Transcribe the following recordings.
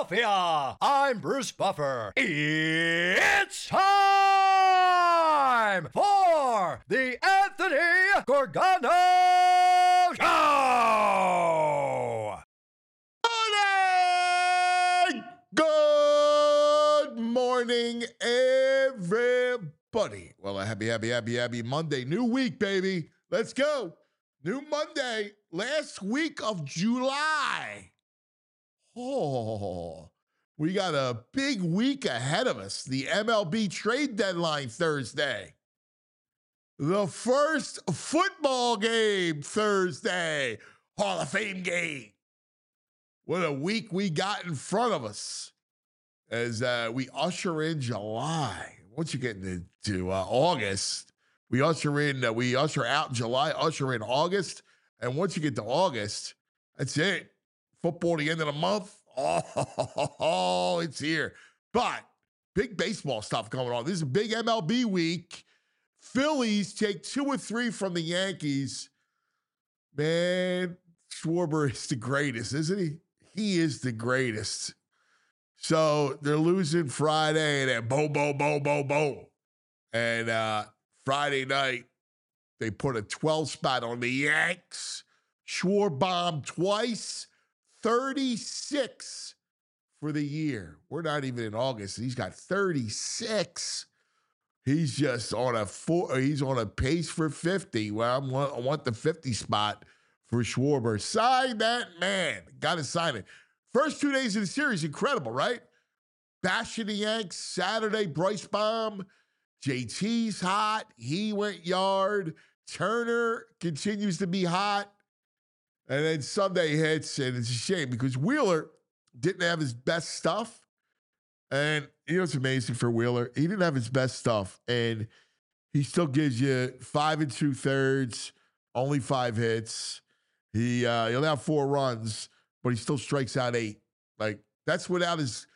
Philadelphia. I'm Bruce Buffer. It's time for the Anthony Gorgano Show. Good morning, everybody. Well, a happy Monday. New week, baby. Let's go. New Monday, last week of July. Oh, we got a big week ahead of us. The MLB trade deadline Thursday. The first football game Thursday. Hall of Fame game. What a week we got in front of us as we usher in July. Once you get into August, we usher out July, usher in August. And once you get to August, that's it. Football the end of the month. Oh, it's here. But big baseball stuff going on. This is a big MLB week. Phillies take 2 or 3 from the Yankees. Man, Schwarber is the greatest, isn't he? He is the greatest. So they're losing Friday, and then boom, boom, boom, boom, boom. And Friday night, they put a 12 spot on the Yanks. Schwarber twice, 36 for the year. We're not even in August. He's got 36. He's just he's on a pace for 50. Well, I want the 50 spot for Schwarber. Sign that man. Got to sign it. First 2 days of the series, incredible, right? Bashing the Yanks Saturday, Bryce Baum. JT's hot. He went yard. Turner continues to be hot. And then Sunday hits, and it's a shame because Wheeler didn't have his best stuff. And you know what's amazing for Wheeler? He didn't have his best stuff, and he still gives you 5 2/3, only 5 hits. He'll have 4 runs, but he still strikes out 8. Like that's what his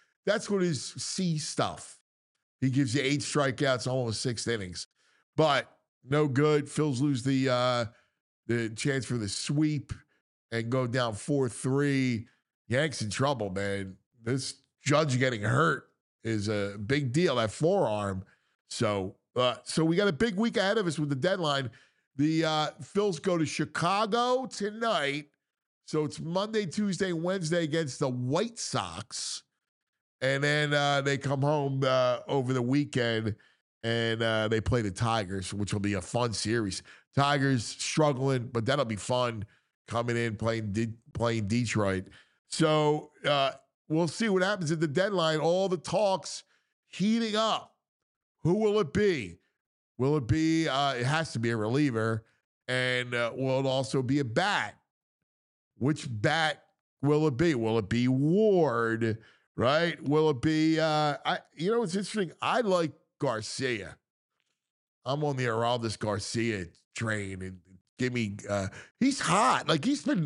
C stuff. He gives you 8 strikeouts, almost 6 innings, but no good. Phils lose the chance for the sweep and go down 4-3. Yanks in trouble, man. This Judge getting hurt is a big deal. That forearm. So we got a big week ahead of us with the deadline. The Phils go to Chicago tonight. So it's Monday, Tuesday, Wednesday against the White Sox. And then they come home over the weekend and they play the Tigers, which will be a fun series. Tigers struggling, but that'll be fun coming in, playing Detroit. So we'll see what happens at the deadline. All the talks heating up. Who will it be? Will it be, it has to be a reliever, and will it also be a bat? Which bat will it be? Will it be Ward, right? Will it be, you know, it's interesting. I like Garcia. I'm on the Aroldis Garcia train, and give me, he's hot. Like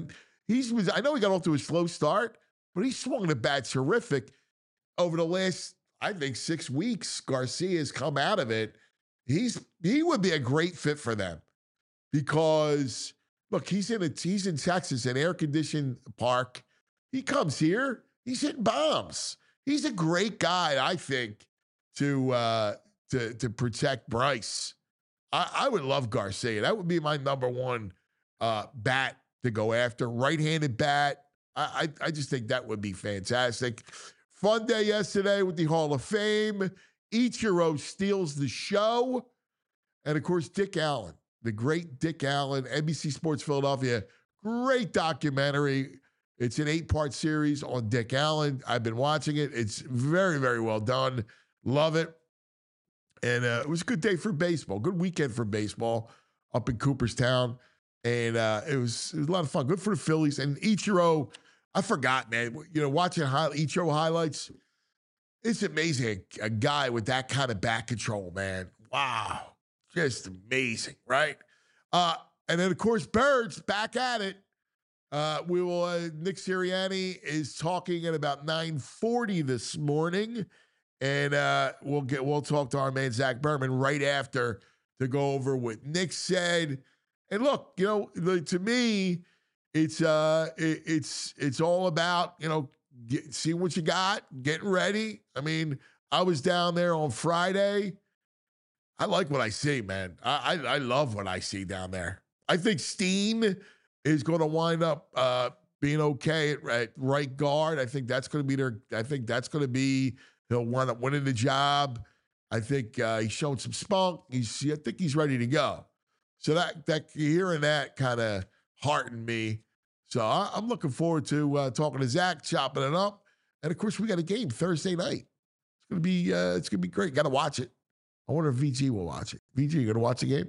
I know he got off to a slow start, but he swung the bat terrific over the last, I think, 6 weeks. Garcia has come out of it. He would be a great fit for them because look, he's in Texas, an air-conditioned park. He comes here, he's hitting bombs. He's a great guy, I think, to protect Bryce. I would love Garcia. That would be my number one bat to go after. Right-handed bat. I just think that would be fantastic. Fun day yesterday with the Hall of Fame. Ichiro steals the show. And, of course, Dick Allen, the great Dick Allen, NBC Sports Philadelphia. Great documentary. It's an 8-part series on Dick Allen. I've been watching it. It's very, very well done. Love it. And it was a good day for baseball. Good weekend for baseball up in Cooperstown. And it was a lot of fun. Good for the Phillies. And Ichiro, I forgot, man. You know, watching Ichiro highlights, it's amazing. A guy with that kind of back control, man. Wow. Just amazing, right? And then, of course, Birds back at it. Nick Sirianni is talking at about 9:40 this morning. And we'll talk to our man Zach Berman right after to go over what Nick said. And look, you know, to me, it's all about, you know, see what you got, getting ready. I mean, I was down there on Friday. I like what I see, man. I love what I see down there. I think Steen is going to wind up being okay at right guard. I think that's going to be he'll wind up winning the job. I think he's shown some spunk. I think he's ready to go. So that hearing that kind of heartened me. So I'm looking forward to talking to Zach, chopping it up, and of course we got a game Thursday night. It's gonna be great. Got to watch it. I wonder if VG will watch it. VG, you gonna watch the game?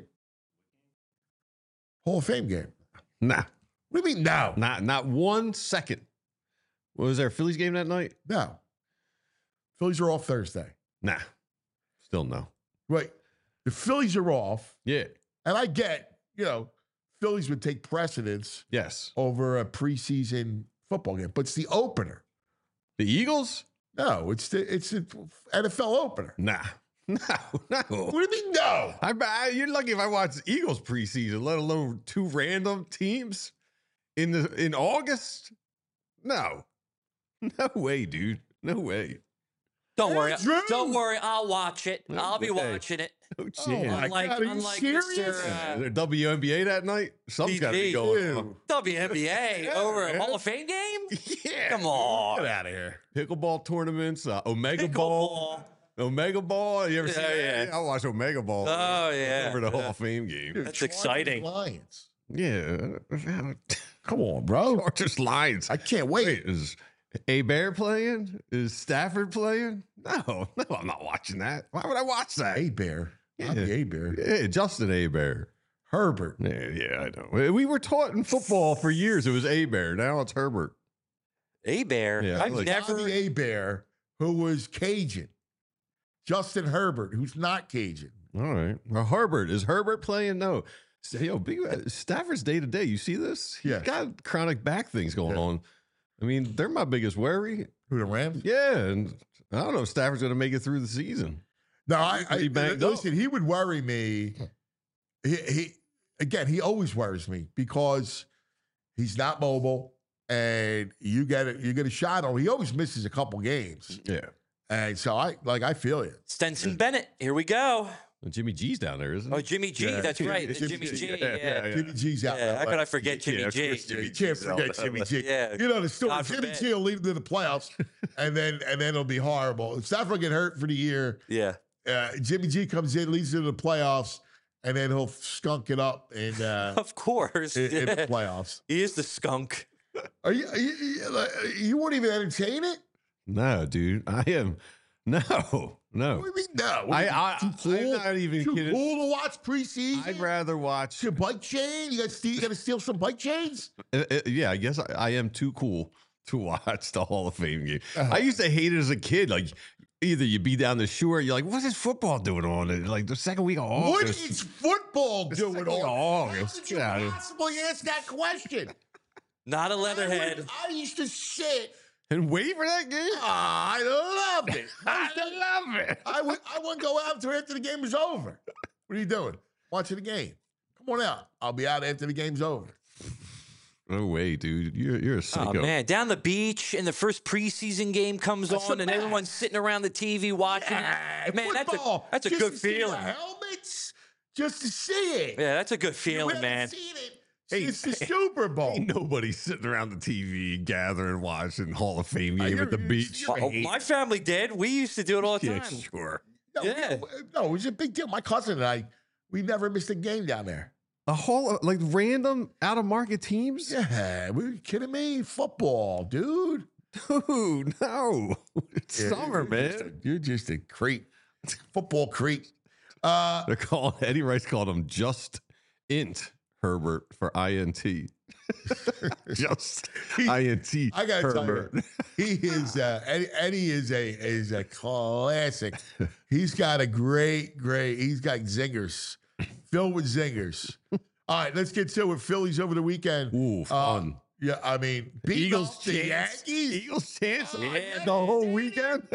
Hall of Fame game? Nah. What do you mean no? Not 1 second. Was there a Phillies game that night? No. Phillies are off Thursday. Nah. Still no. Right. The Phillies are off. Yeah. And I get, Phillies would take precedence Yes. over a preseason football game, but it's the opener. The Eagles? No, it's the NFL opener. Nah. No. What do you mean no? You're lucky if I watch Eagles preseason, let alone 2 random teams in August. No. No way, dude. No way. Don't worry. Drew. Don't worry. I'll watch it. No I'll be way. watching it. No Oh, chance. my Unlike, God, are you unlike serious? Mr. Is there WNBA that night? Something's got to be TV. going on. WNBA over a man. Hall of Fame game? Yeah. Come on. Get out of here. Pickleball tournaments, Omega Ball. Pickleball. Omega Ball. You ever see that? Yeah. I watch Omega Ball. Oh, yeah. Over the Hall of Fame game. Dude, That's Chargers, exciting. Lions. Yeah. Come on, bro. Chargers Lions. I can't wait. Wait, is Bear playing? Is Stafford playing? No, I'm not watching that. Why would I watch that? A-Bear. Not the A-Bear. Yeah, Justin Bear. Herbert. Yeah, I know. We were taught in football for years it was Bear. Now it's Herbert. A-Bear. Yeah, I've like- never. Johnny A-Bear, who was Cajun. Justin Herbert, who's not Cajun. All right. Well, Herbert. Is Herbert playing? No. Stafford's day to day. You see this? He's Yeah. got chronic back things going on. I mean, they're my biggest worry. Who, the Rams? Yeah, and I don't know if Stafford's going to make it through the season. No, I banged up. listen, he would worry me. He always worries me because he's not mobile and you get a shot on him. He always misses a couple games. Yeah. And so I feel you. Stenson Bennett. Here we go. Well, Jimmy G's down there, isn't he? Oh, Jimmy G. Yeah. That's right. Jimmy Jimmy G. G. Yeah, Yeah. Jimmy G's out. Yeah, how could I forget Jimmy Yeah, of G? course, Jimmy You can't G's out forget there. Jimmy G. Yeah. You know the story. God Jimmy forbid. G will lead them to the playoffs, and then it'll be horrible. If Stafford get hurt for the year, Yeah. Jimmy G comes in, leads them to the playoffs, and then he'll skunk it up in Of course. in the Yeah. playoffs. He is the skunk. You won't even entertain it? No, dude. I am. No. What do you mean no? What, I'm not even too kidding. cool to watch preseason? I'd rather watch. Your bike chain? You got to steal some bike chains? Yeah, I guess I am too cool to watch the Hall of Fame game. Uh-huh. I used to hate it as a kid. Like, either you be down the shore, you're like, what's this football doing on it? Like the second week of What August. is football The doing second week of on? How August. did you Get out of here. possibly ask that question? Not a leatherhead. I used to sit. And wait for that game? I loved it. I love it. I wouldn't go out until after the game was over. What are you doing? Watching the game. Come on out. I'll be out after the game's over. No way, dude. You're a Oh psycho. man, down the beach, and the first preseason game comes That's on, the and best. everyone's sitting around the TV watching. Yeah, Man, football, that's a just good to see the feeling. helmets, just to see it. Yeah, that's a good You feeling, haven't man. seen it. Hey, It's the Super Bowl. Ain't nobody sitting around the TV gathering, watching Hall of Fame game at the beach. Oh, my family did. We used to do it all the Yeah, time. sure. No, Yeah. no, it was a big deal. My cousin and I, we never missed a game down there. A whole like random out of market teams? Yeah, were you kidding me? Football, dude. Dude, no. It's Yeah, summer, you're just man. you're just a creep. Football creep. They're calling Eddie Rice called him just int Herbert for INT. Just INT. I gotta Herbert. tell you, he is Eddie is a classic. He's got a great. He's got zingers, filled with zingers. All right, let's get to it. Phillies over the weekend. Ooh, fun. Yeah, I mean, beat Eagles the chance. Yankees. Eagles chance Yeah. the whole weekend.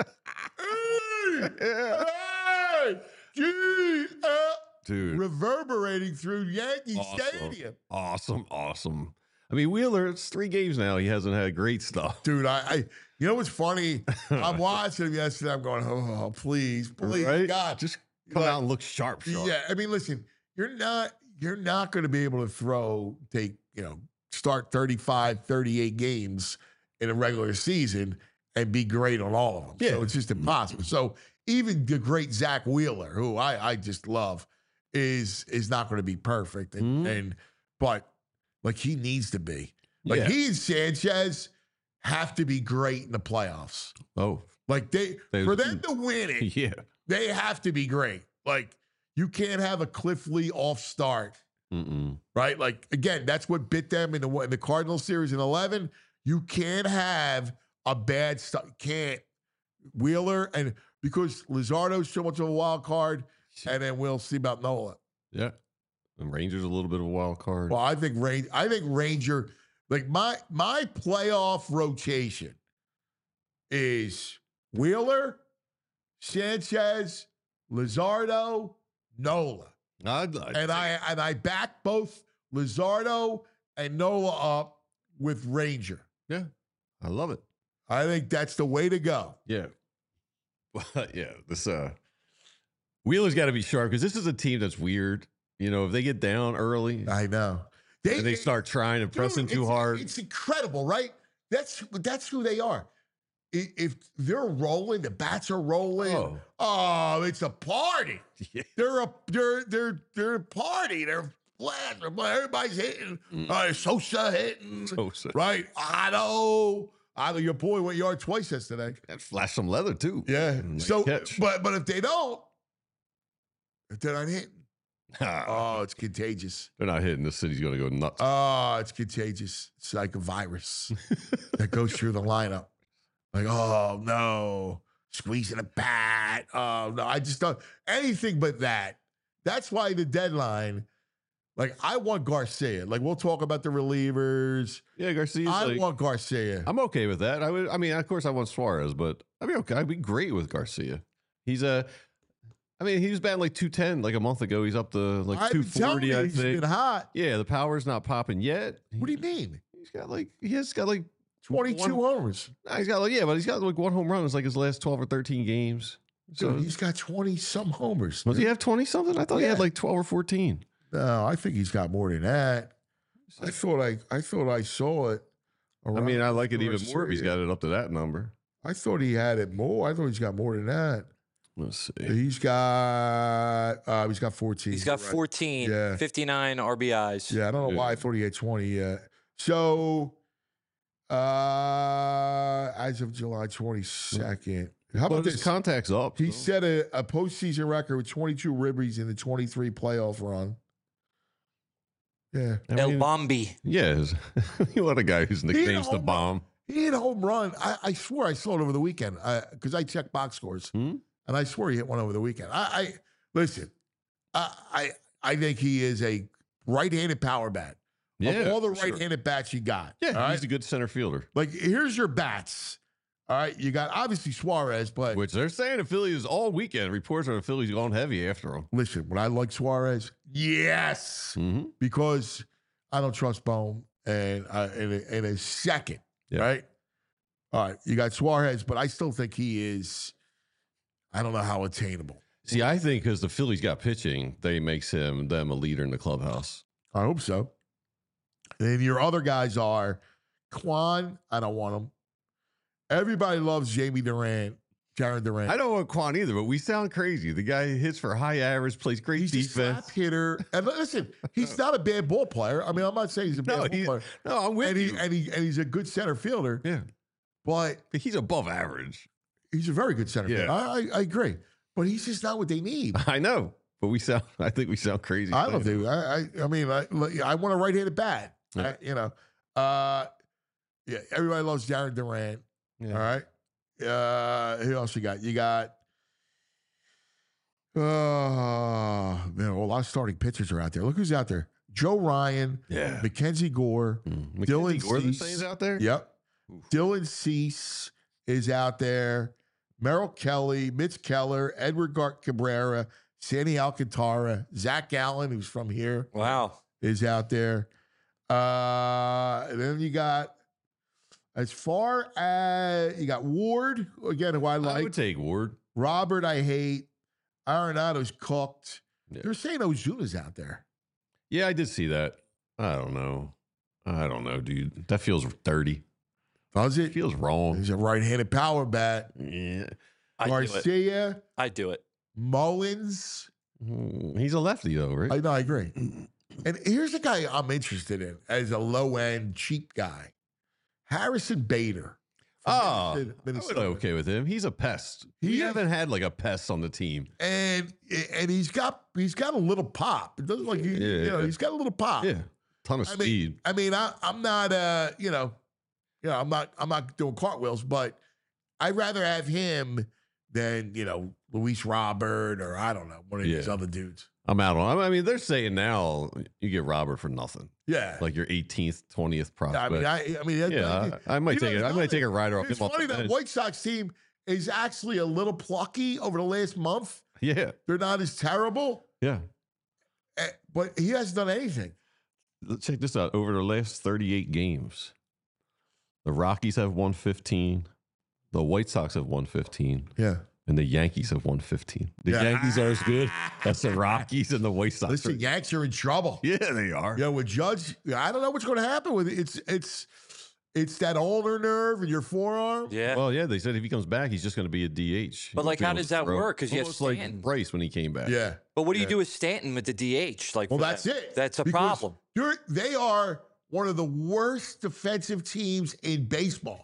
Hey, hey, gee, Dude. reverberating through Yankee Awesome. Stadium. Awesome. I mean, Wheeler, it's 3 games now. He hasn't had great stuff. Dude, you know what's funny? I'm watching him yesterday. I'm going, oh, please, Right? God. Just come out and look sharp. Yeah, I mean, listen, you're not going to be able to start 35, 38 games in a regular season and be great on all of them. Yeah. So it's just impossible. So even the great Zach Wheeler, who I just love, is not going to be perfect. But like he needs to be. Like he and Sanchez have to be great in the playoffs. Oh. Like for them to win it, Yeah. they have to be great. Like you can't have a Cliff Lee off start. Right? Like, again, that's what bit them in the Cardinals series in 11. You can't have a bad start. Can't. Wheeler, and because Luzardo's so much of a wild card, and then we'll see about Nola. Yeah. And Ranger's a little bit of a wild card. Well, I think Ranger, like my playoff rotation is Wheeler, Sanchez, Luzardo, Nola. And I back both Luzardo and Nola up with Ranger. Yeah, I love it. I think that's the way to go. Yeah. Yeah, this Wheeler's got to be sharp because this is a team that's weird. You know, if they get down early, I know. And they start trying and pressing too hard. It's incredible, right? That's who they are. If they're rolling, the bats are rolling. Oh, it's a party. Yeah. They're a party. They're flat. Everybody's hitting. Sosa hitting. Right? Otto, your boy went yard twice yesterday. That flashed some leather too. Yeah. Nice So, catch. but if they're not hitting, it's contagious. They're not hitting. The city's going to go nuts. Oh, it's contagious. It's like a virus that goes through the lineup. Like, oh, no, squeezing a bat. Oh, no, I just don't. Anything but that. That's why the deadline, like, I want Garcia. Like, we'll talk about the relievers. Yeah, Garcia. I want Garcia. I'm okay with that. I mean, of course, I want Suarez, but I'd be okay. I'd be great with Garcia. He was batting like 210 like a month ago. He's up to like 240, I think. He's been hot. Yeah, the power's not popping yet. What do you mean? He has got like 22 homers. Nah, he's got like 1 home run. It's like his last 12 or 13 games. So Dude, he's got 20-some homers. Does he have 20 something? I thought he had like 12 or 14. No, I think he's got more than that. I thought I saw it. I mean, I like it even more if he's got it up to that number. I thought he had it more. I thought he's got more than that. Let's see. He's got 14. He's got 14, Yeah. 59 RBIs. Yeah, I don't know why I thought he had 20 yet. So, as of July 22nd, how about his this? contact's up. He so. set a postseason record with 22 ribbies in the 23 playoff run. Yeah. El Bombi. Yeah. You want a guy whose nickname's the Bomb. He hit a home run. I swear I saw it over the weekend because I checked box scores, and I swear he hit one over the weekend. Listen. I think he is a right-handed power bat. Yeah, of all the right-handed bats you got. Yeah, he's a good center fielder. Like, here's your bats. All right, you got obviously Suarez, but which they're saying the Phillies all weekend. Reports are the Phillies going heavy after him. Listen, when I like Suarez, yes, because I don't trust Bohm, and in a second, right? All right, you got Suarez, but I still think he is. I don't know how attainable. See, I think because the Phillies got pitching, they makes them a leader in the clubhouse. I hope so. And your other guys are Quan. I don't want him. Everybody loves Jamie Durant, Jaron Durant. I don't want Quan either, but we sound crazy. The guy hits for high average, plays great He's defense. a slap hitter. And listen, he's not a bad ball player. I mean, I'm not saying he's a bad ball player. No, I'm with you. And he's a good center fielder. Yeah. But he's above average. He's a very good center fielder. I agree. But he's just not what they need. I know. But I think we sound crazy. I don't think. I mean, I want a right-handed bat. Yeah. Yeah. Everybody loves Jaron Durant. Yeah. All right. Who else you got? You got. Man, a lot of starting pitchers are out there. Look who's out there: Joe Ryan. Yeah. Mackenzie Gore. Dylan Gore Cease. out there. Yep. Oof. Dylan Cease is out there. Merrill Kelly, Mitch Keller, Edward Cabrera, Sandy Alcantara, Zach Allen, who's from here. Wow. Is out there. And then you got, as far as you got Ward, again, who I I like. would take Ward. Robert, I hate. Arenado's cooked. Yeah. They're saying Ozuna's out there. Yeah, I did see that. I don't know, dude. That feels dirty. Does It it? feels wrong. He's a right-handed power bat. Yeah. I do it. Garcia, I do it. Mullins. He's a lefty though, right? I agree. And here's a guy I'm interested in as a low-end cheap guy. Harrison Bader. from Oh, I would Minnesota. be okay with him. He's a pest. We He- haven't had like a pest on the team. And he's got a little pop. It doesn't like Yeah. he's got a little pop. Yeah, ton of I speed. mean, I'm not I'm not doing cartwheels, but I'd rather have him than Luis Robert or I don't know one of these Yeah. other dudes. I'm out on. I mean, they're saying now you get Robert for nothing, Yeah, like your 18th, 20th prospect. I mean, yeah, I might take it. I might take a rider off It's him off funny the that bench. White Sox team is actually a little plucky over the last month. Yeah, They're not as terrible, yeah. but he hasn't done anything. Let's check this out. Over the last 38 games, the Rockies have won 15. The White Sox have won 15. Yeah. And the Yankees have won 15. The Yeah. Yankees are as good as the Rockies and the White Sox. Listen, Yanks are in trouble. Yeah, they are. Yeah, with Judge, I don't know what's going to happen with it. It's that ulnar nerve in your forearm. Yeah. Well, yeah, they said if he comes back, he's just going to be a DH. But, like, He'll how be able does to that throw. work? 'Cause you have Almost like Stanton. Bryce when he came back. Yeah. But what do you do with Stanton with the DH? Like, Well, for that's that- it. That's a Because problem. They are one of the worst defensive teams in baseball.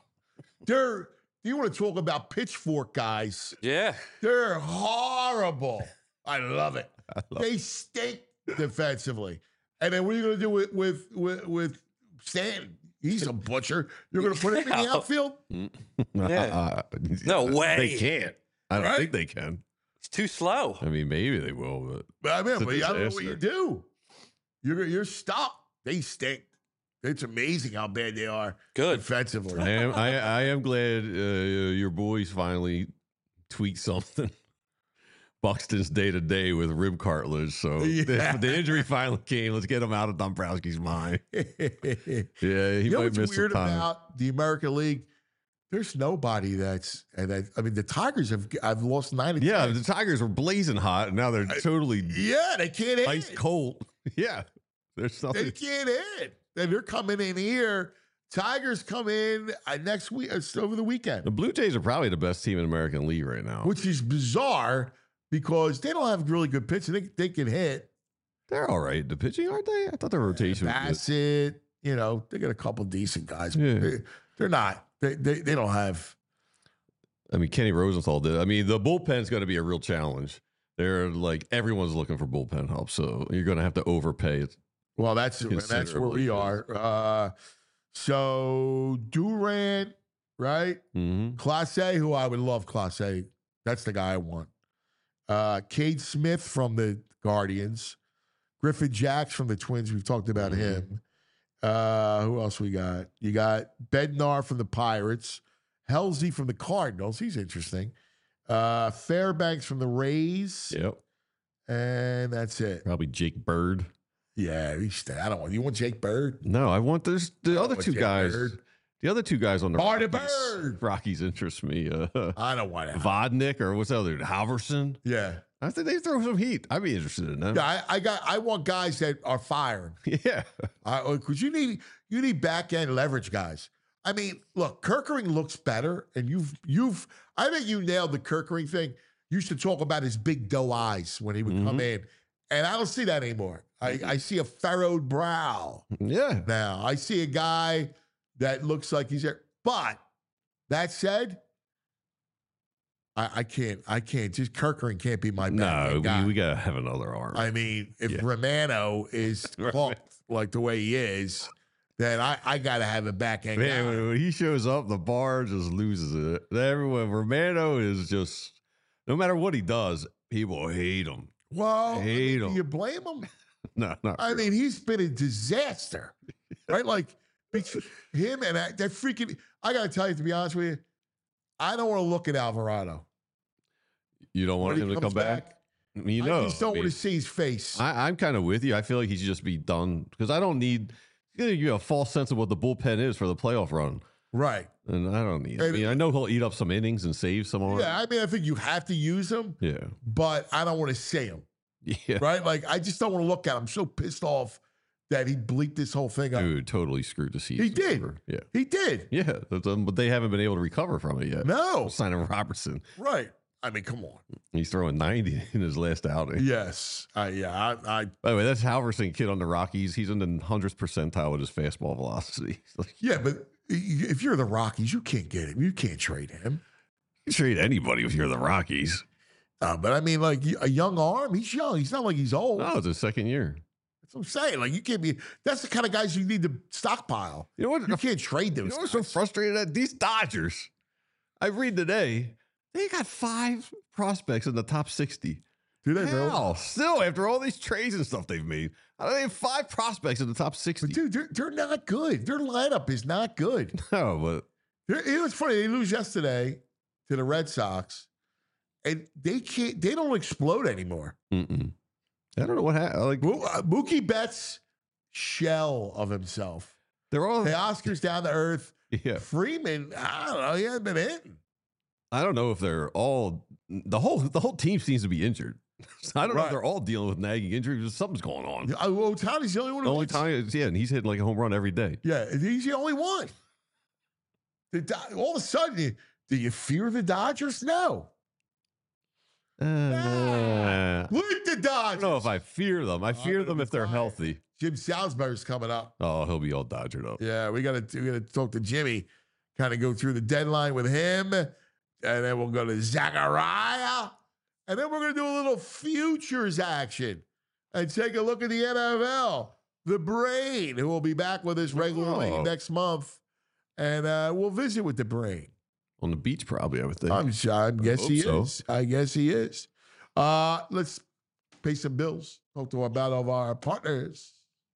You want to talk about pitchfork guys? Yeah. They're horrible. I love it. They stink defensively. And then what are you going to do with Stanton? He's a butcher. You're going to put him in the Yeah. outfield? Yeah. No way. They can't. I don't Right? think they can. It's too slow. I mean, maybe they will, but I mean, It's a but I don't know what disaster. you do. You're stuck. They stink. It's amazing how bad they are Good. defensively. I am glad your boys finally tweaked something. Buxton's day to day with rib cartilage. So Yeah. the injury finally came. Let's get him out of Dombrowski's mind. Yeah, he You know might what's miss some weird time. about the American League? There's nobody that's. I mean, the Tigers have lost 9 of 10. Yeah, the Tigers were blazing hot, and now they're totally Yeah, they can't hit. ice cold. Yeah, there's They nothing. can't hit. And they're coming in here. Tigers come in next week. It's over the weekend, The Blue Jays are probably the best team in American League right now. which is bizarre because they don't have really good pitching. They can hit. They're all right. The pitching, aren't they? I thought the rotation was good. Bassett, they got a couple decent guys. Yeah. They're not. They don't have. I mean, Kenny Rosenthal did. I mean, the bullpen's going to be a real challenge. They're like everyone's looking for bullpen help, so you're going to have to overpay it. Well, that's where Considerably. we are. So Durant, right? Mm-hmm. Clase, who I would love Clase. That's the guy I want. Cade Smith from the Guardians. Griffin Jacks from the Twins. We've talked about him. Who else we got? You got Bednar from the Pirates. Halsey from the Cardinals. He's interesting. Fairbanks from the Rays. Yep. And that's it. Probably Jake Bird. Yeah, I don't want. You want Jake Bird? No, I want the other want two Jake guys. Bird. The other two guys on the Barney Rockies. Bird. Rockies interest me. I don't want him. Vodnik or what's the other? Halverson. Yeah. I think they throw some heat. I'd be interested in them. Yeah, I want guys that are firing. Yeah. Because you need back end leverage guys. I mean, look, Kirkering looks better, and I think you nailed the Kirkering thing. You used to talk about his big doe eyes when he would come in, and I don't see that anymore. I see a furrowed brow Yeah. now. I see a guy that looks like he's there. But that said, I can't. Just Kirkering can't be my back No, end guy. we got to have another arm. I mean, if Yeah. Romano is cooked like the way he is, then I got to have a back end Man, guy. when he shows up, the bar just loses it. Everyone, Romano is just, no matter what he does, people hate him. Well, hate do him. you blame him? No, not I mean, he's been a disaster, right? Like him and that freaking. I got to tell you, to be honest with you, I don't want to look at Alvarado. You don't want When he him to comes come back? You know, I just don't I mean, want to see his face. I'm kind of with you. I feel like he should just be done because I don't need. You have a false sense of what the bullpen is for the playoff run. Right. And I don't need it. I mean, I know he'll eat up some innings and save some more. Yeah, I mean, I think you have to use him. Yeah. But I don't want to say him. Yeah. Right? Like, I just don't want to look at him. I'm so pissed off that he bleeped this whole thing up. Dude, totally screwed the season. He did. Over. Yeah. He did. Yeah. But they haven't been able to recover from it yet. No. Signing Robertson. Right. I mean, come on. He's throwing 90 in his last outing. Yes. By the way, that's Halverson kid on the Rockies. He's in the 100th percentile with his fastball velocity. Yeah, but if you're the Rockies, you can't get him. You can't trade him. You trade anybody if you're the Rockies. But I mean, like a young arm, he's young. He's not like he's old. No, it's his second year. That's what I'm saying. Like, you can't be, that's the kind of guys you need to stockpile. You know what? You can't trade those. You know what's so frustrated at? These Dodgers. I read today, they got 5 prospects in the top 60. Do they really? Hell, still, after all these trades and stuff they've made, they have 5 prospects in the top 60. But dude, they're not good. Their lineup is not good. No, but It was funny. They lose yesterday to the Red Sox, and they don't explode anymore. I don't know what happened. Like Mookie Betts, shell of himself. they're all. The Oscar's down to earth. Yeah, Freeman, I don't know. He hasn't been hitting. I don't know if they're all. The whole team seems to be injured. So I don't know if they're all dealing with nagging injuries. Something's going on. Ohtani's the only one. Only time is and he's hitting like a home run every day. Yeah, he's the only one. All of a sudden, do you fear the Dodgers? No. Look at the Dodgers. I don't know if I fear them. I fear them if they're healthy. Jim Salisbury's coming up. Oh, he'll be all Dodgered up. Yeah, we gotta talk to Jimmy, kind of go through the deadline with him, and then we'll go to Zachariah, and then we're gonna do a little futures action and take a look at the NFL. The Brain, who will be back with us regularly next month, and we'll visit with the Brain. On the beach, probably, I would think. I guess he so. is. I guess he is. Let's pay some bills. Talk to about all of our partners.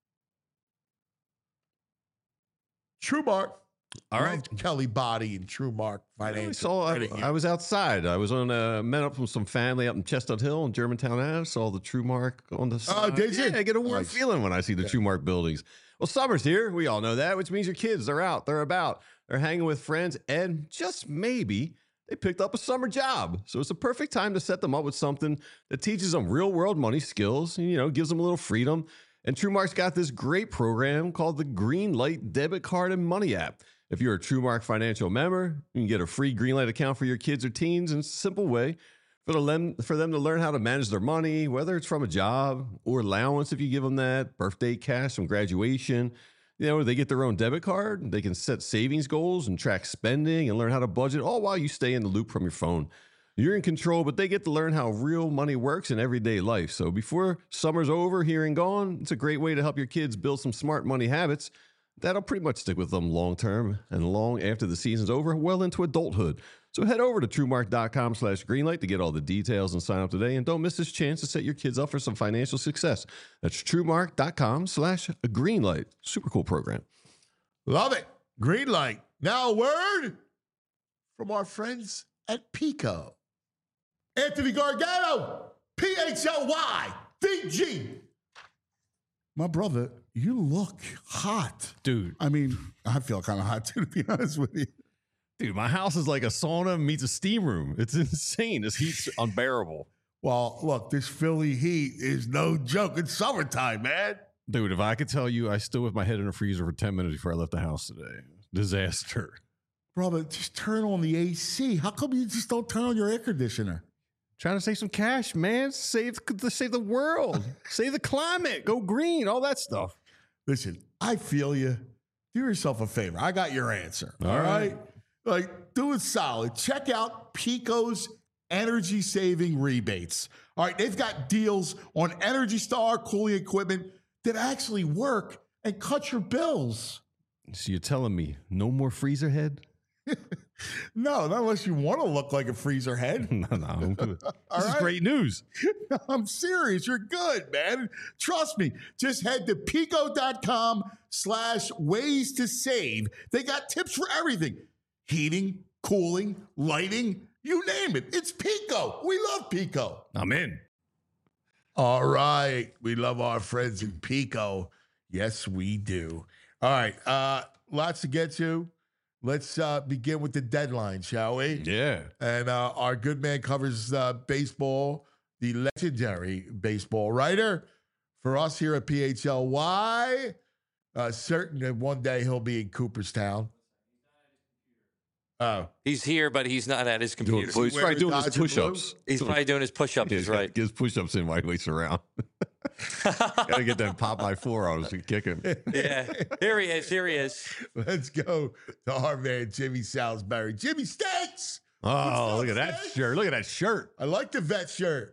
TrueMark. All right. Kelly Body and TrueMark Financial. I was outside. I was met up with some family up in Chestnut Hill in Germantown Ave. Saw the TrueMark on the side. Oh, did you? Yeah, I get a warm feeling when I see the TrueMark buildings. Well, summer's here. We all know that, which means your kids are out. They're about. They're hanging with friends, and just maybe they picked up a summer job. So it's a perfect time to set them up with something that teaches them real-world money skills, and, gives them a little freedom. And TrueMark's got this great program called the Greenlight Debit Card and Money app. If you're a TrueMark Financial member, you can get a free Greenlight account for your kids or teens in a simple way for them to learn how to manage their money, whether it's from a job or allowance if you give them that, birthday cash from graduation. They get their own debit card. They can set savings goals and track spending and learn how to budget, all while you stay in the loop from your phone. You're in control, but they get to learn how real money works in everyday life. So before summer's over, here and gone, it's a great way to help your kids build some smart money habits that'll pretty much stick with them long term and long after the season's over, well into adulthood. So head over to TrueMark.com/Greenlight to get all the details and sign up today. And don't miss this chance to set your kids up for some financial success. That's TrueMark.com/Greenlight. Super cool program. Love it. Greenlight. Now a word from our friends at Pico. Anthony Gargano, PHLYVG. My brother, you look hot. Dude. I mean, I feel kind of hot too, to be honest with you. Dude, my house is like a sauna meets a steam room. It's insane. This heat's unbearable. Well, look, this Philly heat is no joke. It's summertime, man. Dude, if I could tell you, I stood with my head in the freezer for 10 minutes before I left the house today. Disaster. Brother, just turn on the AC. How come you just don't turn on your air conditioner? Trying to save some cash, man. Save the world. Save the climate. Go green. All that stuff. Listen, I feel you. Do yourself a favor. I got your answer. All right. Like, do it solid. Check out Pico's energy saving rebates. All right. They've got deals on Energy Star cooling equipment that actually work and cut your bills. So you're telling me no more freezer head? No, not unless you want to look like a freezer head. No, I'm good. This is great news. I'm serious. You're good, man. Trust me. Just head to pico.com/ways to save. They got tips for everything. Heating, cooling, lighting, you name it. It's Pico. We love Pico. I'm in. All right. We love our friends in Pico. Yes, we do. All right. Lots to get to. Let's begin with the deadline, shall we? Yeah. And our good man covers baseball, the legendary baseball writer for us here at PHLY. Certain that one day he'll be in Cooperstown. Oh, He's here, but he's not at his computer. Well, he's probably doing his Dodger push-ups. He's probably doing his push-ups. He's right. Get his push-ups in while he waits around. Gotta get that Popeye 4 on us and kick him. Yeah. Here he is. Here he is. let's go to our man, Jimmy Salisbury. Jimmy Steaks! Oh, look at that Steaks? shirt. Look at that shirt. I like the vet shirt.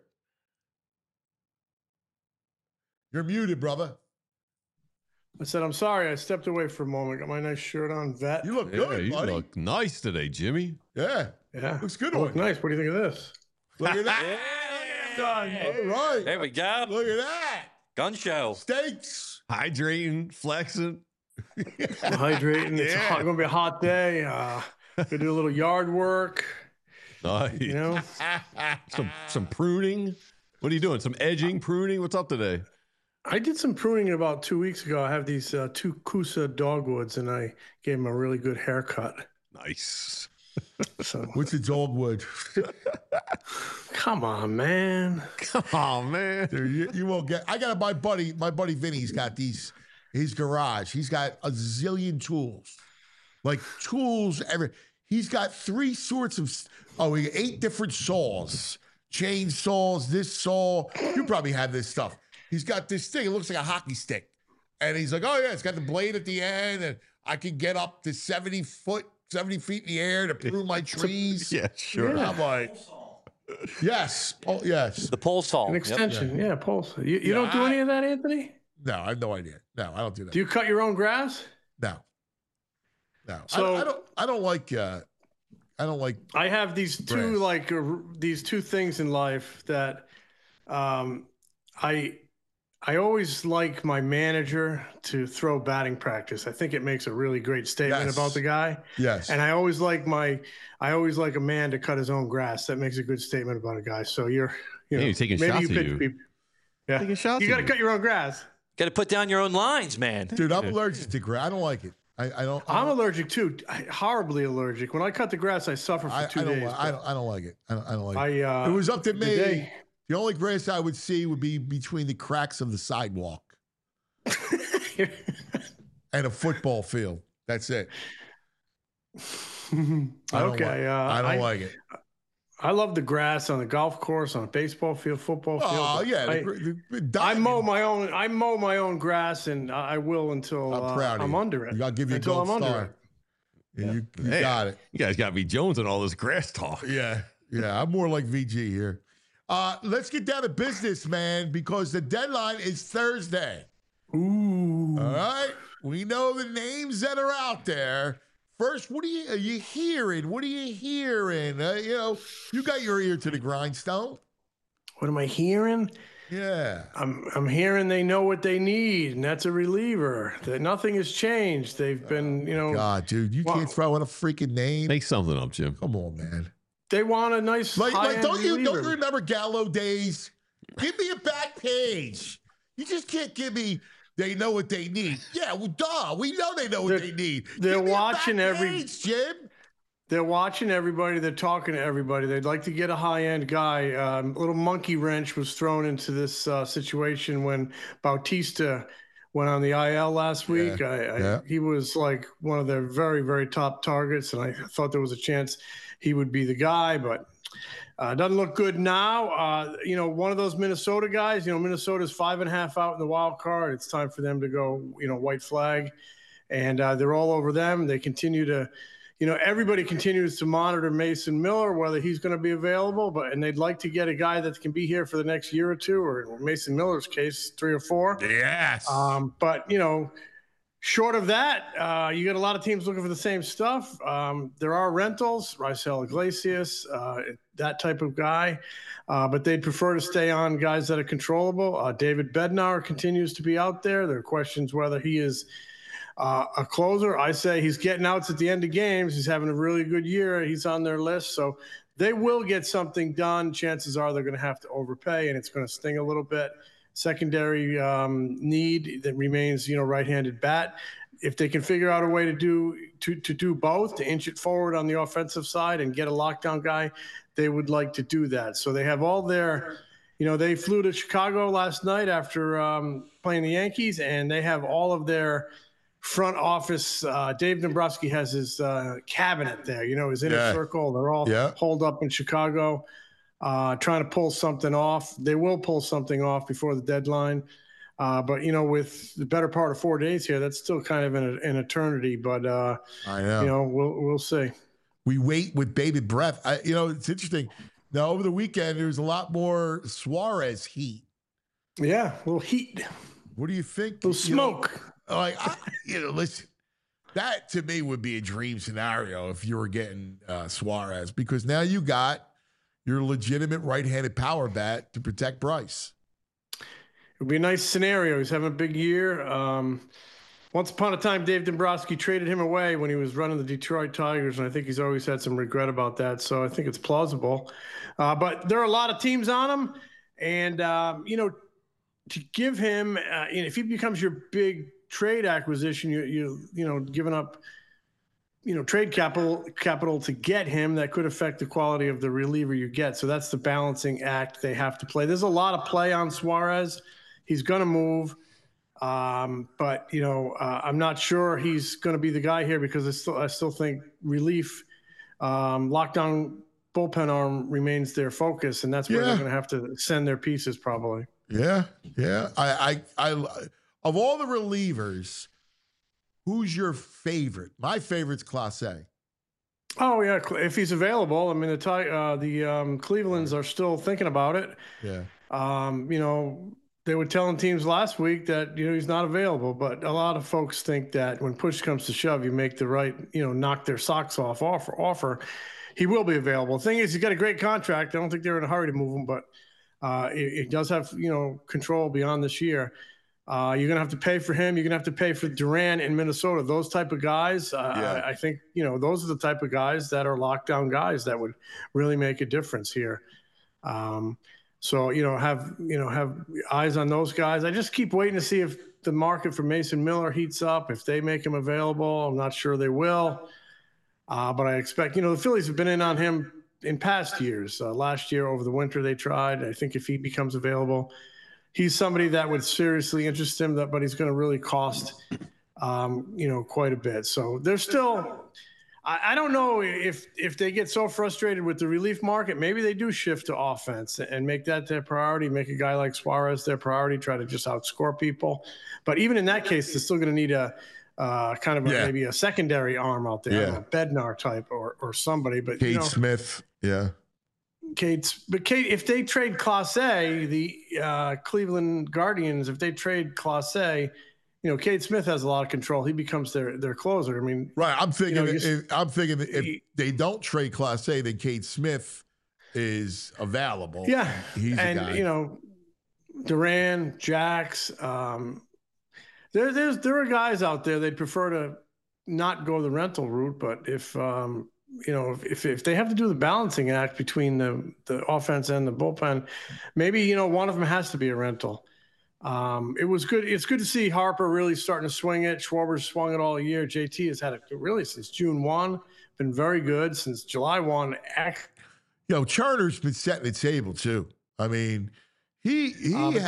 You're muted, brother. I said, I'm sorry. I stepped away for a moment. Got my nice shirt on. Vet. You look Yeah, good, you buddy. look nice today, Jimmy. Yeah. Yeah. Looks good I on look you. nice. What do you think of this? Look at that. All right. There we go. Look at that. Gun show. Steaks. Hydrating, flexing. I'm hydrating. It's Yeah. going to be a hot day. Gonna do a little yard work. Nice. You know, Some pruning. What are you doing? Some edging, pruning? What's up today? I did some pruning about 2 weeks ago. I have these two Kusa dogwoods, and I gave them a really good haircut. Nice. So What's a dogwood? come on, man. Come on, man. Dude, you won't get. I got my buddy Vinny's got these. His garage. He's got a zillion tools, like tools. He's got 3 sorts of. He got 8 different saws, chainsaws. This saw. You probably have this stuff. He's got this thing. It looks like a hockey stick, and he's like, "Oh yeah, it's got the blade at the end, and I can get up to 70 feet in the air to prune my trees." Yeah, sure. I'm like, yes, oh yes. The pole saw. An Yep. extension. Yeah, pulse. You don't do any of that, Anthony? No, I have no idea. No, I don't do that. Do you cut your own grass? No. No. So- I don't like I have these two Grass. these two things in life that I always like my manager to throw batting practice. I think it makes a really great statement Yes. about the guy. yes. And I always like a man to cut his own grass. That makes a good statement about a guy. So you know, Hey, you're taking maybe shots you at pitch you. people. Yeah, Taking shots you at got to you. cut your own grass. Got to put down your own lines, man. Dude, I'm allergic to grass. I don't like it. I don't I'm allergic too. Horribly allergic. When I cut the grass, I suffer for 2 days. I don't like it. I don't like it. I If it was up to the me, day- the only grass I would see would be between the cracks of the sidewalk and a football field. That's it. I don't Okay, I don't like it. I love the grass on the golf course, on a baseball field, football field. Oh but yeah, I mow my own grass, and I will until I'm proud of I'm you. under it. I'll give you a until gold I'm under star. it. Yeah, you Hey, got it. You guys got me Jones and all this grass talk. Yeah. I'm more like VG here. Let's get down to business, man, because the deadline is Thursday. Ooh. All right. We know the names that are out there. First, are you hearing? What are you hearing? You got your ear to the grindstone. What am I hearing? Yeah. I'm hearing they know what they need, and that's a reliever. That nothing has changed. They've been, God, dude, you can't throw in a freaking name. Make something up, Jim. Come on, man. they want a nice high-end Don't you reliever. remember Gallo days? Give me a back page. You just can't give me. They know what they need. Yeah, well, duh. We know they know what they need. they're Give me a watching back every- page, Jim. They're watching everybody. They're talking to everybody. They'd like to get a high-end guy. A little monkey wrench was thrown into this situation when Bautista went on the IL last week. Yeah. He was like one of their very, very top targets, and I thought there was a chance he would be the guy, but doesn't look good now. One of those Minnesota guys, Minnesota's 5.5 out in the wild card. It's time for them to go, white flag. And they're all over them. They continue to, everybody continues to monitor Mason Miller, whether he's going to be available, and they'd like to get a guy that can be here for the next year or two, or in Mason Miller's case, 3 or 4. Yes. But, short of that, you got a lot of teams looking for the same stuff. There are rentals, Raisel Iglesias, that type of guy, but they'd prefer to stay on guys that are controllable. David Bednar continues to be out there. There are questions whether he is a closer. I say he's getting outs at the end of games. He's having a really good year. He's on their list. So they will get something done. Chances are they're going to have to overpay, and it's going to sting a little bit. Secondary need that remains, right-handed bat. if they can figure out a way to do both, to inch it forward on the offensive side and get a lockdown guy, they would like to do that. So they have all their, they flew to Chicago last night after playing the Yankees, and they have all of their front office. Dave Dombrowski has his cabinet there, his inner circle. They're all holed up in Chicago, trying to pull something off. They will pull something off before the deadline. But, with the better part of 4 days here, that's still kind of an eternity. But, I know. We'll see. We wait with bated breath. It's interesting. Now, over the weekend, there's a lot more Suarez heat. Yeah, a little heat. What do you think? A little smoke. Listen, that to me would be a dream scenario if you were getting Suarez, because now you got your legitimate right-handed power bat to protect Bryce. It would be a nice scenario. He's having a big year. Once upon a time, Dave Dombrowski traded him away when he was running the Detroit Tigers, and I think he's always had some regret about that. So I think it's plausible. But there are a lot of teams on him, and to give him, if he becomes your big trade acquisition, you giving up, trade capital to get him, that could affect the quality of the reliever you get. So that's the balancing act they have to play. There's a lot of play on Suarez. He's going to move. But I'm not sure he's going to be the guy here, because I still think relief, lockdown bullpen arm remains their focus, and that's where they're going to have to send their pieces probably. Yeah. I of all the relievers, who's your favorite? My favorite's Clase. Oh yeah, if he's available. I mean, the Clevelands are still thinking about it. Yeah. They were telling teams last week that, he's not available, but a lot of folks think that when push comes to shove, you make the right, knock their socks off offer. He will be available. The thing is, he's got a great contract. I don't think they're in a hurry to move him, but it does have, control beyond this year. You're going to have to pay for him. You're going to have to pay for Duran in Minnesota. Those type of guys, I think, those are the type of guys that are lockdown guys that would really make a difference here. So, have eyes on those guys. I just keep waiting to see if the market for Mason Miller heats up, if they make him available. I'm not sure they will. But I expect, the Phillies have been in on him in past years. Last year over the winter, they tried. I think if he becomes available, he's somebody that would seriously interest him, but he's going to really cost, quite a bit. So there's still, I don't know if they get so frustrated with the relief market, maybe they do shift to offense and make that their priority, make a guy like Suarez their priority, try to just outscore people. But even in that case, they're still going to need a maybe a secondary arm out there, a Bednar type or somebody. But Cade Smith, Cade, if they trade Clase, the Cleveland Guardians, if they trade Clase, Cade Smith has a lot of control. He becomes their closer. I mean, right. I'm thinking if they don't trade Clase, then Cade Smith is available. Yeah, he's a guy. Duran, Jax. There are guys out there they'd prefer to not go the rental route, but if they have to do the balancing act between the offense and the bullpen, maybe one of them has to be a rental. It was good. It's good to see Harper really starting to swing it. Schwarber's swung it all year. JT has had it really since June 1, been very good since July 1. Turner's been setting the table too. I mean, he's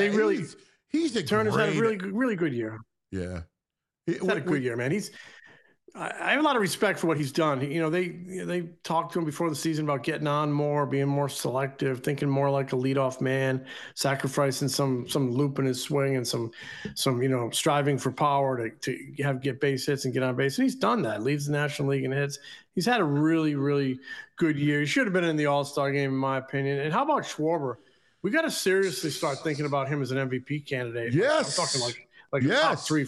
a Turner's great, had a really good year. Yeah, he's had a good year, man. I have a lot of respect for what he's done. They talked to him before the season about getting on more, being more selective, thinking more like a leadoff man, sacrificing some loop in his swing and some striving for power to get base hits and get on base. And he's done that. Leads the National League in hits. He's had a really, really good year. He should have been in the All-Star game, in my opinion. And how about Schwarber? We got to seriously start thinking about him as an MVP candidate. Yes, I'm talking like top 3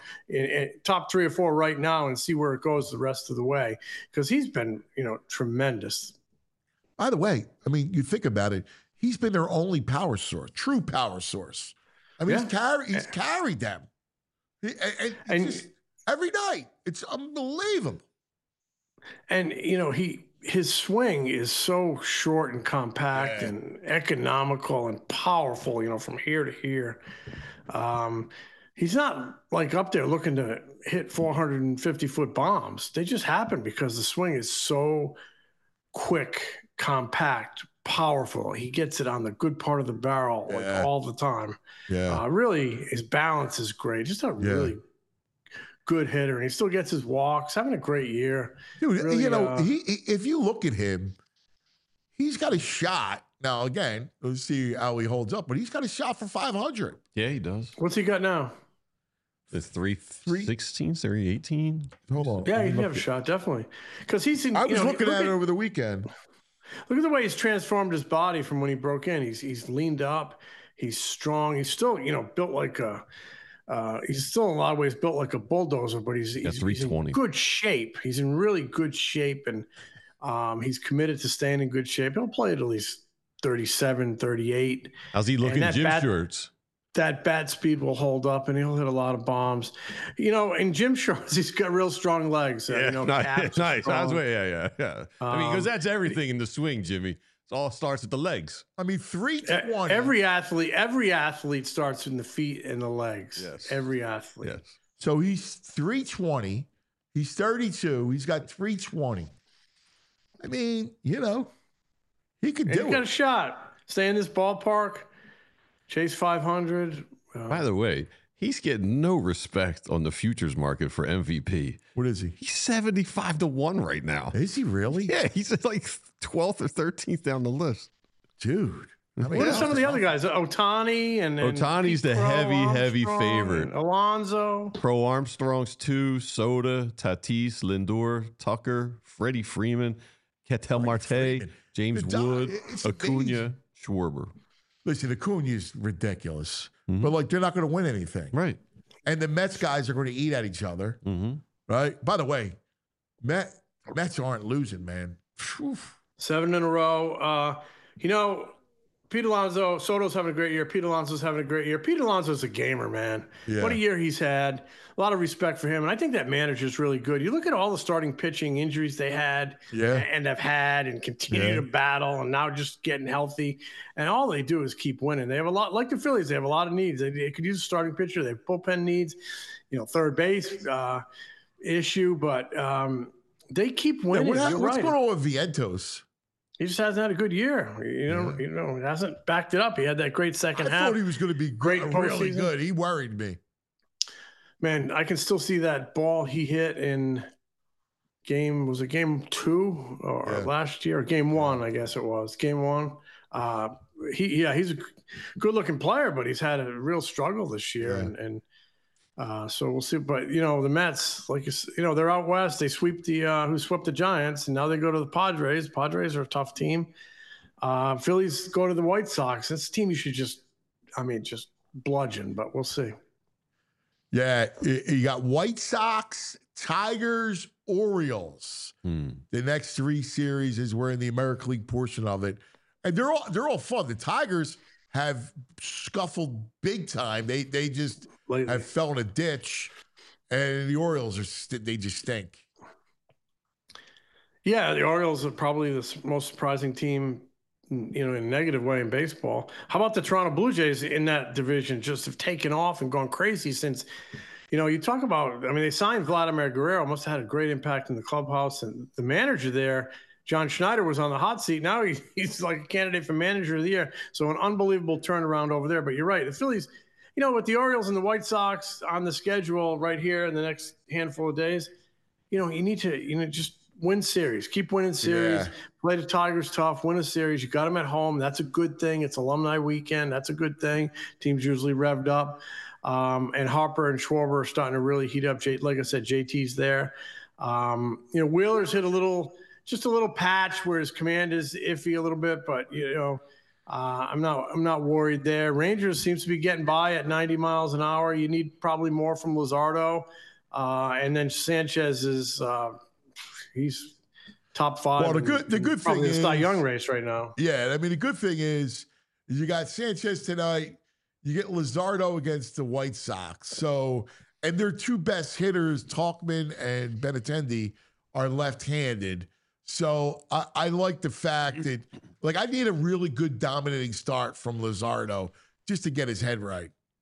or 4 right now, and see where it goes the rest of the way, because he's been tremendous. By the way, I mean, you think about it, he's been their only power source, true power source. I mean, he's carried them, and just every night. It's unbelievable. And his swing is so short and compact and economical and powerful, from here to here. he's not like up there looking to hit 450-foot bombs. They just happen because the swing is so quick, compact, powerful. He gets it on the good part of the barrel like all the time. Yeah. Really, his balance is great. Just a really good hitter. And he still gets his walks, having a great year. Dude, Really, you know, if you look at him, he's got a shot. Now, again, let's see how he holds up, but he's got a shot for 500. Yeah, he does. What's he got now? It's 316, 318. Hold on. Yeah, he'd have a shot, definitely. Because he's in. I was looking at it over the weekend. Look at the way he's transformed his body from when he broke in. He's leaned up. He's strong. He's still, built like a. He's still in a lot of ways built like a bulldozer, but he's in good shape. He's in really good shape, and he's committed to staying in good shape. He'll play at least 37, 38. How's he looking in gym shorts? That bat speed will hold up, and he'll hit a lot of bombs. In gym shorts, he's got real strong legs. Yeah, nice. Yeah. I mean, because that's everything in the swing, Jimmy. It all starts at the legs. I mean, 320. Every athlete starts in the feet and the legs. Yes. Every athlete. Yes. So he's 320. He's 32. He's got 320. I mean, he could do it. He's got a shot. Stay in this ballpark. Chase 500. By the way, he's getting no respect on the futures market for MVP. What is he? He's 75-1 right now. Is he really? Yeah, he's like 12th or 13th down the list. Dude. What are some of the other guys? Ohtani and Ohtani's the heavy favorite. Alonso. Pro Armstrong's 2, Soda, Tatis, Lindor, Tucker, Freddie Freeman, Ketel Marte, James Wood, Acuna, Schwarber. Listen, Acuna's ridiculous, but they're not going to win anything, right? And the Mets guys are going to eat at each other, right? By the way, Mets aren't losing, man. Whew. 7 in a row. Pete Alonso, Soto's having a great year. Pete Alonso's having a great year. Pete Alonso's a gamer, man. Yeah. What a year he's had. A lot of respect for him. And I think that manager's really good. You look at all the starting pitching injuries they had and have had and continue to battle and now just getting healthy. And all they do is keep winning. They have a lot, like the Phillies, they have a lot of needs. They could use a starting pitcher. They have bullpen needs, third base issue, but they keep winning. Yeah, what's going on with Vientos? He just hasn't had a good year. He hasn't backed it up. He had that great second half. I thought he was going to be really good. He worried me. Man, I can still see that ball he hit in game 2 or last year, or game 1, I guess it was. Game 1. He's a good-looking player, but he's had a real struggle this year. And so we'll see. But, the Mets, they're out west. They sweep who swept the Giants, and now they go to the Padres. Padres are a tough team. Phillies go to the White Sox. That's a team you should just bludgeon, but we'll see. Yeah, you got White Sox, Tigers, Orioles. The next 3 series is we're in the American League portion of it. And they're all fun. The Tigers have scuffled big time. They just have fell in a ditch, and the Orioles they just stink. Yeah, the Orioles are probably the most surprising team, in a negative way in baseball. How about the Toronto Blue Jays in that division? Just have taken off and gone crazy since. You talk about. They signed Vladimir Guerrero. Must have had a great impact in the clubhouse, and the manager there. John Schneider was on the hot seat. Now he's like a candidate for manager of the year. So an unbelievable turnaround over there. But you're right. The Phillies, with the Orioles and the White Sox on the schedule right here in the next handful of days, you need to, just win series. Keep winning series. Yeah. Play the Tigers tough. Win a series. You got them at home. That's a good thing. It's alumni weekend. That's a good thing. Teams usually revved up. And Harper and Schwarber are starting to really heat up. Like I said, JT's there. Wheeler's hit just a little patch where his command is iffy a little bit, but I'm not worried there. Rangers seems to be getting by at 90 miles an hour. You need probably more from Luzardo, and then Sanchez is he's top 5. Well, the good thing is the Cy Young race right now. Yeah, the good thing is you got Sanchez tonight. You get Luzardo against the White Sox. So, and their 2 best hitters, Tauchman and Benintendi, are left-handed. So I like the fact that, I need a really good dominating start from Luzardo just to get his head right.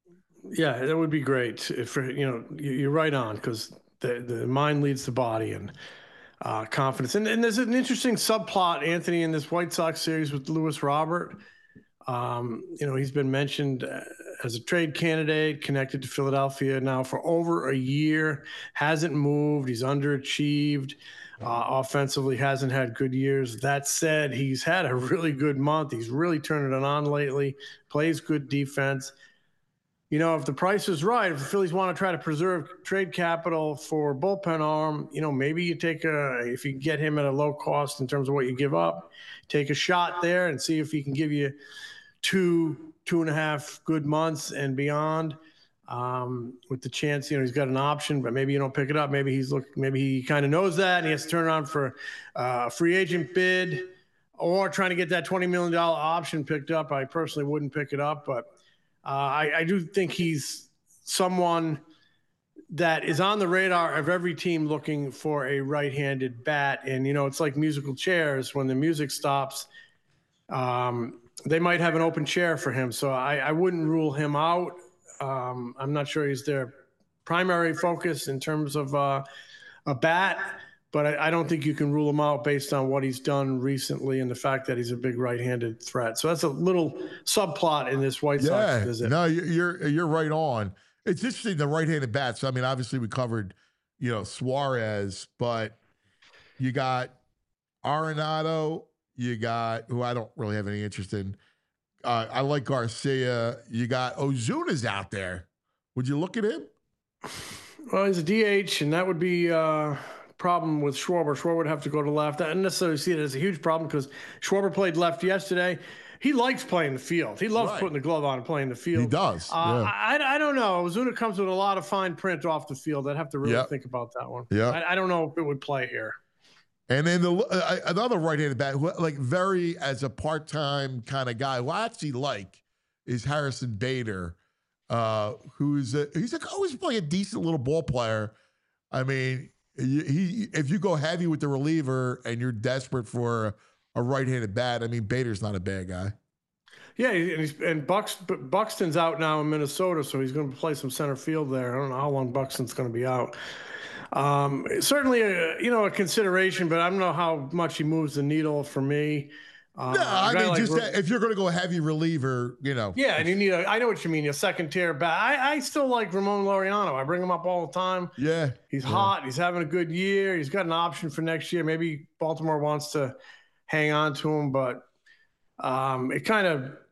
Yeah, that would be great. If you're right on, because the mind leads the body, and confidence. And there's an interesting subplot, Anthony, in this White Sox series with Lewis Robert. He's been mentioned as a trade candidate, connected to Philadelphia now for over a year, hasn't moved. He's underachieved. Offensively, hasn't had good years. That said, he's had a really good month. He's really turning it on lately, plays good defense. If the price is right, if the Phillies want to try to preserve trade capital for bullpen arm, maybe you if you can get him at a low cost in terms of what you give up, take a shot there and see if he can give you 2.5 good months and beyond, with the chance, he's got an option, but maybe you don't pick it up. Maybe he kind of knows that and he has to turn around for a free agent bid or trying to get that $20 million option picked up. I personally wouldn't pick it up, but I do think he's someone that is on the radar of every team looking for a right-handed bat. And, it's like musical chairs. When the music stops, they might have an open chair for him. So I wouldn't rule him out. I'm not sure he's their primary focus in terms of a bat, but I don't think you can rule him out based on what he's done recently and the fact that he's a big right-handed threat. So that's a little subplot in this White Sox visit. No, you're right on. It's interesting, the right-handed bats. I mean, obviously we covered, Suarez, but you got Arenado, you got, who I don't really have any interest in. I like Garcia. You got Ozuna's out there. Would you look at him? Well, he's a DH, and that would be problem with Schwarber. Schwarber would have to go to left. I don't necessarily see it as a huge problem because Schwarber played left yesterday. He likes playing the field. He loves putting the glove on and playing the field. He does. I don't know. Ozuna comes with a lot of fine print off the field. I'd have to really think about that one. Yeah. I don't know if it would play here. And then another right-handed bat, who, like, very as a part-time kind of guy, who I actually like, is Harrison Bader, he's always playing a decent little ball player. I mean, if you go heavy with the reliever and you're desperate for a right-handed bat, I mean, Bader's not a bad guy. Yeah, and Buxton's out now in Minnesota, so he's going to play some center field there. I don't know how long Buxton's going to be out. Certainly a consideration, but I don't know how much he moves the needle for me. I mean, just if you're going to go heavy reliever, Yeah, and you need I know what you mean, a second tier bat. I still like Ramon Laureano. I bring him up all the time. Yeah. He's hot. He's having a good year. He's got an option for next year. Maybe Baltimore wants to hang on to him, but I kind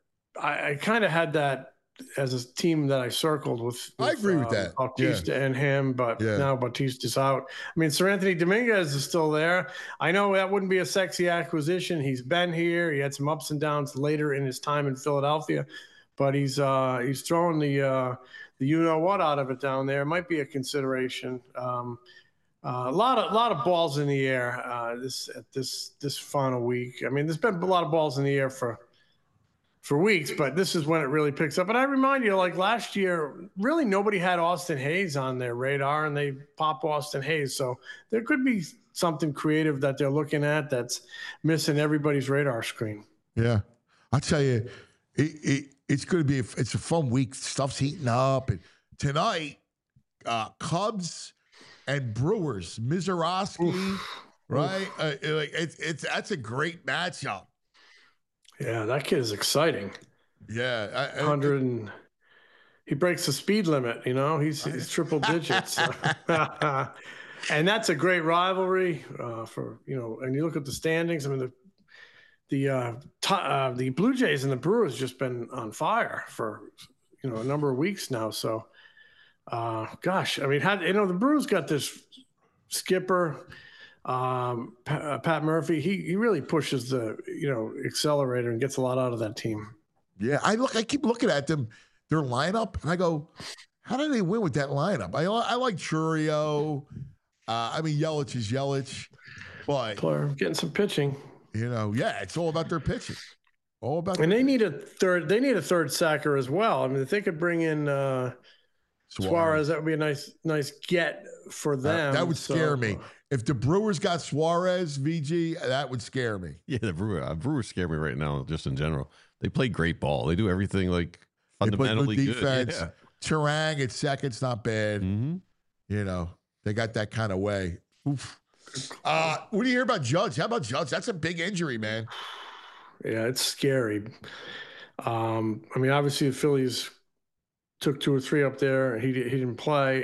of had that as a team that I circled with I agree with that. Bautista and him, but now Bautista's out. I mean, Sir Anthony Dominguez is still there. I know that wouldn't be a sexy acquisition. He's been here. He had some ups and downs later in his time in Philadelphia, but he's throwing the what out of it down there. It might be a consideration. A lot of balls in the air this final week. I mean, there's been a lot of balls in the air for weeks, but this is when it really picks up. And I remind you, like last year, really nobody had Austin Hayes on their radar, and they pop Austin Hayes. So there could be something creative that they're looking at that's missing everybody's radar screen. Yeah. I'll tell you, it's going to be it's a fun week. Stuff's heating up. And tonight, Cubs and Brewers, Mizorowski, right? That's a great matchup. Yeah, that kid is exciting. Yeah. He breaks the speed limit, he's triple digits. And that's a great rivalry and you look at the standings. I mean, the Blue Jays and the Brewers just been on fire for, a number of weeks now. So, gosh, I mean, the Brewers got this skipper, Pat Murphy. He really pushes the accelerator and gets a lot out of that team. Yeah, I keep looking at them, their lineup, and I go, how do they win with that lineup? I like Churio. I mean, Yelich is Yelich, but getting some pitching. It's all about their pitching. All about. And they need a third sacker as well. I mean, if they could bring in Suarez, that would be a nice get for them. That would scare me. If the Brewers got Suarez, VG, that would scare me. Yeah, the Brewers scare me right now, just in general. They play great ball. They do everything like fundamentally good defense. Yeah. Turang at second's not bad. Mm-hmm. You know, they got that kind of way. Oof. What do you hear about Judge? How about Judge? That's a big injury, man. Yeah, it's scary. I mean, obviously the Phillies took 2 or 3 up there. He didn't play.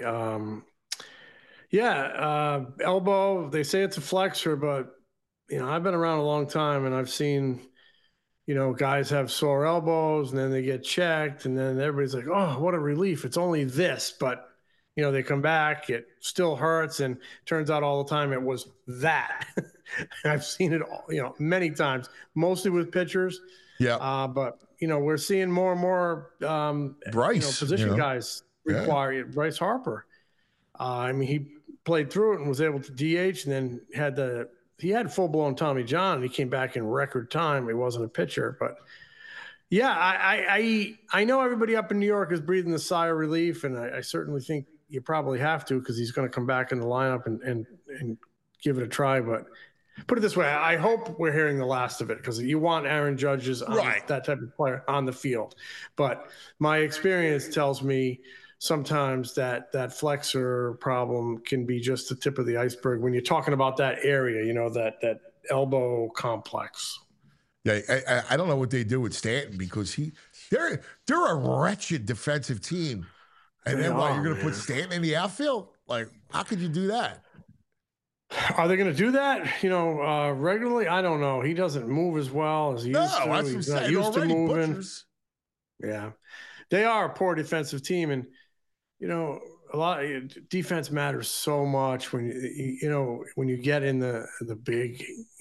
Elbow. They say it's a flexor, but you know, I've been around a long time and I've seen, you know, guys have sore elbows and then they get checked and then everybody's like, oh, what a relief. It's only this, but you know, they come back, it still hurts, and turns out all the time it was that. I've seen it all, you know, many times, mostly with pitchers. Yeah. But you know, we're seeing more and more Bryce, position you know. guys require it. Bryce Harper. I mean, he played through it and was able to DH, and then he had full blown Tommy John, and he came back in record time. He wasn't a pitcher, but yeah, I know everybody up in New York is breathing a sigh of relief, and I certainly think you probably have to because he's going to come back in the lineup and give it a try. But put it this way, I hope we're hearing the last of it because you want Aaron Judge's that type of player on the field. But my experience tells me sometimes that flexor problem can be just the tip of the iceberg when you're talking about that area, you know, that elbow complex. Yeah, I don't know what they do with Stanton because they're a wretched defensive team. And then you're going to put Stanton in the outfield? Like, how could you do that? Are they going to do that, you know, regularly? I don't know. He doesn't move as well as he used to. No, that's He's what not I'm saying. used to Already moving. butchers. Yeah, they are a poor defensive team, and you know, a lot of defense matters so much when when you get in the big,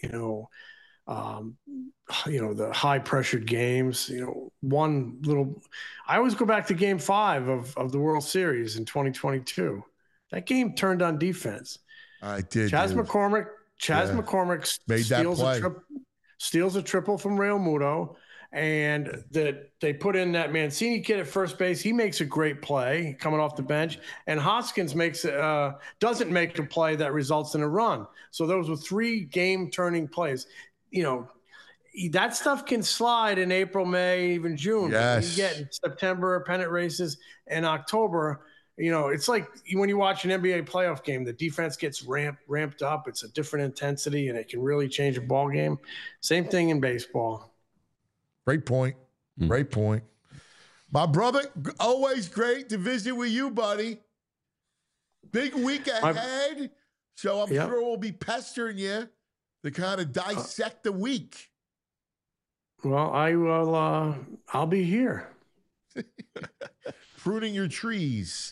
the high pressured games. You know, I always go back to Game 5 of the World Series in 2022. That game turned on defense. I did. Chas McCormick made that play. Steals a triple from Real Muto. And they put in that Mancini kid at first base. He makes a great play coming off the bench. And Hoskins doesn't make a play that results in a run. So those were 3 game-turning plays. You know, that stuff can slide in April, May, even June. Yes. You get in September, pennant races, and October. You know, it's like when you watch an NBA playoff game, the defense gets ramped up. It's a different intensity, and it can really change a ball game. Same thing in baseball. Great point. Great point. My brother, always great to visit with you, buddy. Big week ahead. So I'm sure we'll be pestering you to kind of dissect the week. Well, I will. I'll be here. Pruning your trees.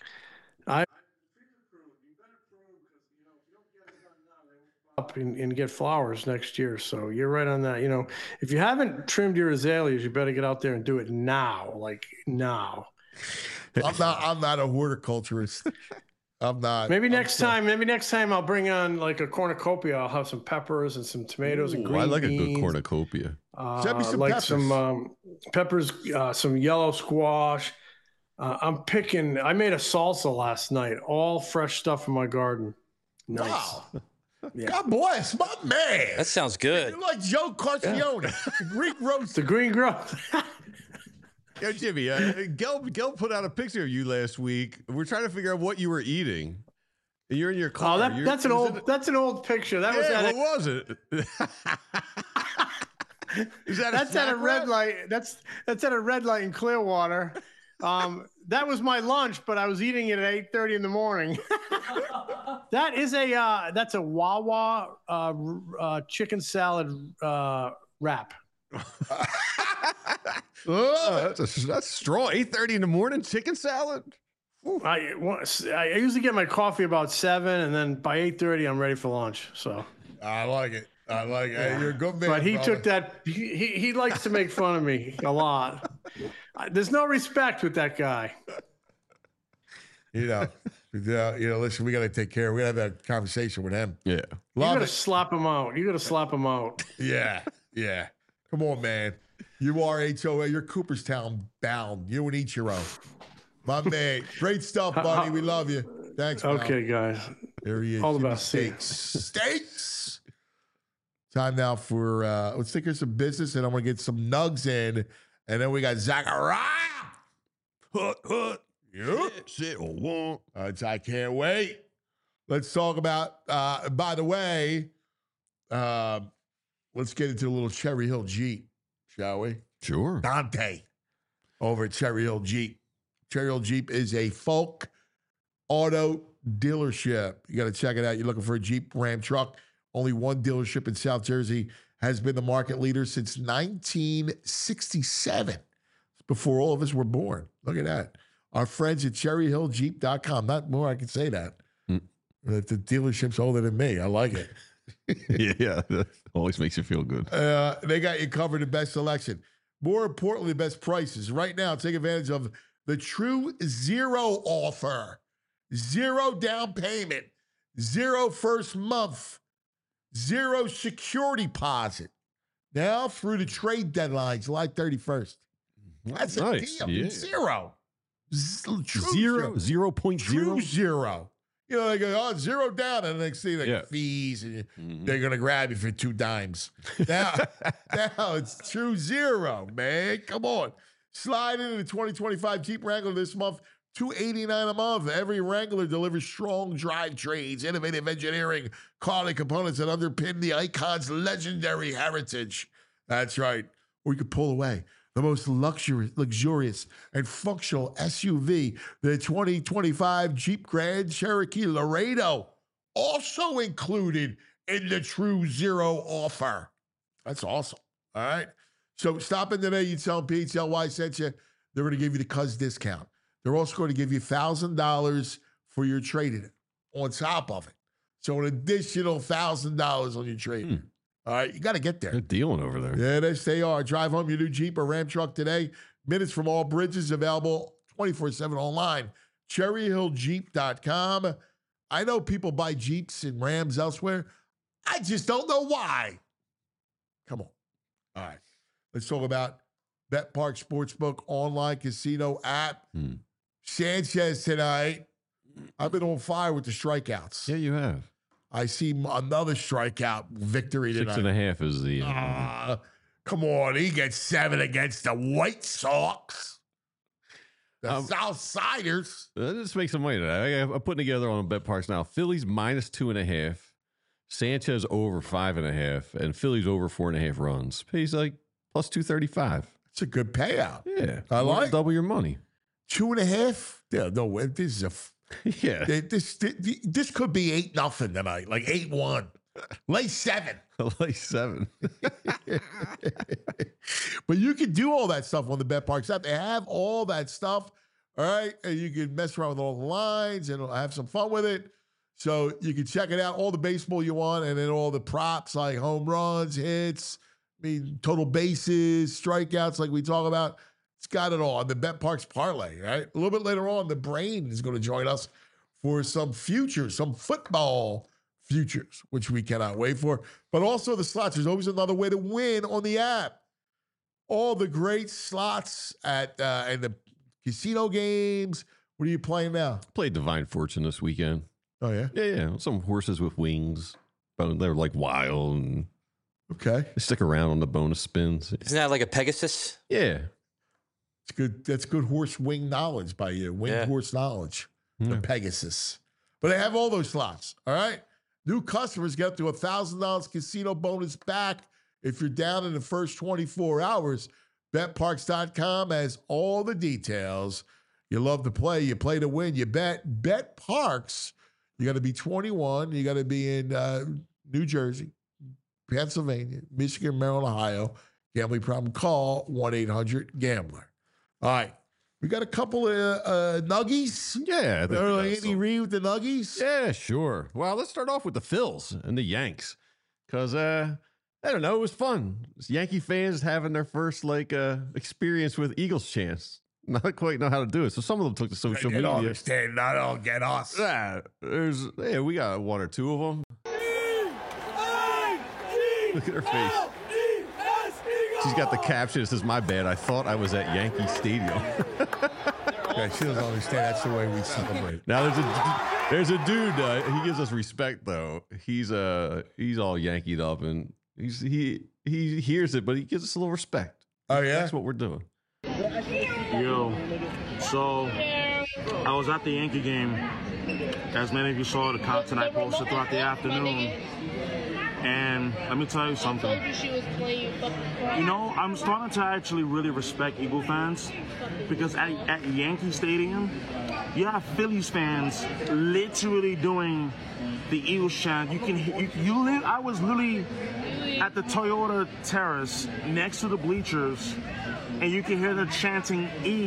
Up and get flowers next year. So you're right on that. You know, if you haven't trimmed your azaleas, you better get out there and do it now. Like now. I'm not a horticulturist. I'm not. Maybe next time I'll bring on like a cornucopia. I'll have some peppers and some tomatoes and green I like beans. a good cornucopia. Send me some like peppers. some peppers, some yellow squash. I made a salsa last night. All fresh stuff from my garden. Nice. Wow. Yeah. God bless my man. That sounds good. You're like Joe Carcione, Greek roast. The green growth. Yo, Jimmy, Gil put out a picture of you last week. We're trying to figure out what you were eating. You're in your car. That's an old picture. That was what was it? That's at a red light. That's at a red light in Clearwater. That was my lunch, but I was eating it at 8:30 in the morning. That's a Wawa chicken salad wrap. That's strong. 8:30 in the morning, chicken salad. I usually get my coffee about 7, and then by 8:30 I'm ready for lunch. So I like it. Yeah. You're a good man. But he brother. took that. He likes to make fun of me a lot. There's no respect with that guy. Listen, we got to take care. We got to have that conversation with him. Yeah. You Love gotta it. slap him out. Yeah. Come on, man. You are HOA. You're Cooperstown bound. You and Ichiro. My man. Great stuff, buddy. We love you. Thanks, pal. Okay, guys. There he is. All the Jimmy best. See ya. Steaks. Time now for, let's take care of some business, and I'm going to get some nugs in. And then we got Zachariah. Yep. Sit or won't. I can't wait. Let's talk about, by the way, let's get into a little Cherry Hill Jeep, shall we? Sure. Dante over at Cherry Hill Jeep. Cherry Hill Jeep is a folk auto dealership. You got to check it out. You're looking for a Jeep Ram truck. Only one dealership in South Jersey has been the market leader since 1967, before all of us were born. Look at that. Our friends at cherryhilljeep.com. Not more I can say that. The dealership's older than me. I like it. Yeah, that always makes you feel good. They got you covered, the best selection. More importantly, the best prices. Right now, take advantage of the True Zero offer. 0 down payment, 0 first month, 0 security deposit. Now through the trade deadline, July 31st. That's a Nice, deal. yeah. 0. True Zero, 0.0. True 0. You know, they go, oh, 0 down, and the next thing, like Yeah. fees, and they're going to grab you for 2 dimes. Now it's True 0, man. Come on. Slide into the 2025 Jeep Wrangler this month, $289 a month. Every Wrangler delivers strong drive trains, innovative engineering, quality components that underpin the Icon's legendary heritage. That's right. Or you could pull away. The most luxurious and functional SUV, the 2025 Jeep Grand Cherokee Laredo, also included in the True Zero offer. That's awesome. All right. So stop in today. You tell them PHLY sent you. They're going to give you the Cuz discount. They're also going to give you $1,000 for your trade-in on top of it. So an additional $1,000 on your trade-in. All right, you got to get there. They're dealing over there. Yeah, yes, they are. Drive home your new Jeep or Ram truck today. Minutes from all bridges, available 24/7 online. CherryHillJeep.com. I know people buy Jeeps and Rams elsewhere. I just don't know why. Come on. All right. Let's talk about BetPark Sportsbook online casino app. Sanchez tonight. I've been on fire with the strikeouts. Yeah, you have. I see another strikeout victory tonight. 6.5 is the. Come on, he gets 7 against the White Sox. The Southsiders. Let's make some money today. I'm putting together on BetParks now. Phillies minus 2.5, Sanchez over 5.5, and Phillies over 4.5 runs. Pays like plus 235. It's a good payout. Yeah, I more than like double your money. 2.5. Yeah, no, this is a. Yeah, This could be 8-0 tonight, like 8-1. Lay 7. like 7. But you can do all that stuff on the BetParks app. They have all that stuff, all right? And you can mess around with all the lines and have some fun with it. So you can check it out, all the baseball you want, and then all the props like home runs, hits, total bases, strikeouts like we talk about. It's got it all. And the BetParks parlay, right? A little bit later on, the Brain is going to join us for some futures, some football futures, which we cannot wait for. But also the slots. There's always another way to win on the app. All the great slots at and the casino games. What are you playing now? Played Divine Fortune this weekend. Oh, yeah? Yeah. Some horses with wings. But they're like wild and Okay. they stick around on the bonus spins. Isn't that like a Pegasus? Yeah. It's good. That's good horse wing knowledge by you. Winged horse knowledge. The Pegasus. But they have all those slots. All right. New customers get up to $1,000 casino bonus back if you're down in the first 24 hours. BetParks.com has all the details. You love to play. You play to win. You bet. BetParks. You got to be 21. You got to be in New Jersey, Pennsylvania, Michigan, Maryland, Ohio. Gambling problem, call 1-800-GAMBLER. All right. We got a couple of nuggies. Yeah. I think we got Andy some. Reid with the nuggies. Yeah, sure. Well, let's start off with the Phils and the Yanks. Because, I don't know, it was fun. It's Yankee fans having their first, experience with Eagles chants. Not quite know how to do it. So some of them took to social You media. don't understand. I don't get us. Yeah, we got one or two of them. Look at her face. She's got the caption that says, "My bad, I thought I was at Yankee Stadium." Okay, she doesn't understand. That's the way we celebrate. Now there's a dude. He gives us respect though. He's all Yankeed up and he hears it, but he gives us a little respect. Oh yeah, That's what we're doing. Yo, so I was at the Yankee game. As many of you saw, the content I posted throughout the afternoon. And let me tell you something. You know, I'm starting to actually really respect Eagle fans because at Yankee Stadium, you have Phillies fans literally doing the Eagles chant. I was literally at the Toyota Terrace next to the bleachers, and you can hear them chanting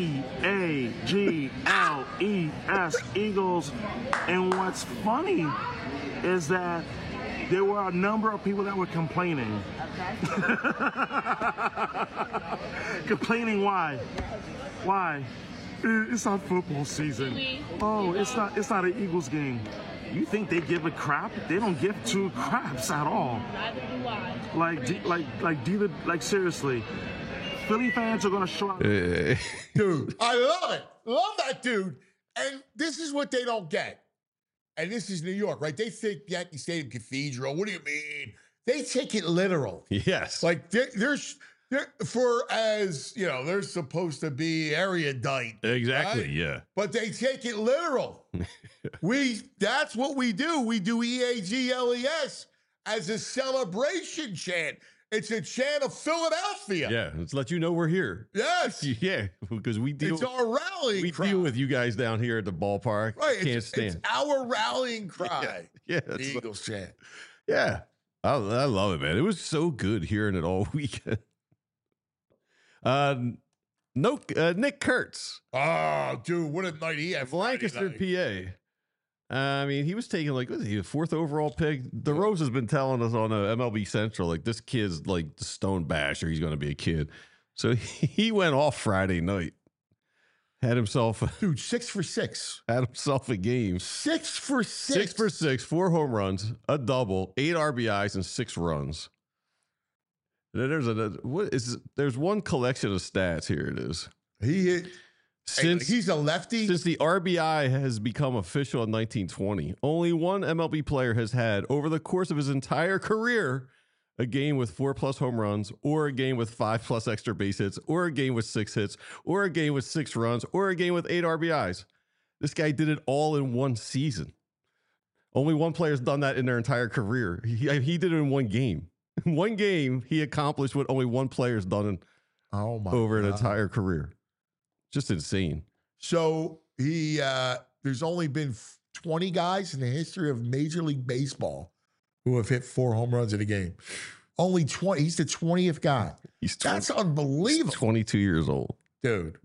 E-A-G-L-E-S, Eagles. And what's funny is that there were a number of people that were complaining. Complaining why? Why? It's not football season. Oh, it's not an Eagles game. You think they give a crap? They don't give two craps at all. Like seriously. Philly fans are gonna show up. Dude, I love it. Love that dude. And this is what they don't get. And this is New York, right? They think Yankee Stadium Cathedral. What do you mean? They take it literal. Yes. Like there's supposed to be erudite. Exactly. Right? Yeah. But they take it literal. That's what we do. We do EAGLES as a celebration chant. It's a chant of Philadelphia. Yeah. Let's let you know we're here. Yes. Yeah. Because we deal. It's our rallying cry. We deal with you guys down here at the ballpark. Right. Can't stand. It's our rallying cry. Yeah. The Eagles chant. Yeah. I love it, man. It was so good hearing it all weekend. Nick Kurtz. Oh, dude, what a night he had. Lancaster, PA. I mean, he was taking like, was he a 4th overall pick? DeRose has been telling us on MLB Central, like this kid's like the stone basher. He's going to be a kid. So he went off Friday night. Had himself, dude, 6 for 6. Had himself a game. 6 for 6. 6 for 6, 4 home runs, a double, 8 RBIs, and 6 runs. And then there's one collection of stats here. It is. He hit. He's a lefty. Since the RBI has become official in 1920, only one MLB player has had, over the course of his entire career, a game with 4+ home runs, or a game with 5+ extra base hits, or a game with 6 hits, or a game with 6 runs, or a game with 8 RBIs. This guy did it all in one season. Only one player's done that in their entire career. He did it in one game. In one game, he accomplished what only one player's done over an entire career. Just insane. So there's only been 20 guys in the history of Major League Baseball who have hit 4 home runs in a game. Only 20. He's the 20th guy. That's unbelievable. He's 22 years old, dude.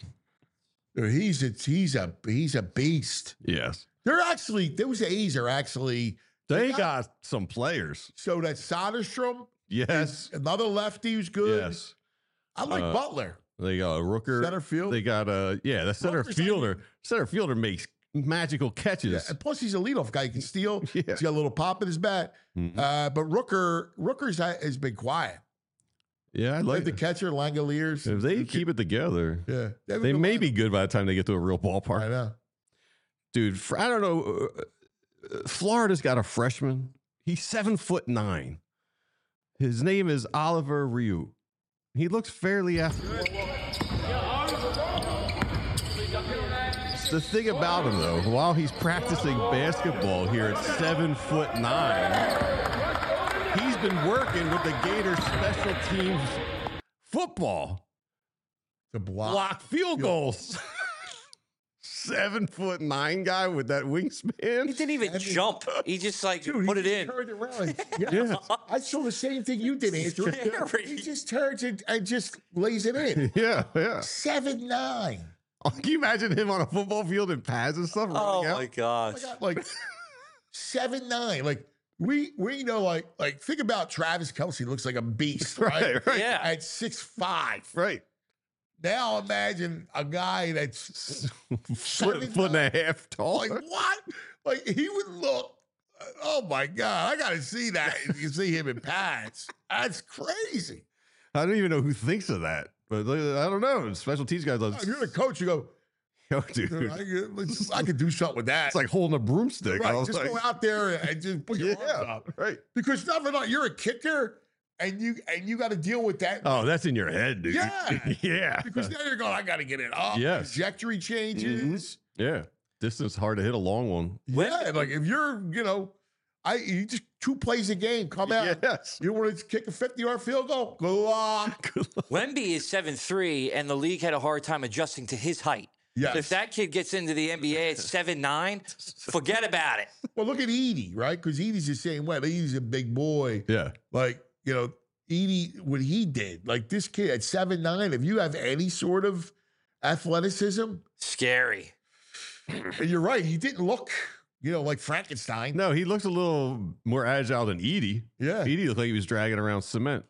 He's a beast. Yes. Those A's are actually. They got some players. So that's Soderstrom. Yes. Another lefty who's good. Yes. I like Butler. They got a Rooker. Center field. They got the center fielder. Center fielder makes magical catches. Yeah, and plus he's a leadoff guy. He can steal. Yeah. He's got a little pop in his bat. Mm-hmm. But Rooker's has been quiet. Yeah, I like the catcher, Langoliers. If they keep it together, yeah, they may be good by the time they get to a real ballpark. I know. Dude, I don't know. Florida's got a freshman. He's 7'9". His name is Oliver Ryu. He looks fairly athletic. The thing about him, though, while he's practicing basketball here at 7'9", he's been working with the Gators special teams football to block field goals. 7'9" guy with that wingspan. He didn't even jump. He just put it in. Turned around. Yeah. I saw the same thing you did, Andrew. He just turns and just lays it in. Yeah. 7'9". Can you imagine him on a football field in pads and stuff? Oh my gosh! Like 7'9". Like we know like think about Travis Kelce looks like a beast, right? Right. Yeah. At 6'5". Right. Now imagine a guy that's foot and a half tall. Like what? Like he would look. Oh my God! I got to see that. You see him in pads. That's crazy. I don't even know who thinks of that, but I don't know. Special teams guys. If you're the coach, you go, yo, dude, I could do something with that. It's like holding a broomstick. Right. Just go out there and just put your arms up. Right. Because you're a kicker. And you got to deal with that. Oh, that's in your head, dude. Yeah. Yeah. Because now you're going, I got to get it up. Yes. Trajectory changes. Yeah. Distance hard to hit a long one. Yeah, like if you're, you just 2 plays a game, come out. Yes. You want to kick a 50-yard field goal? Good luck. Wemby is 7'3", and the league had a hard time adjusting to his height. Yes. If that kid gets into the NBA at 7'9", forget about it. Well, look at Edie, right? Because Edie's the same way. Edie's a big boy. Yeah. Like, Edie, what he did, like this kid at 7'9", if you have any sort of athleticism. Scary. And you're right. He didn't look, like Frankenstein. No, he looks a little more agile than Edie. Yeah. Edie looked like he was dragging around cement.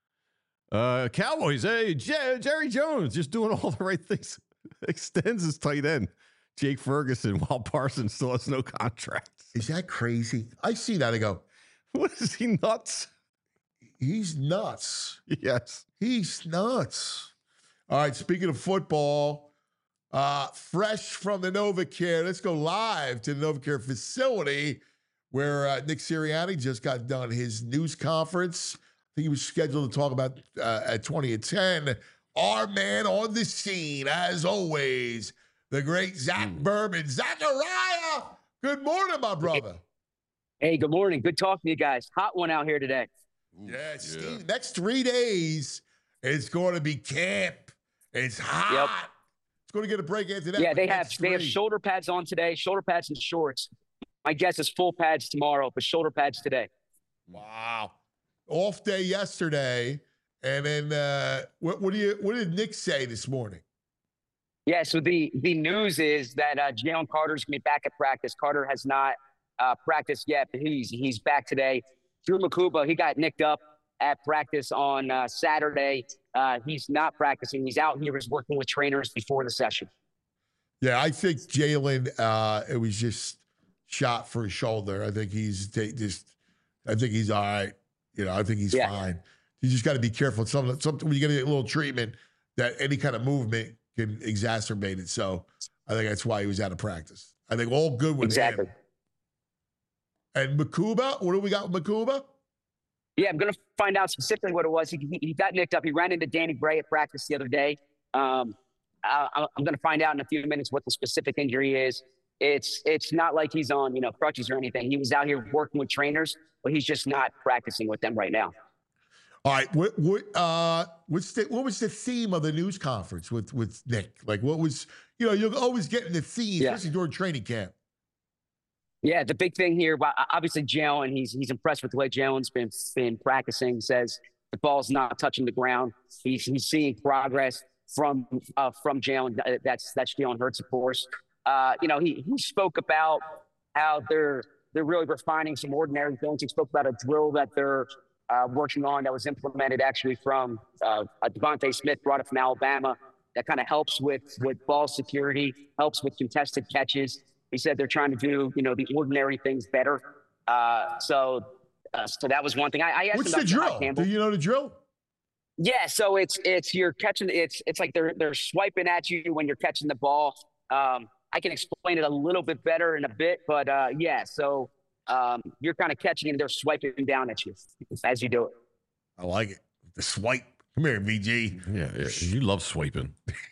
Cowboys, hey, Jerry Jones just doing all the right things. Extends his tight end, Jake Ferguson, while Parsons still has no contract. Is that crazy? I see that. I go, What is he nuts? he's nuts. Yes. He's nuts. All right, speaking of football, fresh from the NovaCare, let's go live to the NovaCare facility where Nick Sirianni just got done his news conference. I think he was scheduled to talk about at 20 at 10. Our man on the scene, as always, the great Zach Berman. Zachariah, good morning, my brother. Hey, good morning. Good talking to you guys. Hot one out here today. Yeah, Steve, next 3 days, it's going to be camp. It's hot. Yep. It's going to get a break into that. Yeah, they have shoulder pads on today, shoulder pads and shorts. My guess is full pads tomorrow, but shoulder pads today. Wow. Off day yesterday. And then what did Nick say this morning? Yeah, so the news is that Jalen Carter's going to be back at practice. Carter has not practiced yet, but he's back today. Drew Makuba, he got nicked up at practice on Saturday. He's not practicing. He's out here. He's working with trainers before the session. Yeah, I think Jalen, it was just shot for his shoulder. I think he's I think he's all right. I think he's fine. You just got to be careful. Something when you get a little treatment, that any kind of movement can exacerbate it. So I think that's why he was out of practice. I think all good with him. And Makuba, what do we got with Makuba? Yeah, I'm going to find out specifically what it was. He got nicked up. He ran into Danny Bray at practice the other day. I'm going to find out in a few minutes what the specific injury is. It's not like he's on crutches or anything. He was out here working with trainers, but he's just not practicing with them right now. All right, what was the theme of the news conference with Nick? Like, what was you'll always get in the theme, especially during training camp. Yeah, the big thing here, obviously Jalen, he's impressed with the way Jalen's been practicing. Says the ball's not touching the ground. He's seeing progress from Jalen. That's Jalen Hurts, of course. He spoke about how they're really refining some ordinary things. He spoke about a drill that they're working on that was implemented actually from Devontae Smith, brought it from Alabama, that kind of helps with ball security, helps with contested catches. He said they're trying to do, the ordinary things better. So that was one thing. I asked What's him the drill? Do you know the drill? Yeah, so it's you're catching. It's like they're swiping at you when you're catching the ball. I can explain it a little bit better in a bit, but so you're kind of catching and they're swiping down at you as you do it. I like it. The swipe. Come here, VG. Yeah. You love swiping.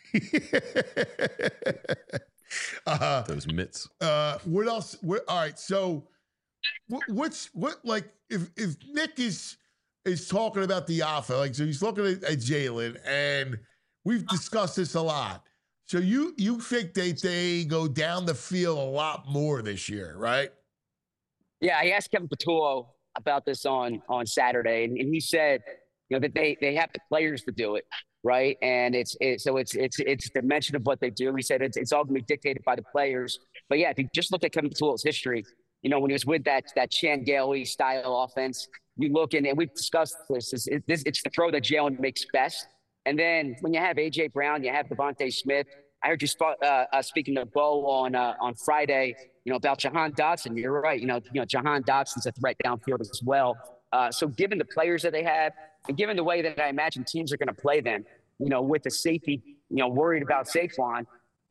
Those mitts. What else? All right. So what's if Nick is talking about the offense, like, so he's looking at Jalen, and we've discussed this a lot. So you think they go down the field a lot more this year, right? Yeah, I asked Kevin Patullo about this on Saturday, and he said, that they have the players to do it, right? And it's the dimension of what they do. He said it's all going to be dictated by the players. But yeah, if you just look at Kevin Patullo's history, when he was with that Chan Gailey style offense, you look and we've discussed this. It's the throw that Jalen makes best. And then when you have A.J. Brown, you have Devontae Smith. I heard you speaking to Bo on Friday, about Jahan Dotson. You're right. Jahan Dotson's a threat downfield as well. So given the players that they have, and given the way that I imagine teams are going to play them, with the safety, worried about Saquon,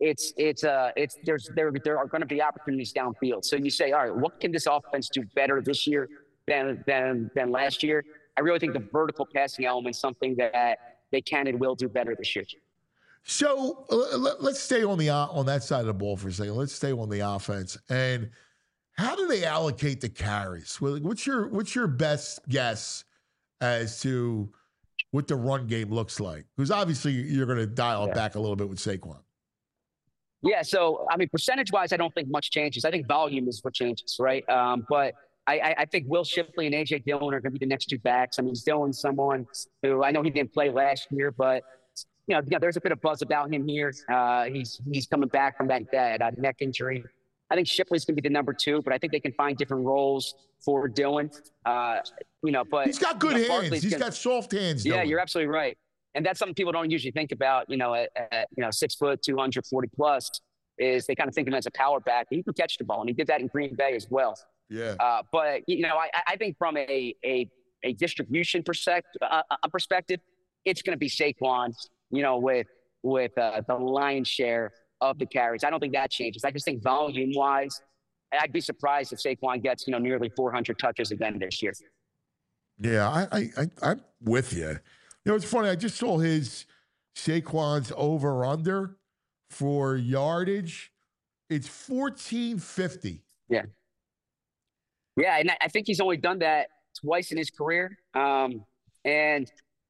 there are going to be opportunities downfield. So you say, all right, what can this offense do better this year than last year? I really think the vertical passing element is something that they can and will do better this year. So let's stay on that side of the ball for a second. Let's stay on the offense. And how do they allocate the carries? What's your best guess as to what the run game looks like? Because obviously you're going to dial it back a little bit with Saquon. Yeah, so, I mean, percentage-wise, I don't think much changes. I think volume is what changes, right? But I think Will Shipley and A.J. Dillon are going to be the next two backs. I mean, Dillon's someone who I know he didn't play last year, but, there's a bit of buzz about him here. He's coming back from that neck injury. I think Shipley's going to be the number two, but I think they can find different roles for Dillon. But he's got good hands. He's got soft hands. Yeah, you're absolutely right. And that's something people don't usually think about, at 6 foot, 240 plus, is they kind of think of him as a power back. He can catch the ball, and he did that in Green Bay as well. Yeah. But, I think from a distribution perspective, it's going to be Saquon, with the lion's share of the carries. I don't think that changes. I just think volume-wise, I'd be surprised if Saquon gets, nearly 400 touches again this year. Yeah, I'm with you. It's funny. I just saw Saquon's over/under for yardage. It's 1450. Yeah. Yeah, and I think he's only done that twice in his career. I think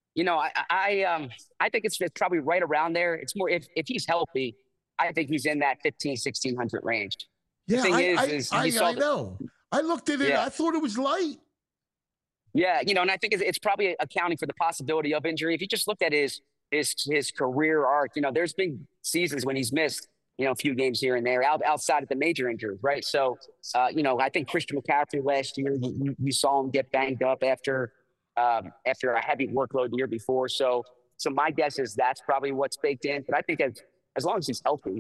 it's probably right around there. It's more if he's healthy, I think he's in that 1,600 range. Yeah, I know. I looked at it. Yeah. I thought it was light. Yeah, and I think it's probably accounting for the possibility of injury. If you just looked at his career arc, there's been seasons when he's missed, a few games here and there outside of the major injuries, right? So, I think Christian McCaffrey last year, you saw him get banged up after a heavy workload the year before. So my guess is that's probably what's baked in. But I think as long as he's healthy,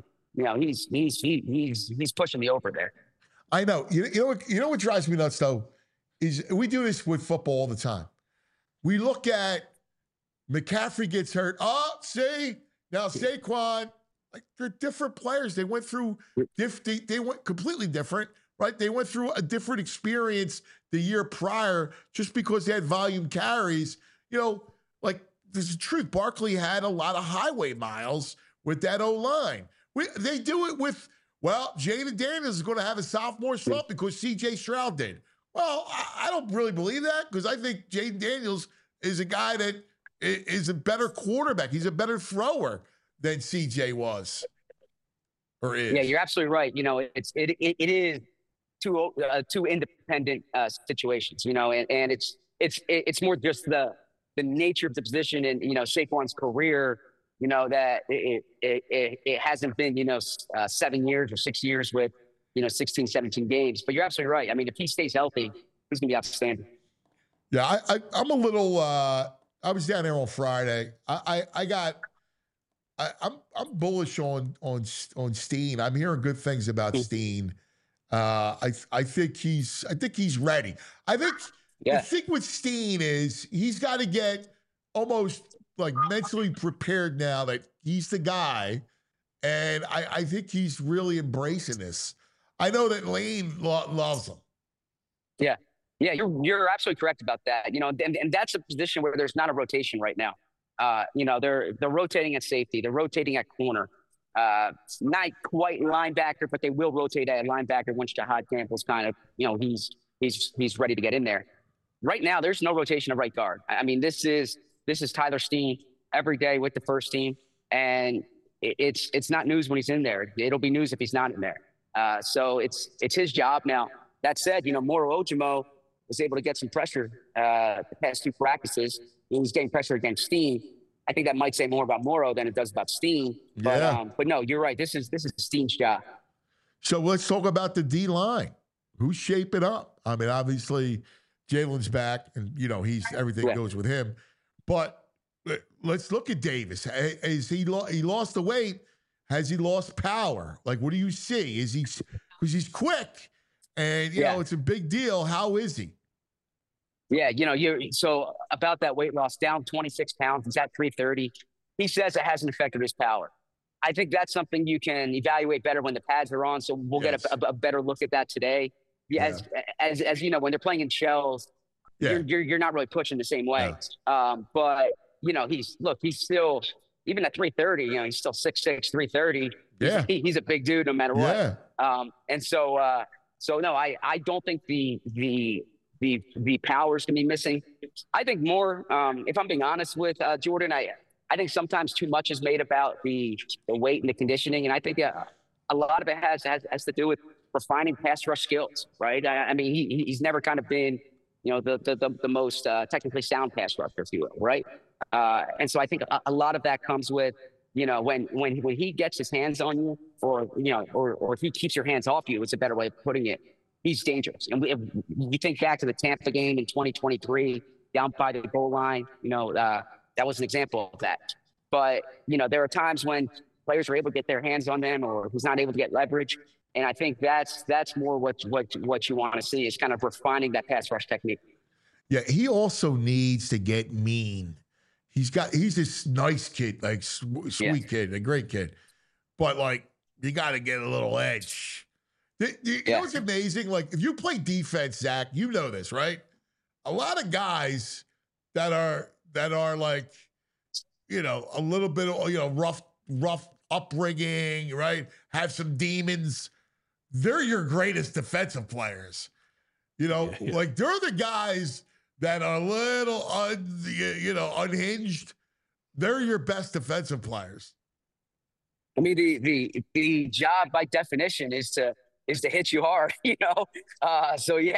he's pushing me over there. I know. You know what drives me nuts though? Is we do this with football all the time. We look at McCaffrey gets hurt. Oh, see? Now Saquon, like they're different players. They went through they went completely different, right? They went through a different experience the year prior just because they had volume carries. Like there's the truth. Barkley had a lot of highway miles with that O-line. They do it with, Jaden Daniels is going to have a sophomore slump because C.J. Stroud did. Well, I don't really believe that because I think Jaden Daniels is a guy that is a better quarterback. He's a better thrower than CJ was or is. Yeah, you're absolutely right. It is two independent situations. And it's more just the nature of the position and Saquon's career. That it hasn't been 7 years or 6 years with 16, 17 games. But you're absolutely right. I mean, if he stays healthy, he's going to be outstanding. Yeah, I'm a little. I was down there on Friday. I'm bullish on Steen. I'm hearing good things about Steen. I think he's ready. I think the thing with Steen is he's got to get almost like mentally prepared now that he's the guy, and I think he's really embracing this. I know that Lane loves him. Yeah, you're absolutely correct about that. And that's a position where there's not a rotation right now. They're rotating at safety, they're rotating at corner. Not quite linebacker, but they will rotate at linebacker once Jahad Campbell's kind of he's ready to get in there. Right now, there's no rotation of right guard. I mean, this is Tyler Steen every day with the first team, and it's not news when he's in there. It'll be news if he's not in there. So it's his job now. That said, Moro Ojomo was able to get some pressure the past two practices. He was getting pressure against Steen. I think that might say more about Moro than it does about Steen. But no, you're right. This is Steen's job. So let's talk about the D line. Who's shaping up? I mean, obviously Jalen's back, and everything goes with him. But let's look at Davis. Is he lost the weight? Has he lost power? Like, what do you see? Is he, because he's quick and, it's a big deal. How is he? Yeah. So about that weight loss, down 26 pounds, he's at 330. He says it hasn't affected his power. I think that's something you can evaluate better when the pads are on. So we'll get a better look at that today. As when they're playing in shells, you're not really pushing the same way. But he's still even at 330, he's still 6'6", 330. Yeah. He's a big dude no matter what. Yeah. And so no, I don't think the powers can be missing. I think more, if I'm being honest with Jordan, I think sometimes too much is made about the weight and the conditioning, and I think a lot of it has to do with refining pass rush skills, right? I mean, he's never kind of been, the most technically sound pass rusher, if you will, right? And so I think a lot of that comes with, when he gets his hands on you, or if he keeps your hands off you, it's a better way of putting it. He's dangerous. And we think back to the Tampa game in 2023, down by the goal line. That was an example of that. But there are times when players are able to get their hands on them, or he's not able to get leverage. And I think that's more what you want to see, is kind of refining that pass rush technique. Yeah, he also needs to get mean. He's this nice kid, like sweet kid, a great kid, but like you got to get a little edge. You know what's amazing? Like if you play defense, Zach, you know this, right? A lot of guys that are like, a little bit of rough upbringing, right? Have some demons. They're your greatest defensive players. Like they're the guys that are a little unhinged. They're your best defensive players. I mean, the job by definition is to hit you hard, So you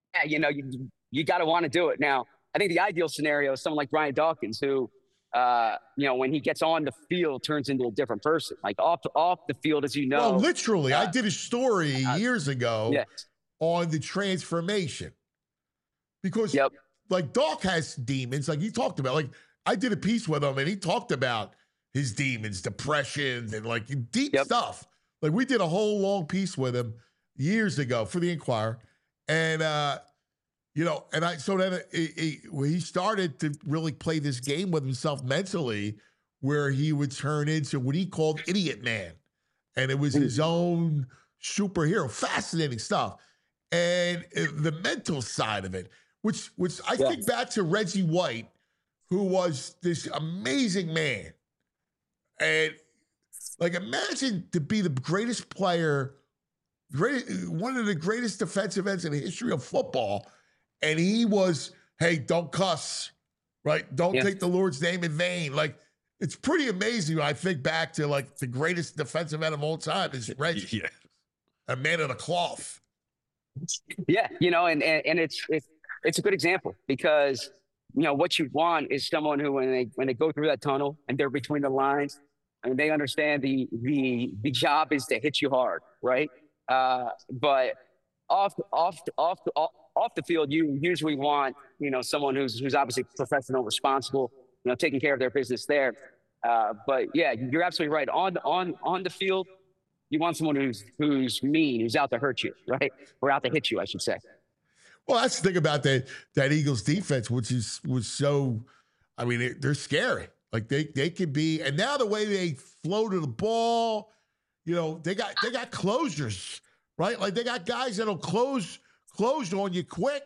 got to want to do it. Now, I think the ideal scenario is someone like Brian Dawkins, who, when he gets on the field, turns into a different person. Like off the field, as you know. Well, literally, I did a story years ago on the transformation, because like Doc has demons, like he talked about. Like I did a piece with him, and he talked about his demons, depression, and like deep stuff. Like we did a whole long piece with him years ago for the Inquirer, and he started to really play this game with himself mentally, where he would turn into what he called Idiot Man, and it was his own superhero. Fascinating stuff, and the mental side of it, which I think back to Reggie White, who was this amazing man. And like, imagine to be the greatest player, one of the greatest defensive ends in the history of football. And he was, hey, don't cuss, right? Don't take the Lord's name in vain. Like, it's pretty amazing when I think back to like the greatest defensive end of all time is Reggie, a man of the cloth. Yeah, and it's a good example, because what you want is someone who, when they go through that tunnel and they're between the lines, and they understand the job is to hit you hard, right? But off the field, you usually want someone who's obviously professional, responsible, taking care of their business there. But yeah, you're absolutely right. On the field, you want someone who's mean, who's out to hurt you, right? Or out to hit you, I should say. Well, that's the thing about that Eagles defense, which was so, I mean, they're scary. Like they can be, and now the way they flow to the ball, they got closures, right? Like they got guys that'll close on you quick.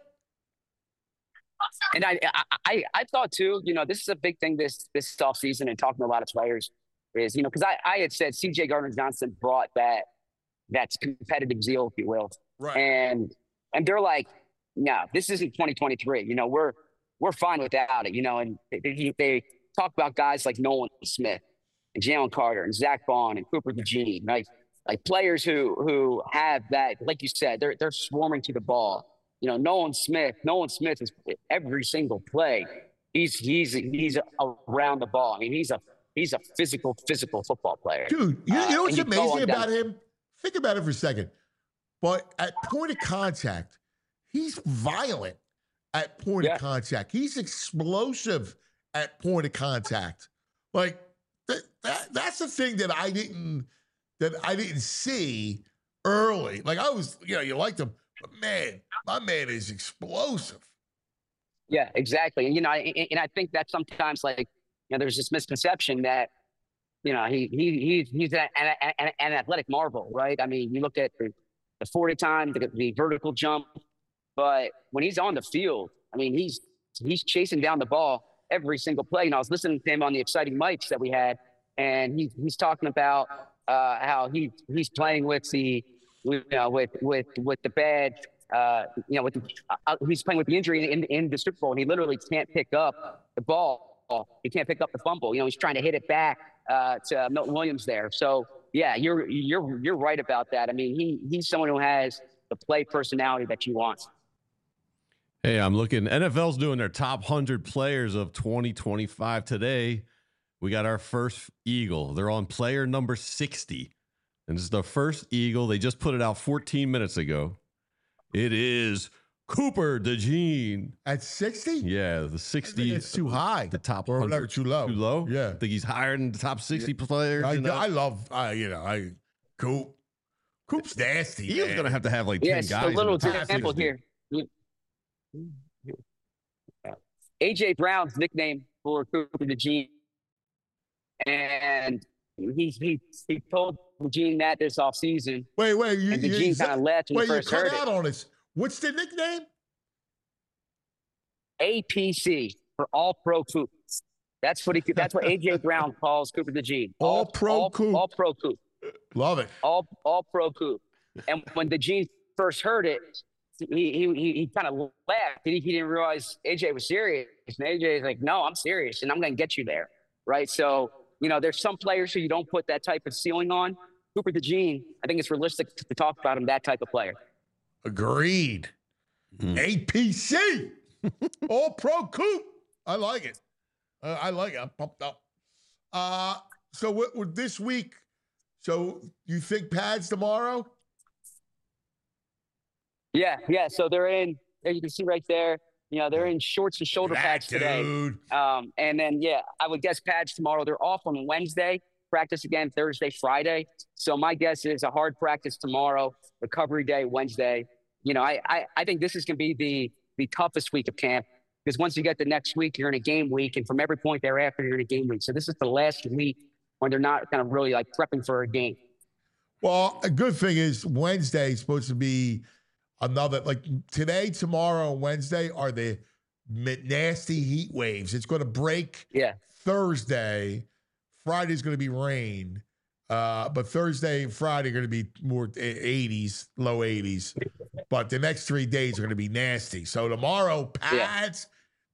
And I thought too, this is a big thing this offseason, and talking to a lot of players is, because I had said CJ Gardner-Johnson brought that competitive zeal, if you will. Right. And they're like, no, this isn't 2023. We're fine without it, and they talk about guys like Nolan Smith and Jalen Carter and Zach Bond and Cooper DeJean, right? Like players who have that, like you said, they're swarming to the ball. Nolan Smith is every single play. He's around the ball. I mean, he's a physical football player. Dude, you know what's amazing about him? Think about it for a second. But at point of contact, he's violent at point of contact. He's explosive at point of contact. Like that's the thing that I didn't see early. Like I was, you liked him, but man, my man is explosive. Yeah, exactly. And I think that sometimes, like, there's this misconception that he's an athletic marvel, right? I mean, you look at the 40 time, the vertical jump, but when he's on the field, I mean, he's chasing down the ball every single play. I was listening to him on the exciting mics that we had, and he's talking about how he's playing with the with the bad he's playing with the injury in the Super Bowl, and he literally can't pick up the ball. He can't pick up the fumble. He's trying to hit it back to Milton Williams there. So yeah, you're right about that. I mean, he's someone who has the play personality that you want. Hey, I'm looking. NFL's doing their top 100 players of 2025 today. We got our first Eagle. They're on player number 60. And this is the first Eagle. They just put it out 14 minutes ago. It is Cooper DeJean. At 60? Yeah, the 60. It's too high. The top or 100. Too low. Too low? Yeah. I think he's higher than the top 60 players. I love, Coop. Coop's nasty. Eagles going to have like 10 guys. Yes, a little in the top example 60. here. A.J. Brown's nickname for Cooper DeJean, and he told DeJean that this offseason. Wait, and DeJean kind of laughed when he first heard it. Cut out on us. What's the nickname? APC for All Pro Coop. That's what A.J. Brown calls Cooper DeJean. All Pro Coop. All Pro Coop. Love it. All Pro Coop. And when DeJean first heard it, he kind of laughed. He didn't realize AJ was serious. And AJ is like, no, I'm serious, and I'm going to get you there, right? So, there's some players who you don't put that type of ceiling on. Cooper DeJean, I think it's realistic to talk about him, that type of player. Agreed. APC. All Pro Coop. I like it. I'm pumped up. So what this week, so you think pads tomorrow? Yeah. So they're in, you can see right there, they're in shorts and shoulder pads today. And then, I would guess pads tomorrow. They're off on Wednesday, practice again Thursday, Friday. So my guess is a hard practice tomorrow, recovery day Wednesday. I think this is going to be the toughest week of camp, because once you get the next week, you're in a game week. And from every point thereafter, you're in a game week. So this is the last week when they're not kind of really like prepping for a game. Well, a good thing is Wednesday is supposed to be another, like today, tomorrow, and Wednesday are the nasty heat waves. It's going to break Thursday. Friday's going to be rain. But Thursday and Friday are going to be more 80s, low 80s. But the next 3 days are going to be nasty. So tomorrow, pads,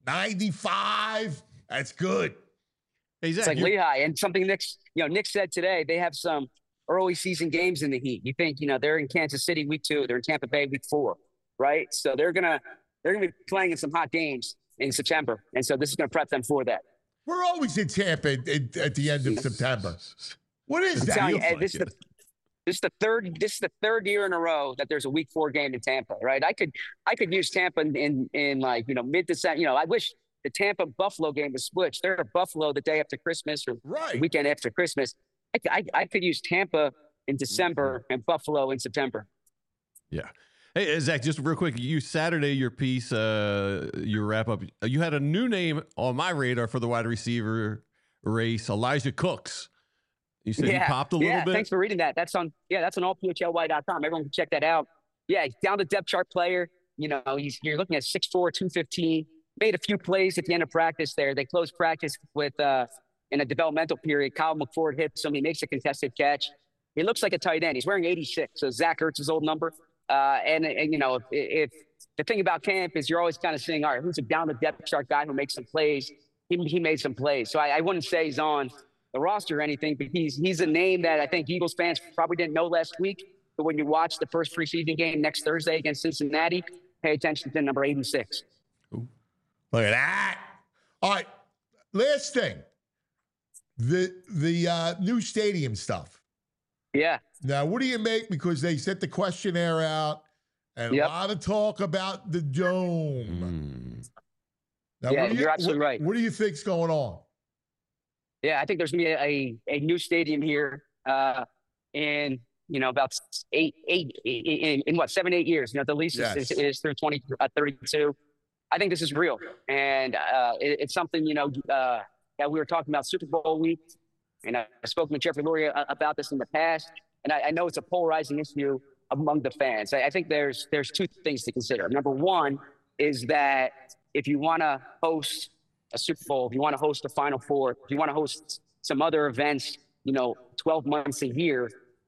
95. That's good. Hey, Zach, it's like Lehigh. And something Nick said today, they have some early season games in the heat. You think, they're in Kansas City week 2, they're in Tampa Bay week 4, right? So they're gonna be playing in some hot games in September, and so this is gonna prep them for that. We're always in Tampa at the end of September. What is that? This is the third year in a row that there's a week 4 game in Tampa, right? I could use Tampa in mid-December. I wish the Tampa Buffalo game was switched. They're at Buffalo the day after Christmas or the weekend after Christmas. I could use Tampa in December and Buffalo in September. Yeah. Hey, Zach, just real quick, Saturday, your piece, your wrap up, you had a new name on my radar for the wide receiver race, Elijah Cooks. You said he popped a little bit? Yeah, thanks for reading that. That's on allphlY.com. Everyone can check that out. Yeah, he's down to depth chart player. You're looking at 6'4", 215. Made a few plays at the end of practice there. They closed practice with in a developmental period. Kyle McFord hits him. He makes a contested catch. He looks like a tight end. He's wearing 86, so Zach Ertz's old number. And if the thing about camp is you're always kind of saying, all right, who's a down the depth chart guy who makes some plays? He made some plays. So I wouldn't say he's on the roster or anything, but he's a name that I think Eagles fans probably didn't know last week. But when you watch the first preseason game next Thursday against Cincinnati, pay attention to number 86. Ooh. Look at that. All right. Last thing. The new stadium stuff. Yeah. Now, what do you make? Because they sent the questionnaire out and a lot of talk about the dome. Now, you're absolutely right. What do you think's going on? Yeah, I think there's going to be a new stadium here in about 7-8 years. The lease is through 2032. I think this is real, and it's something that we were talking about Super Bowl week, and I've spoken to Jeffrey Lurie about this in the past, and I know it's a polarizing issue among the fans. I think there's two things to consider. Number one is that if you want to host a Super Bowl, if you want to host a Final Four, if you want to host some other events, 12 months a year,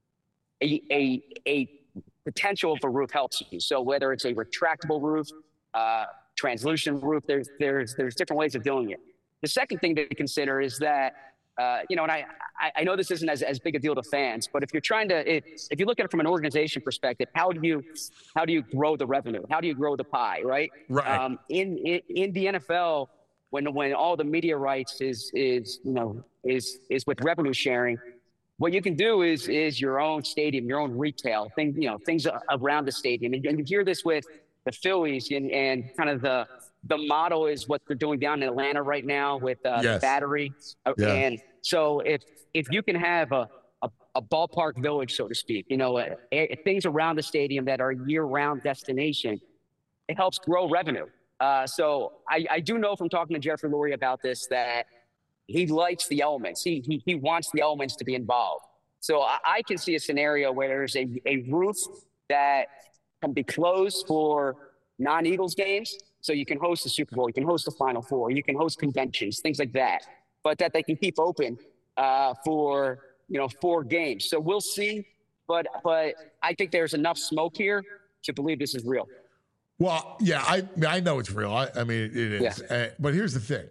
a potential of a roof helps you. So whether it's a retractable roof, translucent roof, there's different ways of doing it. The second thing to consider is that, and I know this isn't as big a deal to fans, but if you're trying to, if you look at it from an organization perspective, how do you grow the revenue? How do you grow the pie, right? Right. In the NFL, when all the media rights is with revenue sharing, what you can do is your own stadium, your own retail things around the stadium. And you hear this with the Phillies and kind of the model is what they're doing down in Atlanta right now with the Battery. Yeah. And so if you can have a ballpark village, so to speak, things around the stadium that are year-round destination, it helps grow revenue. So I do know from talking to Jeffrey Lurie about this that he likes the elements. He wants the elements to be involved. So I can see a scenario where there's a roof that can be closed for non-Eagles games. So you can host the Super Bowl, you can host the Final Four, you can host conventions, things like that. But that they can keep open for 4 games. So we'll see. But I think there's enough smoke here to believe this is real. Well, yeah, I know it's real. I mean, it is. Yeah. But here's the thing.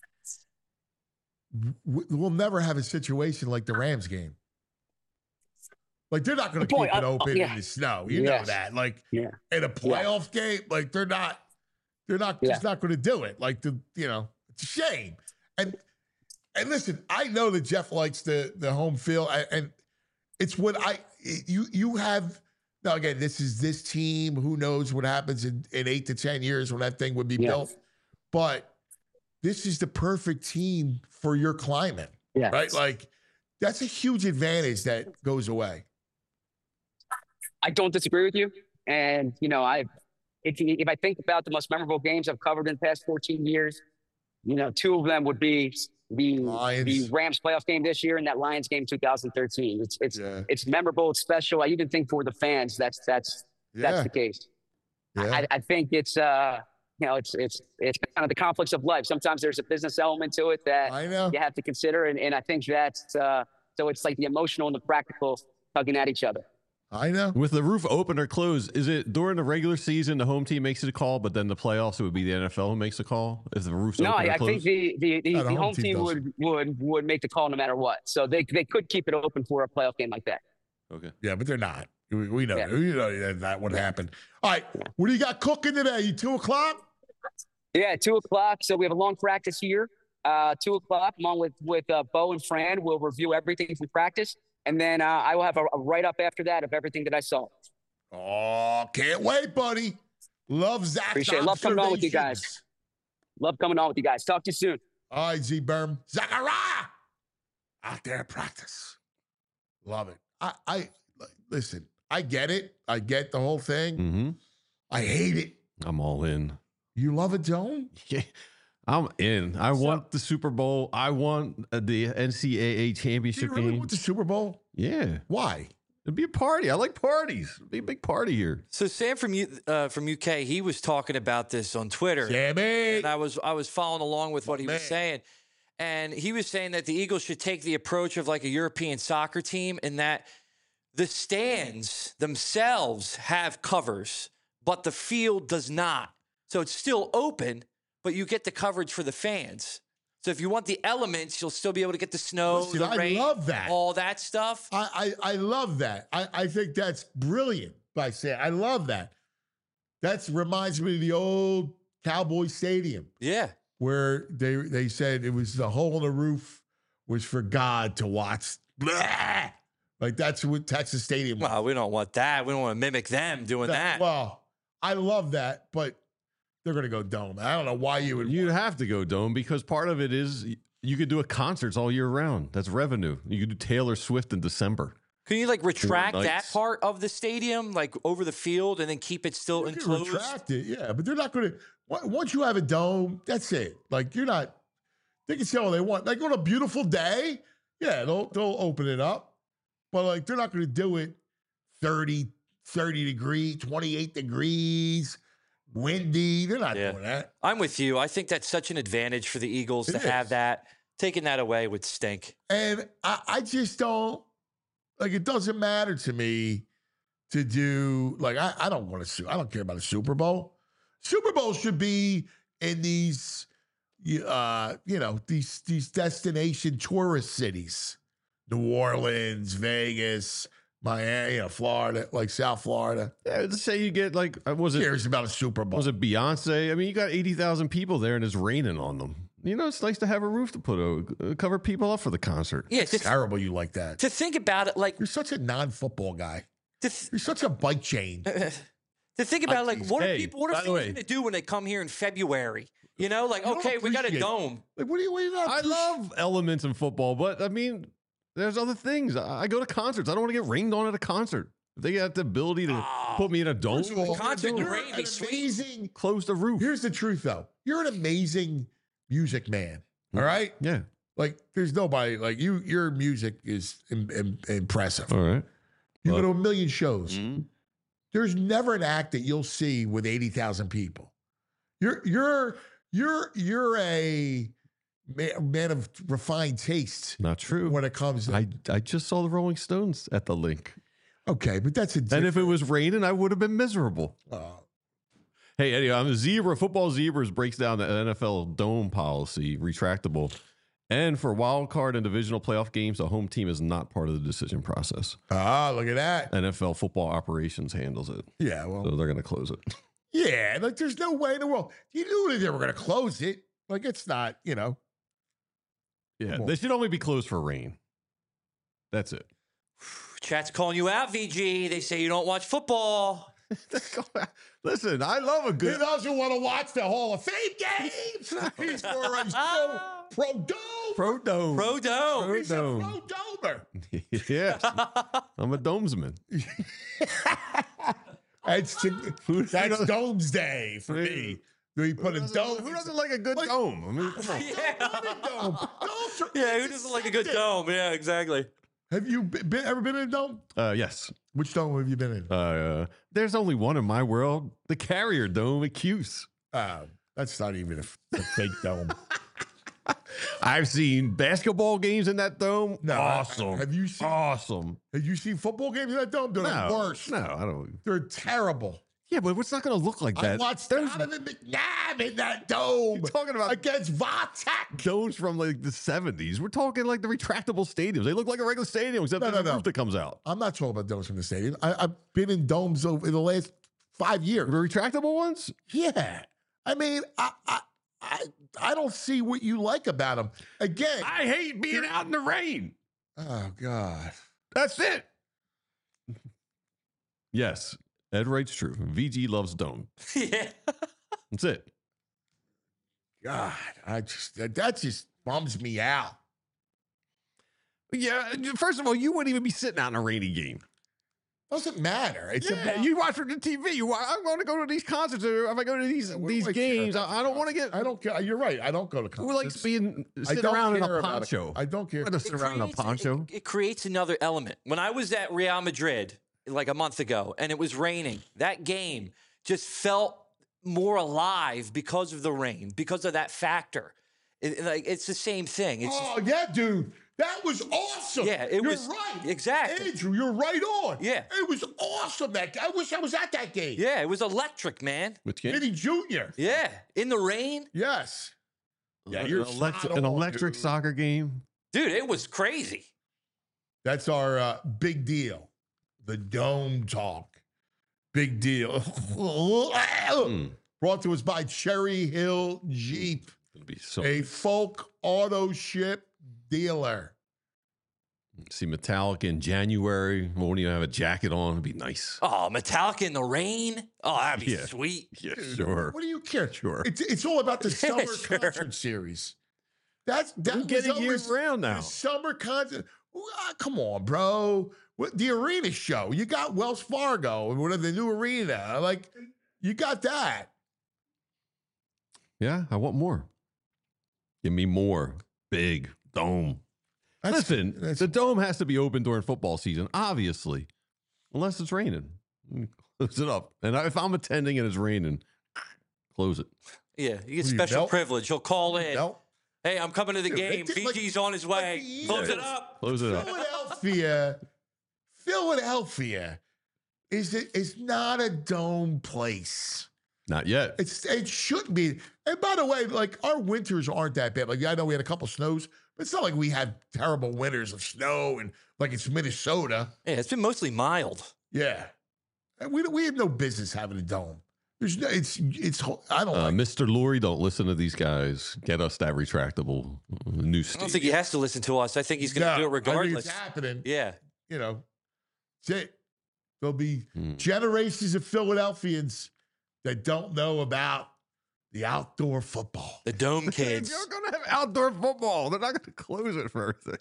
We'll never have a situation like the Rams game. Like, they're not going to keep it open in the snow. You know that. Like, in a playoff game, like, they're just not going to do it. Like, it's a shame. And listen, I know that Jeff likes the home field, and it's what you have. Now, again, this is this team. Who knows what happens in 8 to 10 years when that thing would be built. But this is the perfect team for your climate, right? Like, that's a huge advantage that goes away. I don't disagree with you. And, if I think about the most memorable games I've covered in the past 14 years, 2 of them would be the Rams playoff game this year and that Lions game 2013. It's memorable. It's special. I even think for the fans, that's the case. Yeah. I think it's it's kind of the conflicts of life. Sometimes there's a business element to it that you have to consider, and I think that's so it's like the emotional and the practical tugging at each other. I know. With the roof open or closed, is it during the regular season the home team makes it a call, but then the playoffs it would be the NFL who makes the call if the roof's open or closed? No, I think the home team would make the call no matter what. So they could keep it open for a playoff game like that. Okay. Yeah, but they're not. We know. Yeah. We know that would happen. All right. What do you got cooking today? You 2:00? Yeah, 2:00. So we have a long practice here. 2:00. I'm on with Bo and Fran. We'll review everything from practice. And then I will have a write-up after that of everything that I saw. Oh, can't wait, buddy. Love Zach's Appreciate it. Love coming on with you guys. Love coming on with you guys. Talk to you soon. All right, Z-Berm. Zachariah! Out there at practice. Love it. I listen, I get it. I get the whole thing. Mm-hmm. I hate it. I'm all in. You love a dome? Yeah. I'm in. I want the Super Bowl. I want the NCAA championship you really game. Want the Super Bowl? Yeah. Why? It'd be a party. I like parties. It'd be a big party here. So Sam from UK, he was talking about this on Twitter. Sammy. And I was following along with what he was saying. And he was saying that the Eagles should take the approach of like a European soccer team in that the stands themselves have covers, but the field does not. So it's still open, but you get the coverage for the fans. So if you want the elements, you'll still be able to get the snow, the rain, I love that. all that stuff. I love that. I think that's brilliant by saying. I love that. That reminds me of the old Cowboy Stadium. Yeah. Where they said it was the hole in the roof was for God to watch. Blah! Like that's what Texas Stadium was. Well, we don't want that. We don't want to mimic them doing that. Well, I love that, but they're going to go dome. I don't know why you would. You'd have to go dome because part of it is you could do concerts all year round. That's revenue. You could do Taylor Swift in December. Can you like retract that part of the stadium, like over the field, and then keep it still enclosed? Retract it, yeah, but they're not going to. Once you have a dome, that's it. Like you're not. They can say all they want. Like on a beautiful day, yeah, they'll open it up, but like they're not going to do it 30 degrees, 28 degrees. Windy. They're not doing that. I'm with you. I think that's such an advantage for the Eagles to have that. Taking that away would stink. And I just don't, like, it doesn't matter to me to do, like, I don't want to, I don't care about a Super Bowl. Super Bowl should be in these, these destination tourist cities. New Orleans, Vegas, Miami, Florida, like South Florida. Yeah, let's say you get like, Who cares about a Super Bowl? Was it Beyonce? I mean, you got 80,000 people there and it's raining on them. It's nice to have a roof to cover people up for the concert. Yeah, it's terrible you like that. To think about it, like, you're such a non-football guy. You're such a bike chain. To think about it, like, what are people going to do when they come here in February? Okay, we got a dome. Like, what do you not? I love elements in football, but I mean, there's other things. I go to concerts. I don't want to get rained on at a concert. If they got the ability to put me in a dome, concert in the rain, amazing. Close the roof. Here's the truth, though. You're an amazing music man. All right. Yeah. Like, there's nobody like you. Your music is impressive. All right. You go to a million shows. Mm-hmm. There's never an act that you'll see with 80,000 people. You're a man of refined taste. Not true. When it comes to I just saw the Rolling Stones at the Link. Okay, but that's a different... And if it was raining, I would have been miserable. Hey, Eddie, I'm a zebra. Football Zebras breaks down the NFL dome policy, retractable. And for wild card and divisional playoff games, the home team is not part of the decision process. Ah, look at that. NFL Football Operations handles it. Yeah, well. So they're going to close it. Yeah, like there's no way in the world. You knew that they were going to close it. Like it's not, Yeah, they should only be closed for rain. That's it. Chat's calling you out, VG. They say you don't watch football. Listen, I love a good... He doesn't want to watch the Hall of Fame games. He's for a pro dome. Pro dome. Pro dome. He's a pro domer. Yeah. I'm a domesman. That's Dome's Day for me. We put a dome. Who doesn't like a good dome? I mean, come on. Yeah, who doesn't like a good dome? Yeah, exactly. Have you ever been in a dome? Yes. Which dome have you been in? There's only one in my world. The Carrier Dome at Cuse. That's not even a fake dome. I've seen basketball games in that dome. No, awesome. Have you seen Have you seen football games in that dome? They're the worst. No, I don't. They're terrible. Yeah, but it's not going to look like that. I watched Donovan McNabb in that dome. You're talking about against Vatek. Domes from like the 70s. We're talking like the retractable stadiums. They look like a regular stadium except there's a roof that comes out. I'm not talking about domes from the stadium. I've been in domes over the last 5 years. The retractable ones? Yeah. I mean, I don't see what you like about them. Again, I hate being out in the rain. Oh, God. That's it. Yes. Ed Wright's true. VG loves dome. Yeah. That's it. God, that just bums me out. Yeah, first of all, you wouldn't even be sitting out in a rainy game. Doesn't matter. It's you watch it on TV. I want to go to these concerts. Or if I go to these games, I don't want to get. I don't care. You're right. I don't go to concerts. Who likes sitting around in a poncho? I don't care. To sit around in a poncho. It creates another element. When I was at Real Madrid like a month ago and it was raining, that game just felt more alive because of the rain, because of that factor. It's the same thing. Yeah, dude. That was awesome. Yeah, you're right. Exactly. Andrew, you're right on. Yeah. It was awesome. I wish I was at that game. Yeah, it was electric, man. Which game? Vinny Jr. Yeah. In the rain. Yes. Yeah, an electric soccer game. Dude, it was crazy. That's our big deal. The Dome Talk. Big deal. Brought to us by Cherry Hill Jeep. A folk auto ship dealer. See Metallica in January. Won't even have a jacket on. It'd be nice. Oh, Metallica in the rain? Oh, that'd be sweet. Yeah, sure. What do you care? Sure. It's all about the summer concert series. That get it year round now. Summer concert. Come on, bro. The arena show. You got Wells Fargo and whatever the new arena. Like, you got that. Yeah, I want more. Give me more. Big dome. Listen, the dome has to be open during football season, obviously, unless it's raining. Close it up. And if I'm attending and it's raining, close it. Yeah, you get special privilege. You'll call in Hey, I'm coming to the Dude, game. it- like- Fiji's on his way. the Close it Eagles. up. Close it up. Philadelphia is not a dome place. Not yet. It shouldn't be. And by the way, like our winters aren't that bad. Like I know we had a couple snows, but it's not like we had terrible winters of snow and like it's Minnesota. Yeah, it's been mostly mild. Yeah, and we have no business having a dome. There's no. It's. I don't like. Mr. Lurie, don't listen to these guys. Get us that retractable new I stadium. don't think he has to listen to us. I think he's going to do it I think regardless. it's happening. Yeah. You know, there'll be Hmm. generations of Philadelphians that don't know about the outdoor football. The Dome kids. You're going to have outdoor football. They're not going to close it for everything.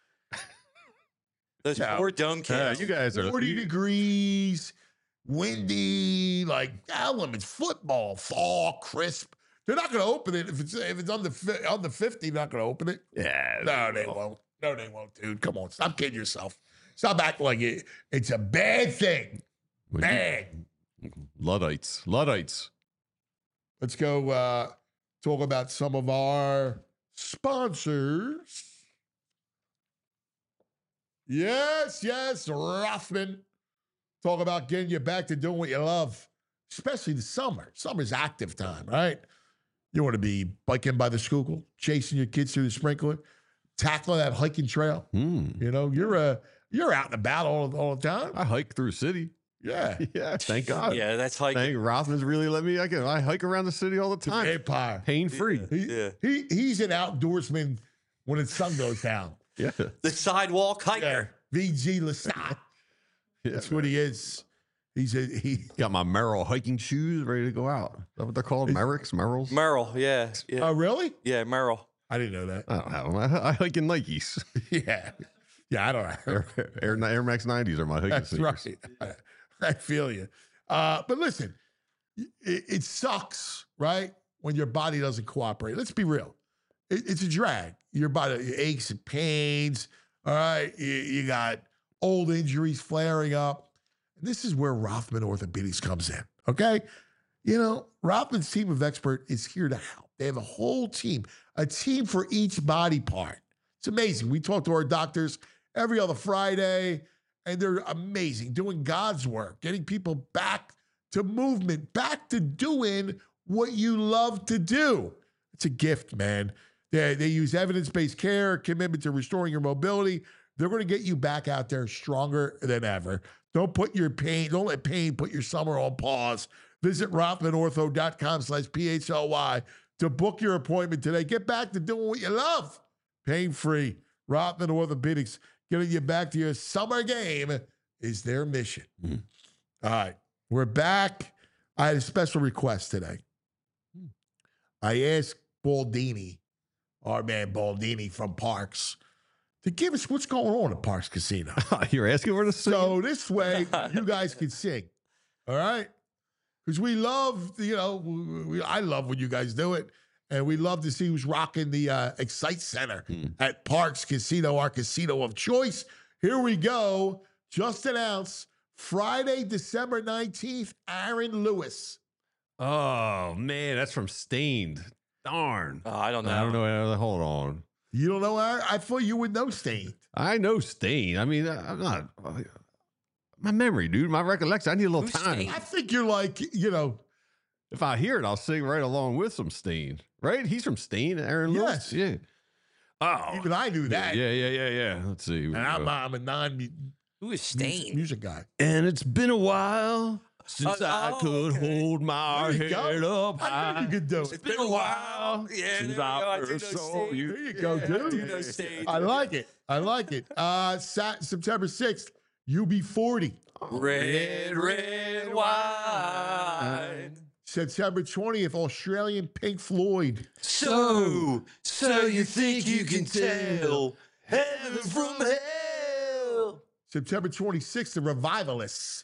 Those Yeah. poor Dome kids. You guys are 40 degrees, windy, like elements, football, fall, crisp. They're not going to open it if it's under 50. They're not going to open it. Yeah. No, they won't. No, they won't, dude. Come on, stop kidding yourself. Stop acting like it's a bad thing. Bad. Luddites. Let's go talk about some of our sponsors. Yes, Rothman. Talk about getting you back to doing what you love, especially the summer. Summer's active time, right? You want to be biking by the Schuylkill, chasing your kids through the sprinkler, tackling that hiking trail. You know, you're out and about all the time. I hike through city. Yeah. Yeah, thank God. Yeah, that's hiking. Thank Rothman's really let me. I hike around the city all the time. Empire. Pain free. He's an outdoorsman when the sun goes down. Yeah. The sidewalk hiker. VG Lestat. That's what he is. He Got my Merrill hiking shoes ready to go out. Is that what they're called? Merricks? Merrills? Merrill, yeah. Oh, really? Yeah, Merrill. I didn't know that. I don't have them. I hike in Nikes. Yeah. Yeah, I don't know. Air Max 90s are my hiking That's sneakers. right. I feel you. But listen, it sucks, right? When your body doesn't cooperate. Let's be real. It's a drag. Your body aches and pains. All right. You got old injuries flaring up. This is where Rothman Orthopedics comes in. Okay. You know, Rothman's team of experts is here to help. They have a whole team, a team for each body part. It's amazing. We talk to our doctors every other Friday, and they're amazing, doing God's work, getting people back to movement, back to doing what you love to do. It's a gift, man. They use evidence-based care, commitment to restoring your mobility. They're going to get you back out there stronger than ever. Don't let pain put your summer on pause. Visit RothmanOrtho.com/PHLY to book your appointment today. Get back to doing what you love. Pain-free. Rothman Orthopedics, getting you back to your summer game is their mission. All right, we're back. I had a special request today. I asked Baldini, our man Baldini from Parks, to give us what's going on at Parks Casino. You're asking for the sing? So this way, you guys can sing. All right? Because we love, I love when you guys do it. And we love to see who's rocking the Excite Center at Parks Casino, our casino of choice. Here we go. Just announced Friday, December 19th, Aaron Lewis. Oh, man, that's from Stained. Darn. Oh, I don't know. I don't know. Hold on. You don't know Aaron? I thought you would know Stained. I know Stained. I mean, I'm not. My memory, dude. My recollection. I need a little Who's time. Stained? I think you're like, If I hear it, I'll sing right along with some Stained. Right? He's from Stained, Aaron Lewis. Yes. Yeah. Oh. even I knew that. Yeah. Let's see. And I'm a non-music Who is Stained? guy. And it's been a while since I oh, could okay. hold my There you go. head up I high. knew you could do It's it. been a while Yeah, since there you go. I I do first know saw Stained. you. There you go, I dude. do know Stained. I like it. September 6th, UB40. Red wine. September 20th, Australian Pink Floyd. So you think you can tell heaven from hell? September 26th, the Revivalists.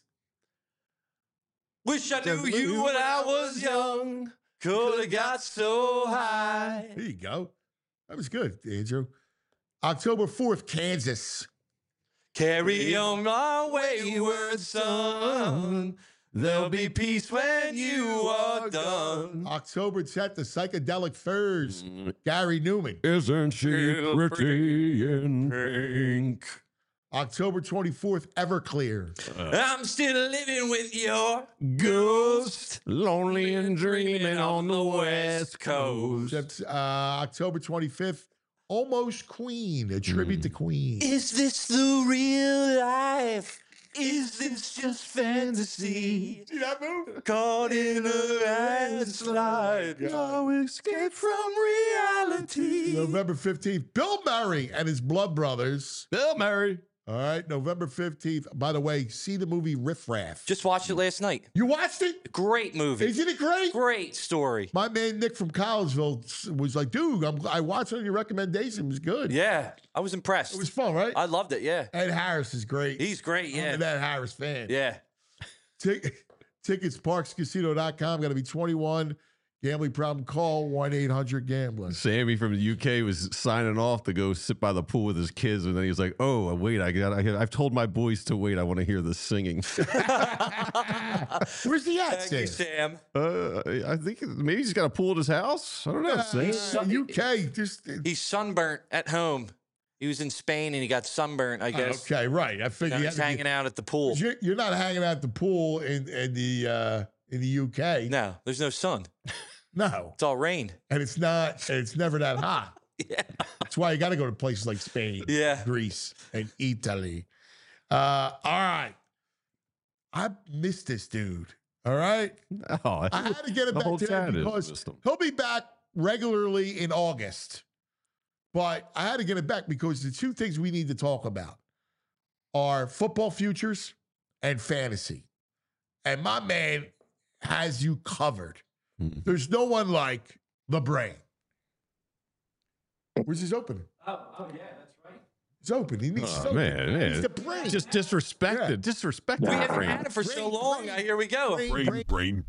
Wish I knew you when I was young. Could have got so high. There you go. That was good, Andrew. October 4th, Kansas. Carry on my wayward son. There'll be peace when you are done. October 10th, the Psychedelic Furs, Gary Newman. Isn't she pretty in pink? October 24th, Everclear. I'm still living with your Ghost, lonely and dreaming on the West Coast. October 25th, Almost Queen, a tribute to Queen. Is this the real life? Is this just fantasy? See that move? Caught in a landslide. No escape from reality. November 15th, Bill Murray and his Blood Brothers. Bill Murray. All right, November 15th. By the way, see the movie Riff Raff. Just watched it last night. You watched it? Great movie. Isn't it great? Great story. My man Nick from Collegeville was like, dude, I watched it on your recommendation. It was good. Yeah, I was impressed. It was fun, right? I loved it, yeah. Ed Harris is great. He's great, I'm yeah. an Ed Harris fan. Yeah. Tickets, parkscasino.com. Got to be 21. Gambling problem, call 1-800-GAMBLER. Sammy from the UK was signing off to go sit by the pool with his kids, and then he was like, "Oh, wait, I've told my boys to wait. I want to hear the singing." Where's he at, Thank you, Sam. I think maybe he's got a pool at his house. I don't know. UK, He's sunburnt at home. He was in Spain and he got sunburnt, I guess. Okay, right. I figured He's hanging out at the pool. You're not hanging out at the pool in the UK. No, there's no sun. No, it's all rain, and it's never that hot. Yeah, that's why you got to go to places like Spain, Greece, and Italy. All right, I missed this dude. All right, I had to get him back today because he'll be back regularly in August. But I had to get it back because the two things we need to talk about are football futures and fantasy. And my man has you covered. There's no one like the brain. Where's his opening? Oh, yeah, that's right. It's open. He needs man. the brain. Just disrespected. Yeah. Disrespected. We haven't had it for so long. Here we go. Brain.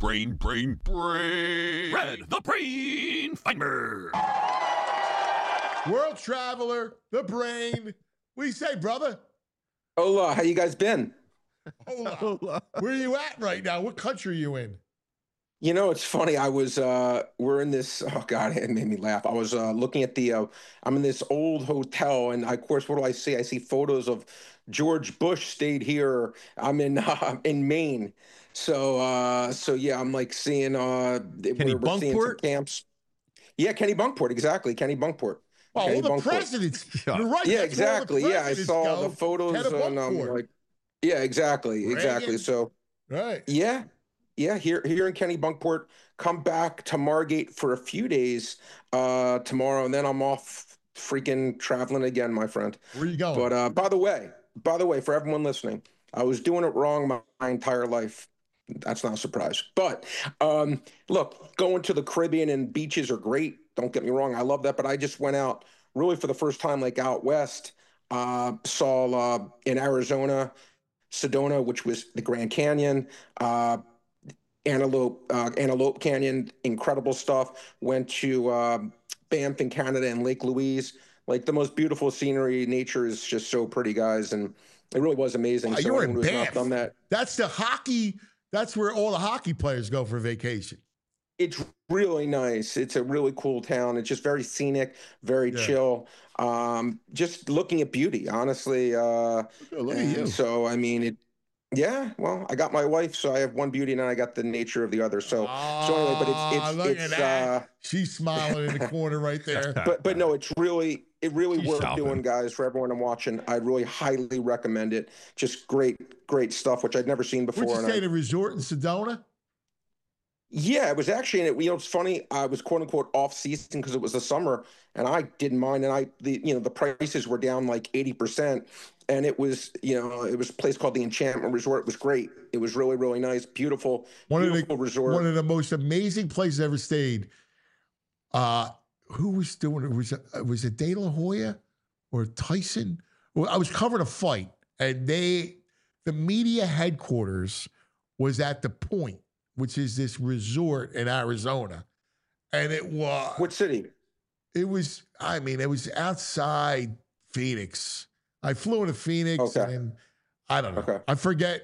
Red, the brain finder. World traveler, the brain. What do you say, brother? Hola, how you guys been? Hola. Where are you at right now? What country are you in? You know, it's funny. I was, we're in this, oh God, it made me laugh. I was looking at I'm in this old hotel, and of course, what do I see? I see photos of George Bush stayed here. I'm in Maine. So yeah, I'm like seeing, we're seeing some camps. Yeah, Kenny Bunkport, exactly. Kenny Bunkport. Oh, all the presidents. You're right. Yeah, exactly. Yeah, I saw the photos and like, yeah, exactly. So, right. Yeah, here in Kenny Bunkport. Come back to Margate for a few days tomorrow, and then I'm off freaking traveling again, my friend. Where are you going? But by the way, for everyone listening, I was doing it wrong my entire life. That's not a surprise. But look, going to the Caribbean and beaches are great. Don't get me wrong. I love that. But I just went out really for the first time, like out west, saw in Arizona, Sedona, which was the Grand Canyon, Antelope Canyon, incredible stuff. Went to Banff in Canada and Lake Louise. Like the most beautiful scenery. Nature is just so pretty, guys. And it really was amazing. Wow, so you're in Banff. Done that. That's the hockey. That's where all the hockey players go for vacation. It's really nice. It's a really cool town. It's just very scenic, very chill. Just looking at beauty, honestly. Look at you. So, I mean, well, I got my wife, so I have one beauty, and then I got the nature of the other. So anyway, but it's she's smiling in the corner right there. But no, it's really worth doing, guys. For everyone I'm watching, I really highly recommend it. Just great stuff, which I'd never seen before. Would you stay at a resort in Sedona? Yeah, it was actually, it's funny. I was quote unquote off season because it was the summer, and I didn't mind. And the prices were down like 80%, and it was a place called the Enchantment Resort. It was great. It was really, really nice, beautiful resort. One of the most amazing places I ever stayed. Who was doing it? Was it De La Hoya or Tyson? Well, I was covering a fight, and the media headquarters was at the Point, which is this resort in Arizona. And it was... What city? It was outside Phoenix. I flew into Phoenix and I don't know. Okay. I forget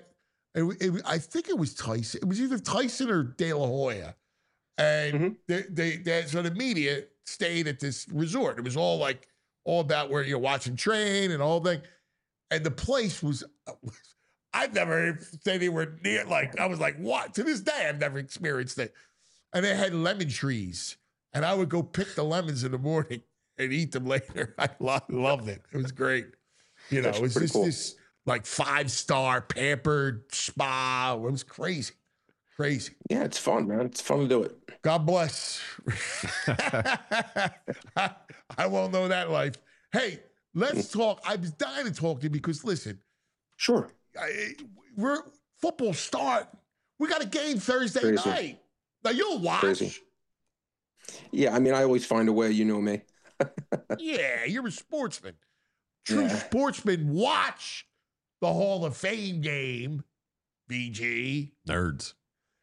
I think it was Tyson. It was either Tyson or De La Hoya. And so the media stayed at this resort. It was all about where you're watching train and all that. And the place was, I've never stayed anywhere near, I was like, what? To this day, I've never experienced it. And they had lemon trees. And I would go pick the lemons in the morning and eat them later. I loved it. It was great. You know, it was just cool. This 5-star pampered spa. It was crazy. Crazy. Yeah, it's fun, man. It's fun to do it. God bless. I won't know that life. Hey, let's talk. I was dying to talk to you because, listen. Sure. We're football start. We got a game Thursday night. Now, you'll watch. Crazy. Yeah, I mean, I always find a way. You know me. Yeah, you're a sportsman. True sportsman. Watch the Hall of Fame game, BG. Nerds.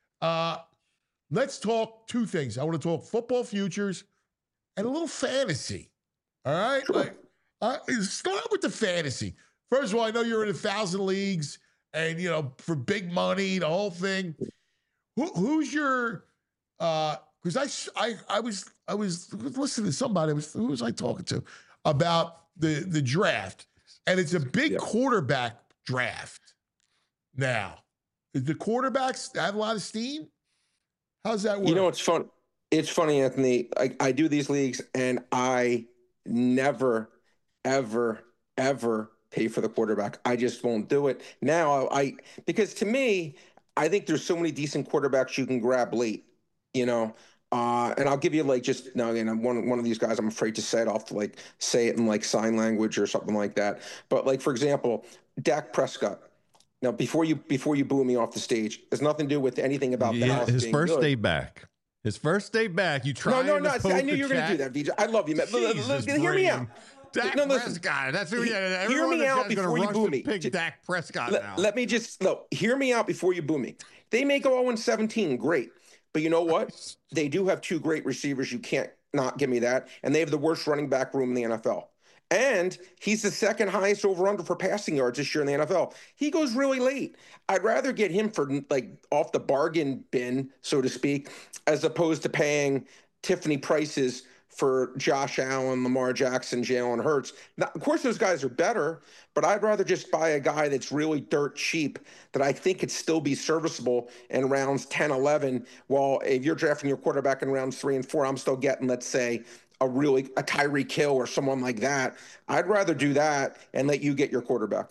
Let's talk two things. I want to talk football futures and a little fantasy. All right? Sure. Start with the fantasy. First of all, I know you're in 1,000 leagues and, for big money, the whole thing. Who's your because I was listening to somebody, who was I talking to about the draft, and it's a big quarterback draft now. The quarterbacks have a lot of steam. How's that work? It's fun. It's funny, Anthony. I do these leagues, and I never, ever, ever pay for the quarterback. I just won't do it now. Because to me, I think there's so many decent quarterbacks you can grab late. And I'll give you I'm one of these guys. I'm afraid to say it. I'll have to say it in sign language or something like that. But for example, Dak Prescott. Now, before you boo me off the stage, there's nothing to do with anything about Dallas his being first good. day back. His first day back, you tried. No. I knew you were going to do that, VJ. I love you, man. Hear me out. Dak Prescott. That's who. Hear me out before you boo me. Pick Dak Prescott now. Let me just hear me out before you boo me. They may go 0-17, great, but you know what? They do have two great receivers. You can't not give me that, and they have the worst running back room in the NFL. And he's the second highest over-under for passing yards this year in the NFL. He goes really late. I'd rather get him for off the bargain bin, so to speak, as opposed to paying Tiffany prices for Josh Allen, Lamar Jackson, Jalen Hurts. Now, of course, those guys are better, but I'd rather just buy a guy that's really dirt cheap that I think could still be serviceable in rounds 10, 11, while if you're drafting your quarterback in rounds 3 and 4, I'm still getting, let's say, a Tyreek Hill or someone like that. I'd rather do that and let you get your quarterback.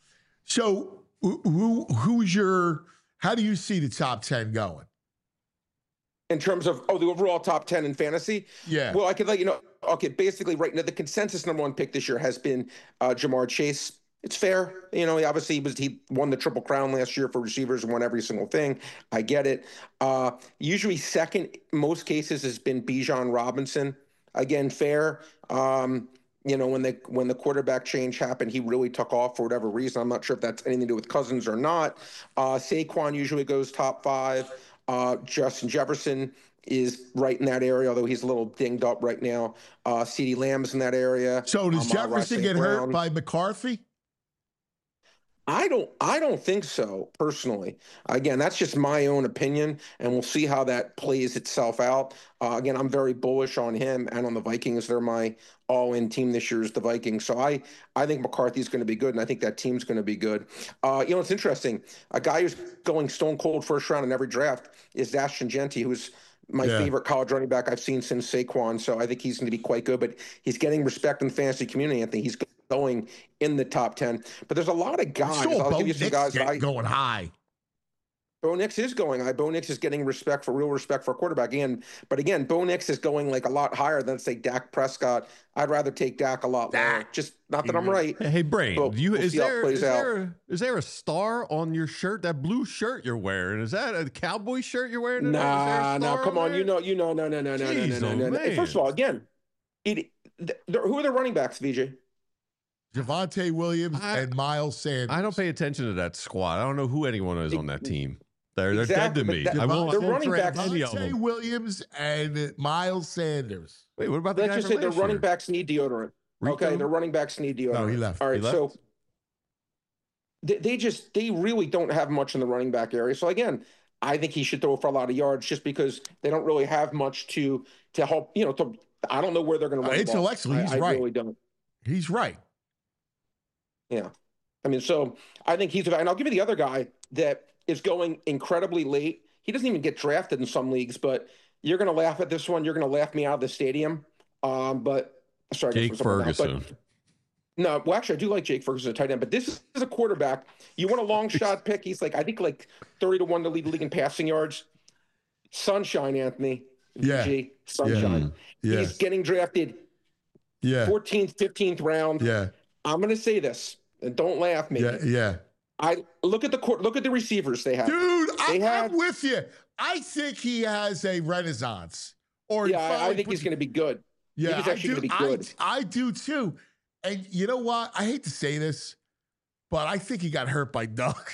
So how do you see the top 10 going? In terms of, the overall top 10 in fantasy? Yeah. Well, I could let you know. Okay, basically right now, the consensus number one pick this year has been Jamar Chase. It's fair. He won the Triple Crown last year for receivers and won every single thing. I get it. Usually second, most cases, has been Bijan Robinson. Again, fair. When the quarterback change happened, he really took off for whatever reason. I'm not sure if that's anything to do with Cousins or not. Saquon usually goes top 5. Justin Jefferson is right in that area, although he's a little dinged up right now. CeeDee Lamb's in that area. So does Jefferson get hurt by McCarthy? I don't think so, personally. Again, that's just my own opinion, and we'll see how that plays itself out. Again, I'm very bullish on him and on the Vikings. They're my all-in team this year is the Vikings. So I think McCarthy's going to be good, and I think that team's going to be good. It's interesting. A guy who's going stone cold first round in every draft is Ashton Jeanty, who's my favorite college running back I've seen since Saquon. So I think he's going to be quite good, but he's getting respect in the fantasy community. I think he's going in the top 10, but there's a lot of guys. I'll give you some guys going high. Bo Nix is going high. Bo Nix is getting real respect for a quarterback. But again, Bo Nix is going a lot higher than, say, Dak Prescott. I'd rather take Dak a lot lower. Just not that I'm right. Hey, Brain, we'll is there a star on your shirt? That blue shirt you're wearing, is that a Cowboy shirt you're wearing? No, come on. No. First of all, again, who are the running backs, VJ? Javonte Williams and Miles Sanders. I don't pay attention to that squad. I don't know who anyone is on that team. They're exactly, dead to me. They're running backs. Javonte Williams and Miles Sanders. Wait, what about the Let's just say the running backs need deodorant. Rico? Okay, the running backs need deodorant. No, he left. All right, so they really don't have much in the running back area. So again, I think he should throw for a lot of yards just because they don't really have much to help. I don't know where they're going to run. Intellectually, he's right. I really don't. He's right. Yeah. I mean, so I think he's, and I'll give you the other guy that is going incredibly late. He doesn't even get drafted in some leagues, but you're going to laugh at this one. You're going to laugh me out of the stadium. But sorry, Jake Ferguson. No, well, actually, I do like Jake Ferguson, a tight end, but this is a quarterback. You want a long shot pick? He's I think 30-1 to lead the league in passing yards. Sunshine, Anthony. Yeah. VG, Sunshine. Yeah. He's getting drafted 14th, 15th round. Yeah. I'm going to say this, and don't laugh, maybe. Yeah. I look at the receivers they have. Dude, I'm with you. I think he has a renaissance. I think he's going to be good. Yeah, he's actually going to be good. I do too. And you know what? I hate to say this, but I think he got hurt by Doug.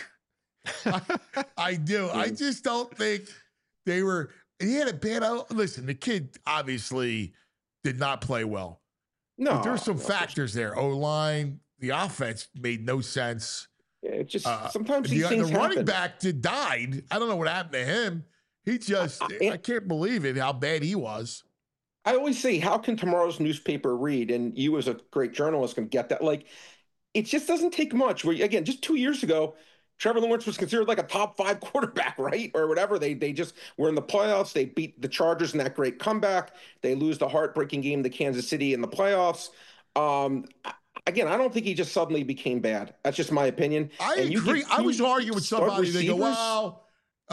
I do. I just don't think they were. He had a bad. Listen, the kid obviously did not play well. No, but there's some factors there. O-line, the offense made no sense. It just sometimes these things the running back died. I don't know what happened to him. He just, I can't believe it, how bad he was. I always say, how can tomorrow's newspaper read? And you as a great journalist can get that. It just doesn't take much. Where, again, just 2 years ago, Trevor Lawrence was considered a top 5 quarterback, right? Or whatever. They just were in the playoffs. They beat the Chargers in that great comeback. They lose the heartbreaking game to Kansas City in the playoffs. Again, I don't think he just suddenly became bad. That's just my opinion. I agree. I was arguing with somebody. They go, well,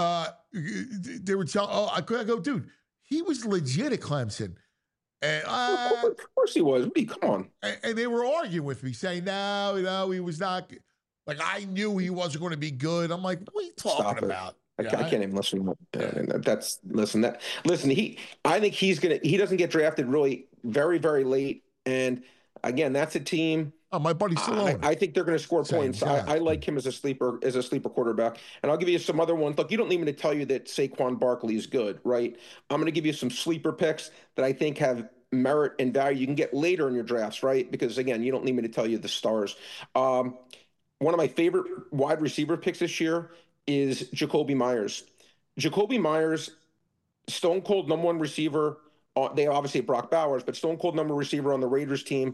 they were telling, I go, dude, he was legit at Clemson. And, of course he was. Come on. And they were arguing with me, saying, no, he was not. I knew he wasn't going to be good. I'm like, what are you talking about? I can't even listen to that. I think he doesn't get drafted really very, very late. And again, that's a team. Oh, my buddy Stallone. I think they're going to score points. I like him as a sleeper quarterback. And I'll give you some other ones. Look, you don't need me to tell you that Saquon Barkley is good, right? I'm going to give you some sleeper picks that I think have merit and value you can get later in your drafts, right? Because again, you don't need me to tell you the stars. One of my favorite wide receiver picks this year is Jacoby Myers. Jacoby Myers, stone cold number 1 receiver. They obviously have Brock Bowers, but stone cold number receiver on the Raiders team.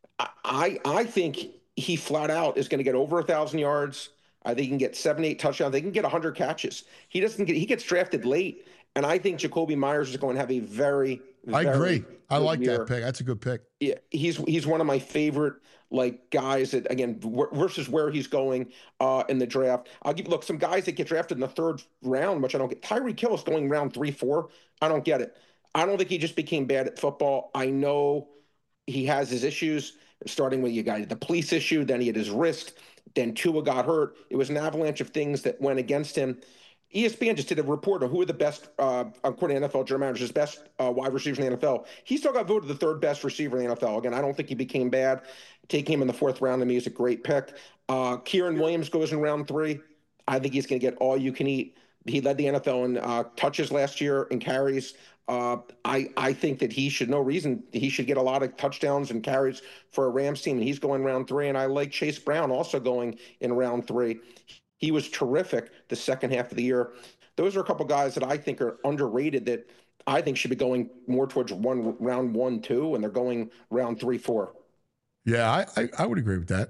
I think he flat out is going to get over 1,000 yards. I think he can get 7-8 touchdowns. They can get 100 catches. He gets drafted late, and I think Jacoby Myers is going to have a very, I agree. I like year. that pick. That's a good pick. Yeah, he's one of my favorite guys that, again, versus where he's going in the draft. I'll give you some guys that get drafted in the 3rd round, which I don't get. Tyreek Hill is going round 3-4. I don't get it. I don't think he just became bad at football. I know he has his issues, starting with the police issue, then he had his wrist, then Tua got hurt. It was an avalanche of things that went against him. ESPN just did a report on who are the best, according to NFL general managers, best wide receivers in the NFL. He still got voted the 3rd best receiver in the NFL. Again, I don't think he became bad. Taking him in the 4th round to me is a great pick. Kieran Williams goes in round 3. I think he's going to get all you can eat. He led the NFL in touches last year and carries. I think that he should get a lot of touchdowns and carries for a Rams team, and he's going round 3. And I like Chase Brown also going in round 3. He was terrific the second half of the year. Those are a couple guys that I think are underrated that I think should be going more towards round 1, 2, and they're going round 3, 4. Yeah, I would agree with that.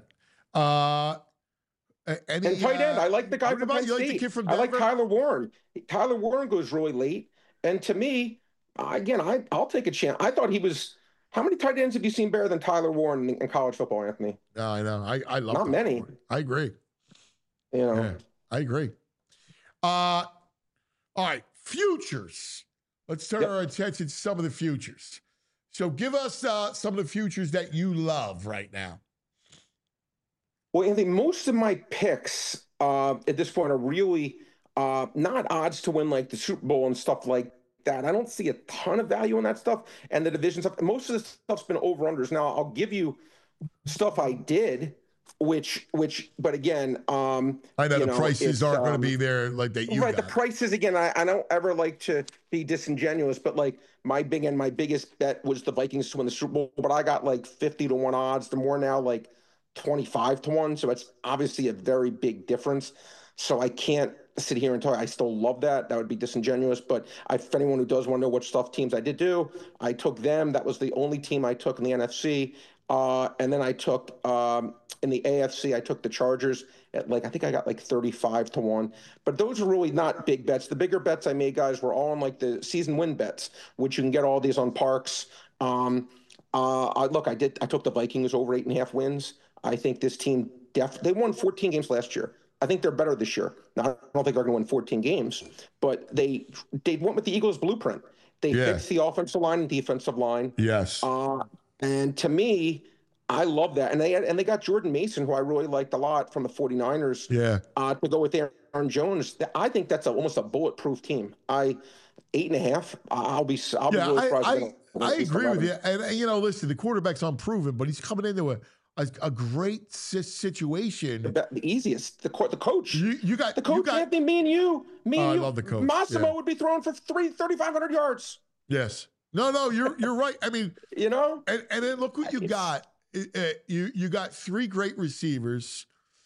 And tight end, I like the guy from Penn State. I like Tyler Warren. Tyler Warren goes really late, and to me, again, I'll take a chance. I thought he was. How many tight ends have you seen better than Tyler Warren in college football, Anthony? No, I know. I love not many. Warren. I agree. Yeah, I agree. All right, futures. Let's turn our attention to some of the futures. So give us some of the futures that you love right now. Well, Anthony, most of my picks at this point are really not odds to win like the Super Bowl and stuff like that. I don't see a ton of value in that stuff and the division stuff. Most of the stuff's been over-unders. Now, I'll give you stuff I did, but again, I know the prices aren't going to be there like that. The prices, again, I don't ever like to be disingenuous, but my biggest bet was the Vikings to win the Super Bowl, but I got 50-1 odds. They're more now 20 25 to 1. So it's obviously a very big difference. So I can't sit here and tell you I still love that. That would be disingenuous. But if anyone who does want to know what stuff teams I did do, I took them. That was the only team I took in the NFC. And then I took in the AFC, I took the Chargers at I think I got 35 to 1. But those are really not big bets. The bigger bets I made, guys, were all on the season win bets, which you can get all these on Parks. I took the Vikings over 8.5 wins. I think this team they won 14 games last year. I think they're better this year. Now, I don't think they're going to win 14 games, but they went with the Eagles blueprint. They fixed the offensive line and defensive line. Yes. And to me, I love that. And they got Jordan Mason, who I really liked a lot from the 49ers. Yeah. To go with Aaron Jones. I think that's almost a bulletproof team. 8.5. I'll be really surprised. I agree with you. And listen, the quarterback's unproven, but he's coming into a great situation. The easiest. The coach. You got the coach. Anthony, me and you. I love the coach. Massimo would be throwing for 3,500 yards. Yes. No, you're right. I mean, and then look what you got. You got 3 great receivers.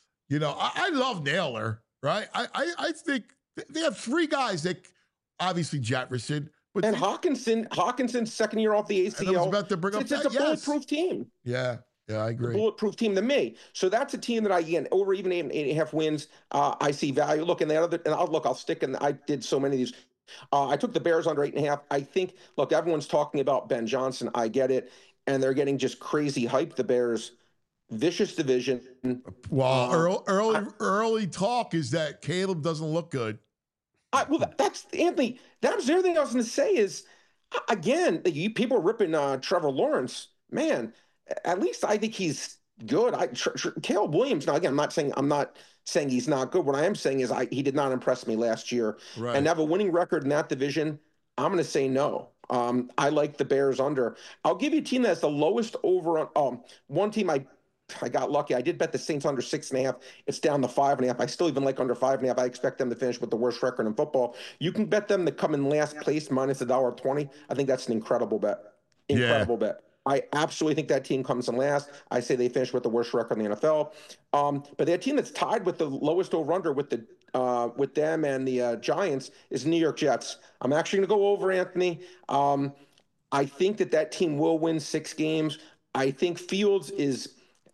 I love Naylor, right? I think they have 3 guys that obviously Jefferson. But Hawkinson's second year off the ACL. I was about to bring up it's a bulletproof team. Yeah, I agree. A bulletproof team to me. So that's a team that over even 8.5 wins, I see value. Look, I'll stick in. I did so many of these. I took the Bears under 8.5. I think, everyone's talking about Ben Johnson. I get it. And they're getting just crazy hype. The Bears, vicious division. Well, early talk is that Caleb doesn't look good. That's Anthony. That was the other thing I was going to say is, again, people are ripping Trevor Lawrence. Man, at least I think he's good. Caleb Williams. Now, again, I'm not saying he's not good. What I am saying is he did not impress me last year. Right. And to have a winning record in that division, I'm going to say no. I like the Bears under. I'll give you a team that has the lowest over on one team I got lucky. I did bet the Saints under 6.5. It's down to 5.5. I still even like under 5.5. I expect them to finish with the worst record in football. You can bet them to come in last place minus $1.20. I think that's an incredible bet. Bet. I absolutely think that team comes in last. I say they finish with the worst record in the NFL. But their team that's tied with the lowest over/under with them and the Giants is New York Jets. I'm actually going to go over, Anthony. I think that team will win 6 games. I think Fields is.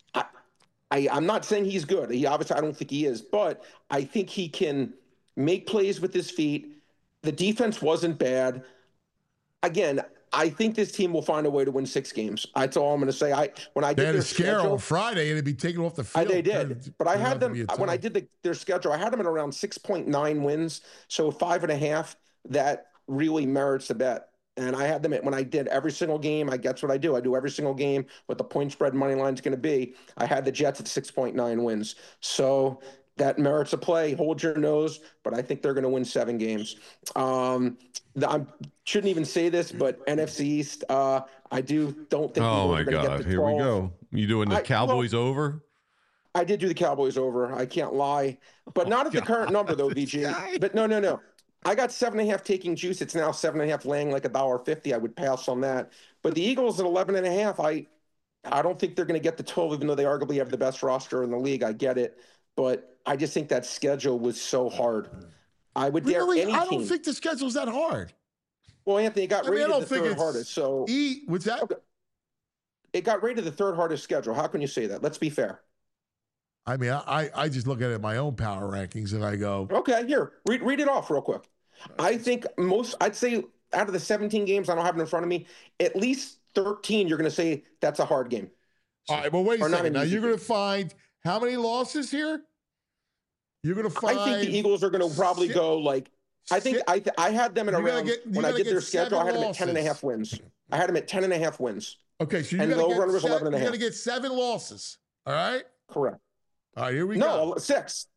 I'm not saying he's good. I don't think he is, but I think he can make plays with his feet. The defense wasn't bad. Again, I think this team will find a way to win 6 games. That's all I'm going to say. When I did their schedule on Friday, and it'd be taken off the field. They did, but I had them when I did their schedule. I had them at around 6.9 wins, so 5.5. That really merits the bet. And I had them when I did every single game. That's what I do. I do every single game what the point spread money line is going to be. I had the Jets at 6.9 wins. So that merits a play. Hold your nose, but I think they're going to win 7 games. I shouldn't even say this, but NFC East, I don't think. Oh my God! Here we go. You doing the Cowboys over? I did do the Cowboys over. I can't lie, but not at the current number though, VG. But no. I got 7.5 taking juice. It's now 7.5 laying like $1.50. I would pass on that. But the Eagles at 11.5, I don't think they're going to get the 12, even though they arguably have the best roster in the league. I get it, but I just think that schedule was so hard. I would dare any team. I don't think the schedule's that hard. Well, Anthony, it got rated the third hardest. So what's that? Okay. It got rated the third hardest schedule. How can you say that? Let's be fair. I mean, I just look at it my own power rankings and I go, okay, here, read it off real quick. I think I'd say out of the 17 games, I don't have it in front of me, at least 13, you're going to say that's a hard game. All right, well, wait a second. Now, you're going to find how many losses here? You're going to find. I think the Eagles are going to probably go I think I had them at around, when I did their schedule, I had them at 10.5 wins. I had them at 10.5 wins. Okay, so you're going to get 7 losses. All right? Correct. All right, here we go. No, 6.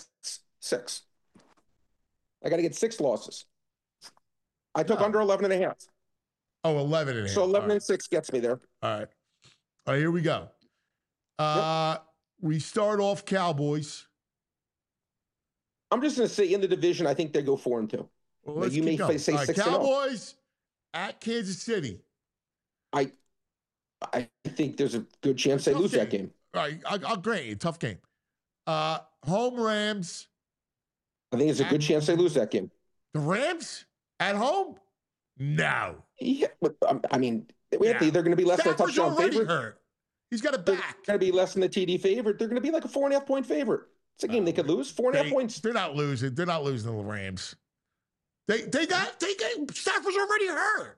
I got to get 6 losses. I took under 11.5. Oh, 11.5. So 11.6 gets me there. All right. All right, here we go. We start off Cowboys. I'm just going to say in the division, I think they go 4-2. Well, you may say 6-0. Cowboys at Kansas City. I think there's a good chance they lose that game. right, I'll grant you, tough game. Home Rams. I think it's a good chance they lose that game. The Rams at home? No. Yeah, but I mean, Anthony, they're going to be less than a touchdown favorite. Hurt. He's got a back. They're going to be less than the TD favorite. They're going to be like a 4.5 point favorite. It's a game they could lose. 4.5 points. They're not losing. They're not losing to the Rams. They got Stafford's already hurt.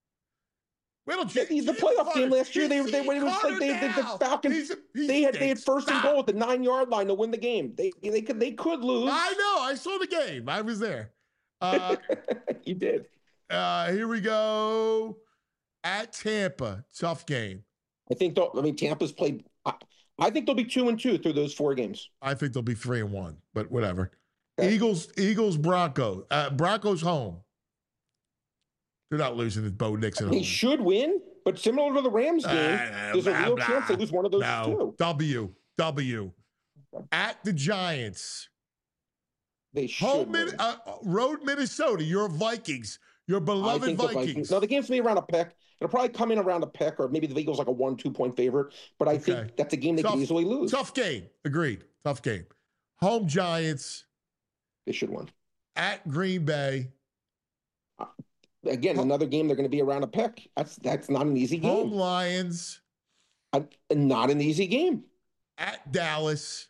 The playoff game last year, the Falcons they had first and goal at the 9-yard line to win the game. They could lose. I know. I saw the game. I was there. You did. Here we go. At Tampa, tough game. Tampa's played. I think they'll be 2-2 through those 4 games. I think they'll be 3-1, but whatever. Okay. Eagles, Broncos. Broncos home. They're not losing to Bo Nixon. They should win, but similar to the Rams game, there's a real chance they lose one of those two. W. At the Giants. They should. Road Minnesota. Your Vikings. Your beloved Vikings. No, the game's going to be around a pick. It'll probably come in around a pick, or maybe the Eagles like a 1-2 point favorite. But I think that's a game they could easily lose. Tough game. Agreed. Tough game. Home Giants. They should win. At Green Bay. Again, another game they're going to be around a pick. That's not an easy game. Home Lions. Not an easy game. At Dallas.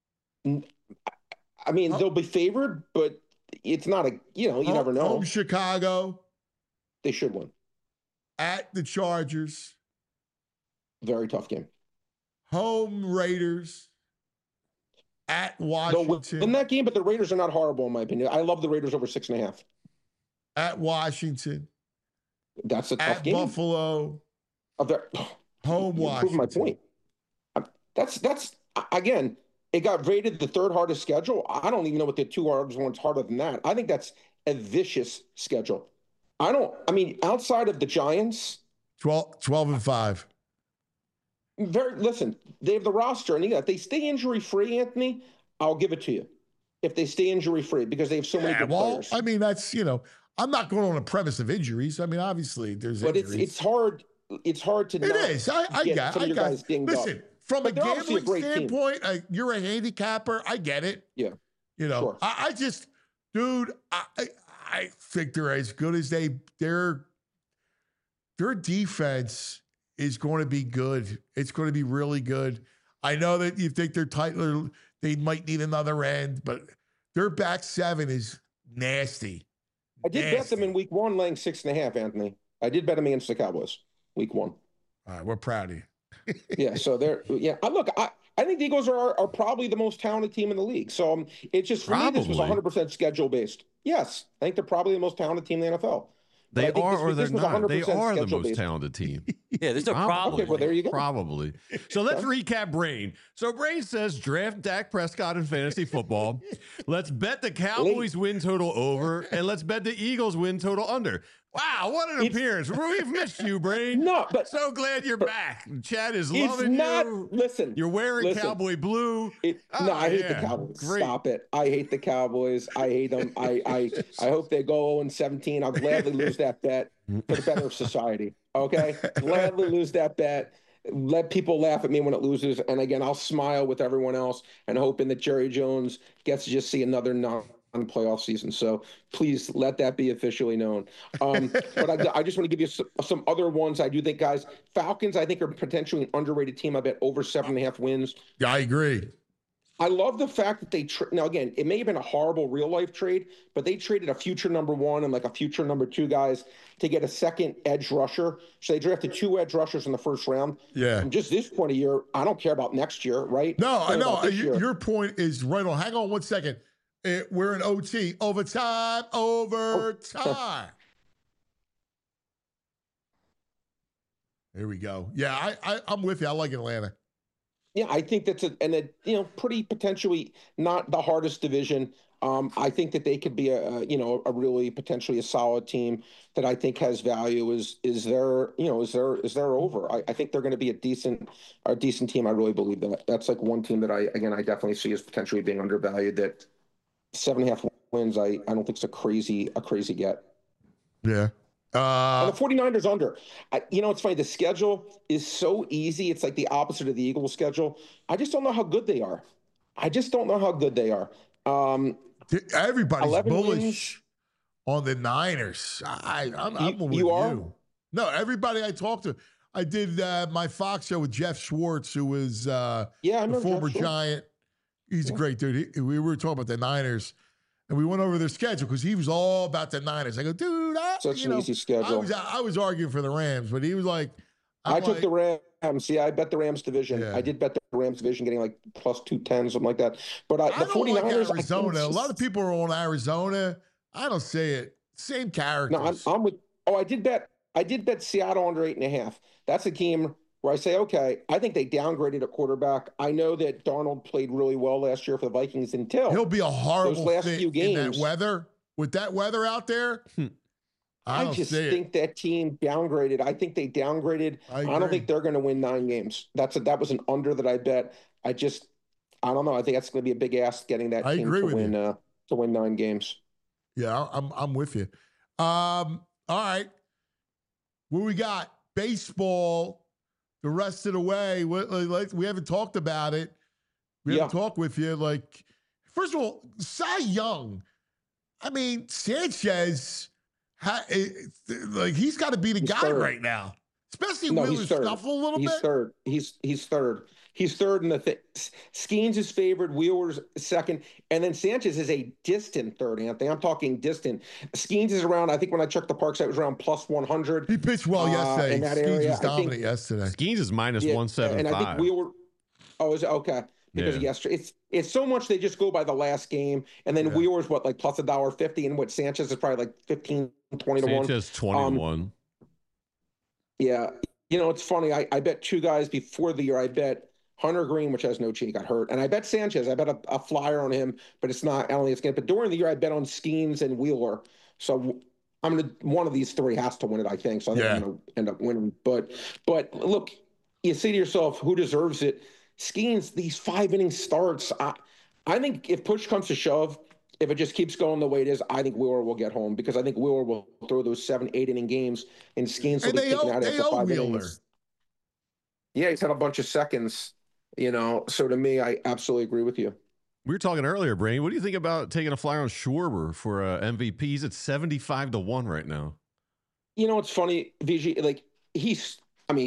I mean, they'll be favored, but it's not you never know. Home Chicago. They should win. At the Chargers. Very tough game. Home Raiders. At Washington. They'll win that game, but the Raiders are not horrible in my opinion. I love the Raiders over 6.5. At Washington. That's a tough game. At Buffalo. Home Washington. My point. That's again, it got rated the 3rd hardest schedule. I don't even know what the 2 hardest ones harder than that. I think that's a vicious schedule. Outside of the Giants. 12-5. Listen, they have the roster, and if they stay injury-free, Anthony, I'll give it to you. If they stay injury-free, because they have so many good players. I mean, that's, I'm not going on a premise of injuries. I mean, obviously, there's injuries. But it's hard. It's hard to. It is. I got it. Listen, from a gambling standpoint, you're a handicapper. I get it. Yeah. Sure. I just, dude, I think they're as good as their defense is going to be good. It's going to be really good. I know that you think they're tight. They might need another end, but their back 7 is nasty. I did bet them in week 1 laying 6.5, Anthony. I did bet them against the Cowboys week 1. All right, we're proud of you. Yeah, so they're I think the Eagles are probably the most talented team in the league. So it's just for me, this was 100% schedule based. Yes, I think they're probably the most talented team in the NFL. They are or they're not. They are the most talented team. Yeah, there's no problem. Okay, well, there you go. Probably. So let's recap Brain. So Brain says draft Dak Prescott in fantasy football. Let's bet the Cowboys win total over, and let's bet the Eagles win total under. Wow, what an appearance. We've missed you, Brain. No, but so glad you're back. Chad is loving you. Listen. You're wearing Cowboy blue. I hate the Cowboys. Great. Stop it. I hate the Cowboys. I hate them. I hope they go 0-17. I'll gladly lose that bet for the better of society. Okay? Gladly lose that bet. Let people laugh at me when it loses. And again, I'll smile with everyone else and hoping that Jerry Jones gets to just see another non-playoff season. So please let that be officially known. But I just want to give you some other ones. I do think, guys, Falcons, I think, are potentially an underrated team. I bet over 7.5 wins. Yeah, I agree. I love the fact that they now again, it may have been a horrible real life trade, but they traded a future number 1 and like a future number 2 guys to get a second edge rusher. So they drafted 2 edge rushers in the first round. Yeah. And just this point of year, I don't care about next year, right? No, I know. Your point is right on. Hang on one second. We're in OT. Overtime. Here we go. Yeah, I'm with you. I like Atlanta. Yeah, I think that's a pretty potentially not the hardest division. I think that they could be a really potentially a solid team that I think has value. Is there over? I think they're going to be a decent team. I really believe that. That's like one team that I definitely see as potentially being undervalued. That 7.5 wins, I don't think it's a crazy get. Yeah. And the 49ers under. It's funny. The schedule is so easy. It's like the opposite of the Eagles schedule. I just don't know how good they are. Everybody's bullish on the Niners. I'm with you. Are? No, everybody I talked to. I did my Fox show with Jeff Schwartz, who was a former Giant. He's a great dude. We were talking about the Niners. And we went over their schedule because he was all about the Niners. I go, dude, such an easy schedule. I was arguing for the Rams, but he was like, I took the Rams. Yeah, I bet the Rams division. Yeah. I did bet the Rams division getting like plus 210, something like that. But the 49ers, like Arizona. A lot of people are on Arizona. I don't say it. Same characters. No, I'm with. Oh, I did bet Seattle under 8.5. That's a game where I say, okay, I think they downgraded a quarterback. I know that Darnold played really well last year for the Vikings until he'll be a horrible those last few games. In that weather. With that weather out there, I just think that team downgraded. I think they downgraded. I don't think they're going to win 9 games. That was an under that I bet. I don't know. I think that's going to be a big ask getting that team to win 9 games. Yeah, I'm with you. All right, what we got? Baseball. The rest of the way, we haven't talked about it. We haven't talked with you. Like, first of all, Cy Young. I mean, Sanchez, he's got to be the guy right now. Especially Wheeler scuffle a little bit. He's third. He's third in the thing. Skeens is favored. Wheeler's second. And then Sanchez is a distant third, Anthony. I'm talking distant. Skeens is around, I think when I checked the park site, it was around plus 100. He pitched well yesterday. In that Skeens area. was dominant yesterday. Skeens is minus 175. And I think Wheeler, is it okay? Because of yesterday. It's so much they just go by the last game. And then Wheeler's like plus $1.50. And what Sanchez is probably like 15, 20 to 1. Sanchez 21. Yeah. It's funny. I bet 2 guys before the year. I bet Hunter Green, which has no chance, got hurt. And I bet Sanchez. I bet a flyer on him, but it's not. I don't think it's going to. But during the year, I bet on Skeens and Wheeler. So one of these 3 has to win it, I think. So I think I'm going to end up winning. But look, you say to yourself, who deserves it? Skeens, these 5-inning starts. I think if push comes to shove, if it just keeps going the way it is, I think Wheeler will get home because I think Wheeler will throw those 7-8-inning games and Skeens will be taken out after 5 innings. Yeah, he's had a bunch of seconds. So to me, I absolutely agree with you. We were talking earlier, Brain. What do you think about taking a flyer on Schwarber for MVP? He's at 75 to 1 right now. It's funny, VG. Like he's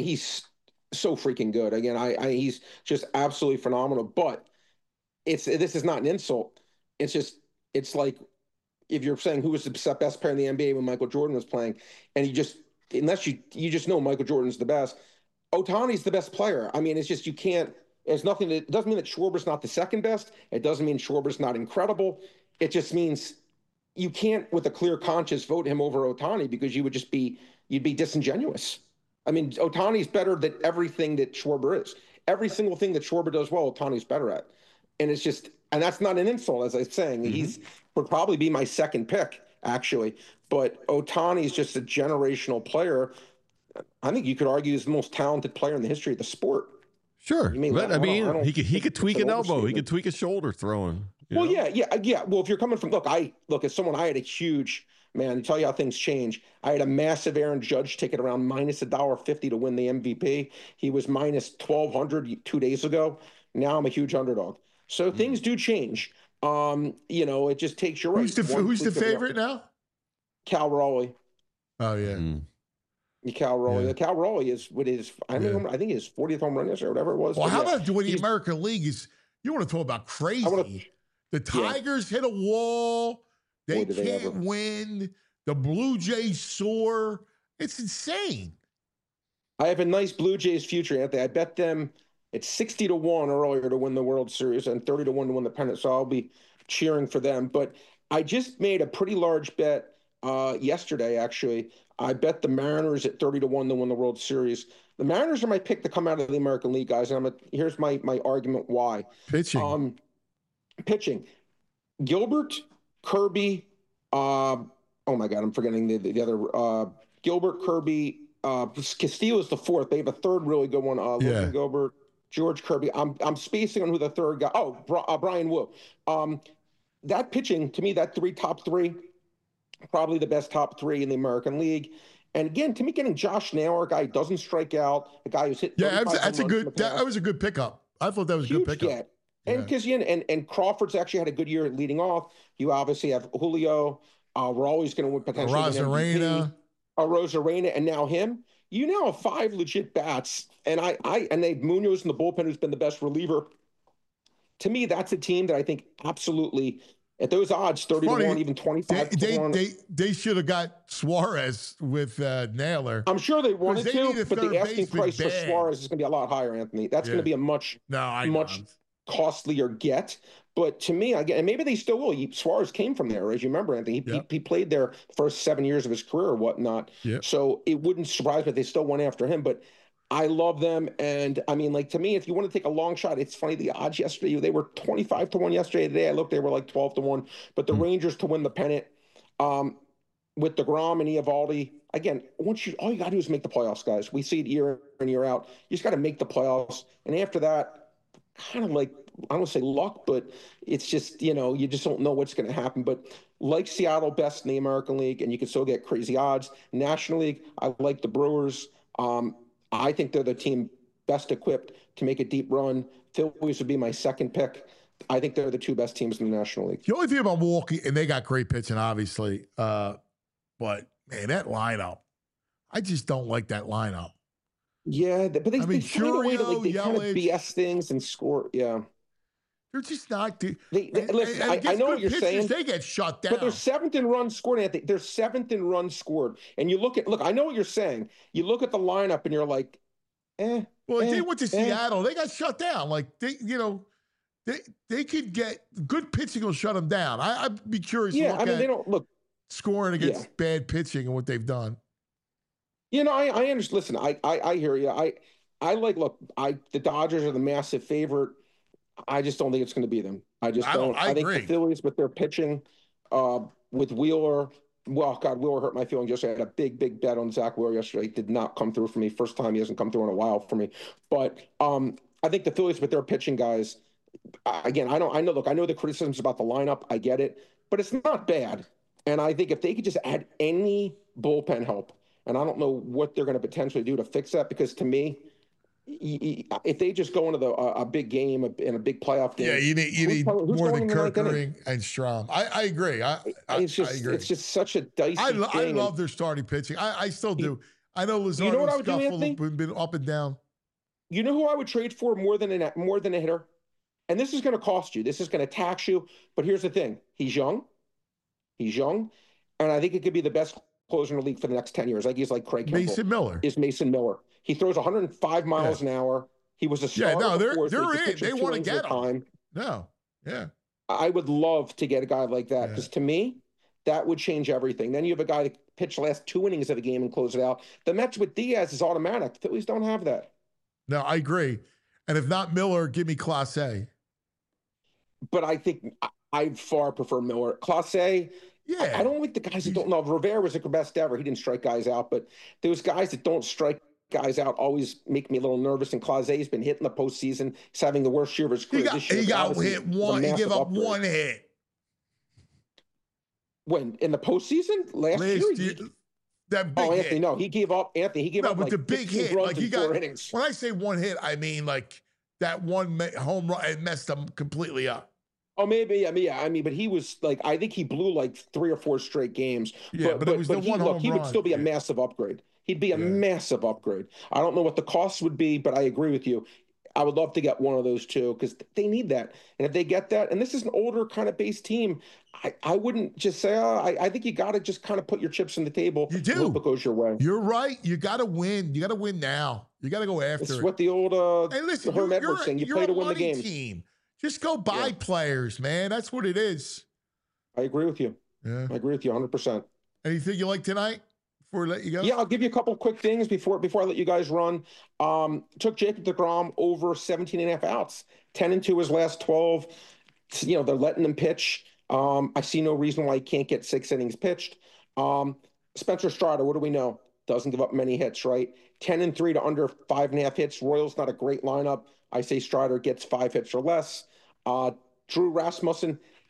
so freaking good. Again, he's just absolutely phenomenal. But this is not an insult. It's like if you're saying who was the best player in the NBA when Michael Jordan was playing, and unless you just know Michael Jordan's the best. Ohtani's the best player. I mean, it's just you can't. It doesn't mean that Schwarber's not the second best. It doesn't mean Schwarber's not incredible. It just means you can't, with a clear conscience, vote him over Ohtani because you'd be disingenuous. I mean, Ohtani's better than everything that Schwarber is. Every single thing that Schwarber does well, Ohtani's better at. And and that's not an insult, as I'm saying. Mm-hmm. He would probably be my second pick, actually. But Ohtani's just a generational player. I think you could argue he's the most talented player in the history of the sport. Sure. He could tweak an elbow. He could tweak a shoulder throwing. Well, yeah. Well, if you're coming from, as someone, I had a huge, man, to tell you how things change. I had a massive Aaron Judge ticket around minus $1.50 to win the MVP. He was minus 1,200 2 days ago. Now I'm a huge underdog. So things do change. It just takes your right. Who's the favorite now? Cal Raleigh. Oh, yeah. Cal Raleigh. Yeah. Cal Raleigh is what is. I think his 40th home run yesterday, or whatever it was. Well, how about doing the American League? You want to talk about crazy? The Tigers hit a wall. They can't win. The Blue Jays soar. It's insane. I have a nice Blue Jays future, Anthony. I bet them it's 60 to 1 earlier to win the World Series and 30 to 1 to win the pennant. So I'll be cheering for them. But I just made a pretty large bet yesterday, actually. I bet the Mariners at 30 to 1 to win the World Series. The Mariners are my pick to come out of the American League, guys. And here's my argument why. Pitching. Gilbert, Kirby. Oh my God, I'm forgetting the other. Gilbert, Kirby. Castillo is the fourth. They have a third really good one. Logan Gilbert, George Kirby. I'm spacing on who the third guy. Oh, Brian Wu. That pitching to me, that top three. probably the best top 3 in the American League. And again, to me, getting Josh Naylor, a guy who doesn't strike out, a guy who's hit. Yeah, that's a good. That was a good pickup. I thought that was a good pickup. Get. And because and Crawford's actually had a good year leading off. You obviously have Julio. We're always going to win potentially. Rosarena, and now him. You now have 5 legit bats, and and they have Munoz in the bullpen, who's been the best reliever. To me, that's a team that I think absolutely. At those odds, 30-1, even 25-1. They should have got Suarez with Naylor. I'm sure they wanted to, but the asking price for Suarez is going to be a lot higher, Anthony. That's going to be a much costlier get. But to me, again, and maybe they still will. Suarez came from there, as you remember, Anthony. He played there first 7 years of his career or whatnot. Yep. So it wouldn't surprise me if they still went after him. But I love them. And I mean, like, to me, if you want to take a long shot, it's funny. The odds yesterday, they were 25-1 yesterday. Today, I looked, they were like 12-1. But the Rangers to win the pennant with DeGrom and Eovaldi, again, all you got to do is make the playoffs, guys. We see it year in, year out. You just got to make the playoffs. And after that, kind of like, I don't want to say luck, but it's just, you just don't know what's going to happen. But like Seattle, best in the American League, and you can still get crazy odds. National League, I like the Brewers. I think they're the team best equipped to make a deep run. Phillies would be my second pick. I think they're the 2 best teams in the National League. The only thing about Milwaukee, and they got great pitching, obviously, but, man, that lineup, I just don't like that lineup. Yeah, but they find a way to they kind of BS things and score. Yeah. They're just not. Listen, I know what you're saying. They get shut down. But they're 7th in runs scored, Anthony. They're 7th in runs scored. And you look, I know what you're saying. You look at the lineup and you're like, Well, they went to Seattle. They got shut down. Like, they could get good pitching will shut them down. I'd be curious. Yeah, I mean, they don't look scoring against bad pitching and what they've done. I understand. Listen, I hear you. The Dodgers are the massive favorite. I just don't think it's going to be them. I think the Phillies with their pitching, with Wheeler. Well, God, Wheeler hurt my feelings yesterday. I had a big bet on Zach Wheeler yesterday. Did not come through for me. First time he hasn't come through in a while for me. But I think the Phillies with their pitching guys. Again, I know the criticisms about the lineup. I get it, but it's not bad. And I think if they could just add any bullpen help, and I don't know what they're going to potentially do to fix that, because to me, if they just go into a big game in a big playoff game, you need more than Kerkering and Strom. I agree. I agree. It's just such a dicey thing. I love their starting pitching. I still do. I know Luzardo's scuffle been up and down. You know who I would trade for more than a hitter? And this is going to cost you. This is going to tax you. But here's the thing. He's young. And I think it could be the best closer in the league for the next 10 years. Like he's like Craig Kimbrell. Mason Miller. He throws 105 miles an hour. He was a starter. Yeah, no, they're in. They want to get him. No, yeah. I would love to get a guy like that, because to me, that would change everything. Then you have a guy that pitched the last 2 innings of a game and close it out. The Mets with Diaz is automatic. Phillies don't have that. No, I agree. And if not Miller, give me Clase. But I think I far prefer Miller. Clase. Yeah. I don't like the guys that don't know. Rivera was the best ever. He didn't strike guys out, but those guys that don't strike guys out always make me a little nervous. And Clase's been hit in the postseason. He's having the worst year of his career this year. He got hit one. He gave up one hit. When? In the postseason? Last year? That big Anthony, hit. No, he gave up. Anthony, he gave up but like the big hit. Like he got, 4 innings. When I say one hit, I mean like that one home run. It messed him completely up. Oh, maybe. I mean, but he was like, I think he blew like 3 or 4 straight games. Yeah, but it was the one home run. He would still be a massive upgrade. He'd be a massive upgrade. I don't know what the cost would be, but I agree with you. I would love to get one of those two, because they need that. And if they get that, and this is an older kind of base team, I wouldn't just say, I think you got to just kind of put your chips on the table. You do. Hope it goes your way. You're right. You got to win. You got to win now. You got to go after it. It's what the old hey, listen, Herm Edwards saying. You play to win the game. Team. Just go buy players, man. That's what it is. I agree with you. Yeah. I agree with you 100%. Anything you like tonight before we let you go? Yeah, I'll give you a couple quick things before I let you guys run. Took Jacob deGrom over 17.5 outs. 10-2 his last 12. They're letting him pitch. I see no reason why he can't get 6 innings pitched. Spencer Strider, what do we know? Doesn't give up many hits, right? 10-3 to under 5.5 hits. Royals not a great lineup. I say Strider gets 5 hits or less. Drew Rasmussen,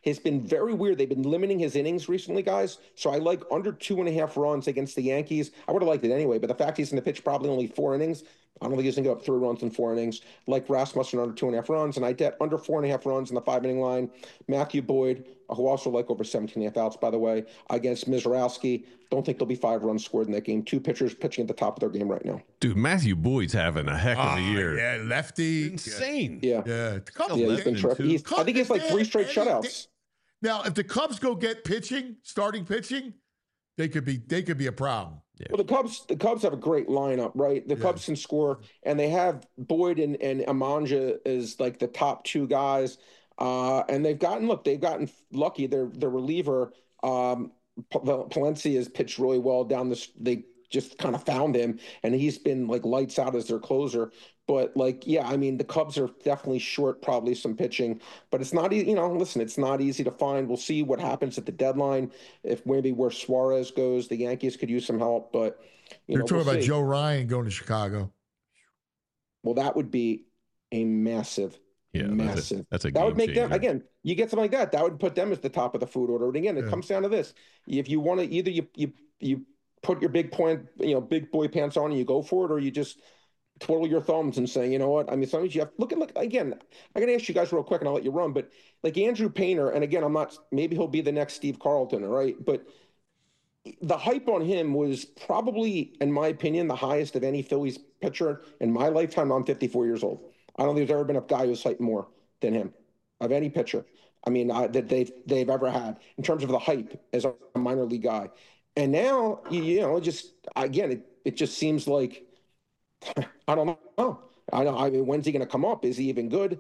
has been very weird. They've been limiting his innings recently, guys. So I like under 2.5 runs against the Yankees. I would have liked it anyway, but the fact he's going to pitch probably only 4 innings, I don't think he's going to go up 3 runs in 4 innings. Like Rasmussen under 2.5 runs, and I bet under 4.5 runs in the 5-inning line. Matthew Boyd, who also like over 17.5 outs, by the way, against Mizrowski. Don't think there'll be 5 runs scored in that game. 2 pitchers pitching at the top of their game right now. Dude, Matthew Boyd's having a heck of a year. Yeah, lefty. Insane. Yeah. Yeah. He's been terrific. I think he has like 3 straight shutouts. Now, if the Cubs go get pitching, starting pitching, they could be a problem. Yeah. Well, the Cubs have a great lineup, right? The Cubs can score, and they have Boyd and Amanja as like the top 2 guys. And they've gotten lucky. Their reliever, Palencia, has pitched really well down this. They just kind of found him, and he's been like lights out as their closer. But like, yeah, I mean, the Cubs are definitely short probably some pitching, but it's not, listen, it's not easy to find. We'll see what happens at the deadline. If maybe where Suarez goes, the Yankees could use some help, but They're talking about Joe Ryan going to Chicago. Well, that would be a massive. Massive. That's a that would make changer. them, again, you get something like that, that would put them at the top of the food order. And again, it comes down to this. If you want to, either you put your big boy pants on and you go for it, or you just twiddle your thumbs and say, you know what? I mean, sometimes you have look again. I got to ask you guys real quick, and I'll let you run. But like Andrew Painter, and again, maybe he'll be the next Steve Carlton, all right? But the hype on him was probably, in my opinion, the highest of any Phillies pitcher in my lifetime. I'm 54 years old. I don't think there's ever been a guy who's hyped more than him of any pitcher. I mean, that they've ever had in terms of the hype as a minor league guy. And now, it just seems like, I don't know. I mean, when's he going to come up? Is he even good?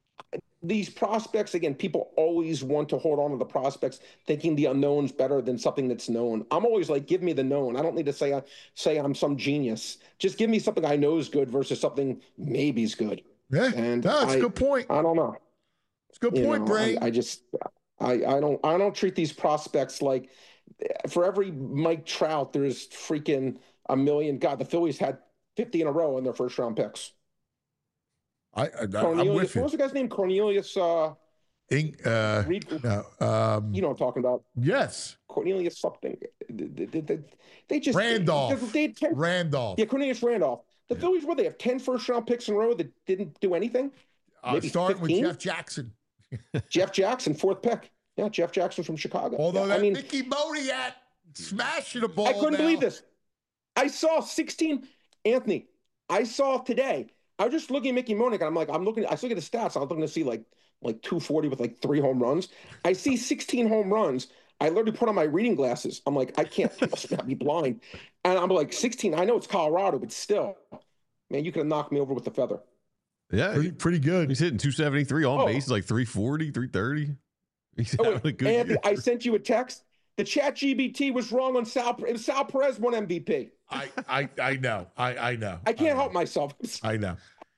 These prospects, again, people always want to hold on to the prospects, thinking the unknown's better than something that's known. I'm always like, give me the known. I don't need to say I'm some genius. Just give me something I know is good versus something maybe's good. Yeah, and that's a good point. I don't know. It's a good point, Bray. I don't treat these prospects like, for every Mike Trout, there's freaking a million. God, the Phillies had 50 in a row in their first round picks. I'm with you. What was the guy's name? Cornelius. Reed, you know what I'm talking about? Yes. Cornelius something. They just Randolph. Randolph. Yeah, Cornelius Randolph. The Phillies, they have 10 first round picks in a row that didn't do anything. Maybe starting 15? with Jeff Jackson. Jeff Jackson, 4th pick. Yeah, Jeff Jackson from Chicago. Although Mickey Moniak smashing the ball. I couldn't believe this. I saw 16. Anthony, I saw today. I was just looking at Mickey Moniak, and I was looking at the stats. I was looking to see like 240 with like 3 home runs. I see 16 home runs. I literally put on my reading glasses. I'm like, I must not be blind. And I'm like, 16. I know it's Colorado, but still, man, you could have knocked me over with a feather. Yeah, pretty good. He's hitting 273 on base, like 340, 330. He's having a good year. I sent you a text. The ChatGPT was wrong on Sal. Sal Perez won MVP. I know. I know. I can't help myself. I know.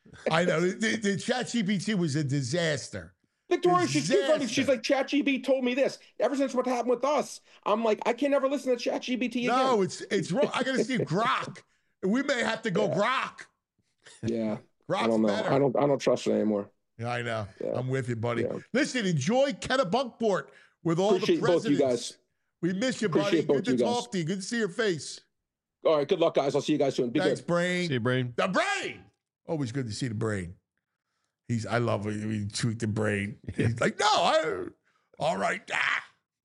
The ChatGPT was a disaster. Victoria, she's too funny. She's like, ChatGPT told me this. Ever since what happened with us, I'm like, I can never listen to ChatGPT again. No, it's wrong. I got to see Grok. We may have to go Grok. Yeah. Grok's I don't know. better. I don't trust it anymore. Yeah, I know. Yeah. I'm with you, buddy. Yeah. Listen, enjoy Kennebunkport with all Appreciate the presidents. Both you guys. We miss you, buddy. Good to talk to you. Good to see your face. All right. Good luck, guys. I'll see you guys soon. Be Thanks, good. Brain. See you, Brain. The Brain. Always good to see the Brain. I love it. We tweet the Brain. He's like, no, all right. Ah.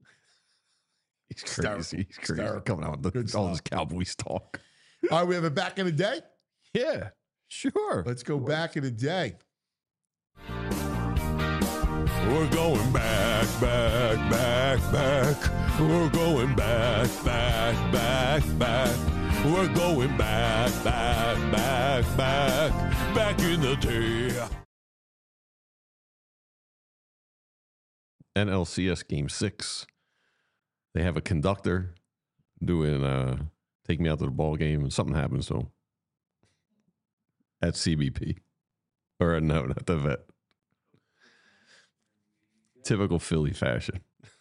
He's crazy. He's crazy. Coming out with all this Cowboys talk. All right, we have it back in the day? Yeah, sure. Let's go back in the day. We're going back. We're going back. We're going back in the day. NLCS Game 6. They have a conductor doing Take Me Out to the Ball Game, and something happens to him at CBP. Or no, not the Vet. Typical Philly fashion.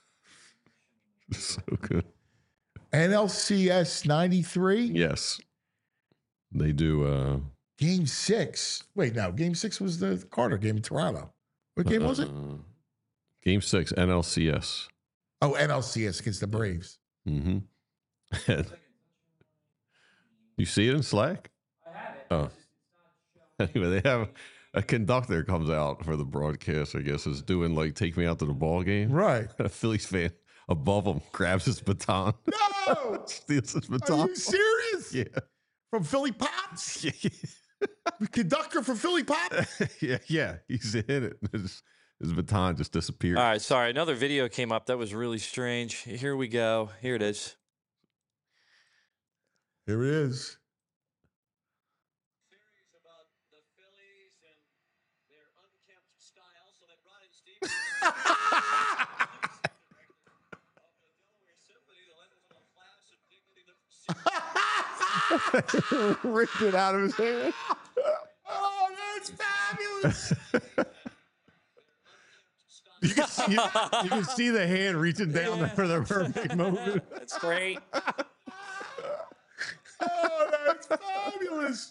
So good. NLCS 93? Yes. They do Game 6. Wait, no. Game 6 was the Carter game in Toronto. What game was it? Game 6, NLCS. Oh, NLCS against the Braves. Mm-hmm. You see it in Slack? I have it. Oh. Anyway, they have a conductor comes out for the broadcast, I guess, is doing like Take Me Out to the Ball Game. Right. A Phillies fan above him grabs his baton. No! Steals his baton. Are you serious? Yeah. From Philly Pops? The conductor from Philly Pops? yeah. He's in it. His baton just disappeared. All right, sorry. Another video came up that was really strange. Here we go. Here it is. Here it is. Ripped it out of his hand. Oh, that's fabulous. You can see the hand reaching down for the perfect moment. That's great. Oh, that's fabulous.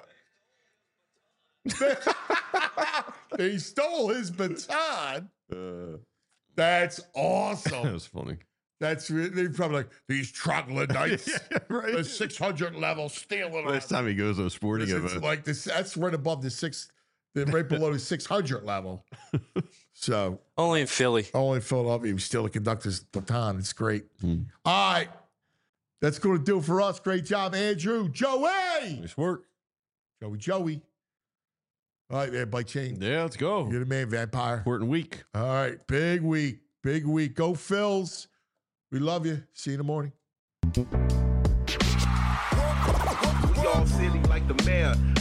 They stole his baton. That's awesome. That was funny. That's they're probably like these troglodytes, right? The 600 level stealing. Next time he goes to a sporting event, like this, that's right above right below the 600 level. So only in Philly, only in Philadelphia, we steal the conductor's baton. It's great. All right, that's going to do it for us. Great job, Andrew, Joey. Nice work, Joey. All right, everybody, chain. Yeah, let's go. You're the man, Vampire. Important week. All right, big week. Go Phils. We love you. See you in the morning. We all silly like the mayor.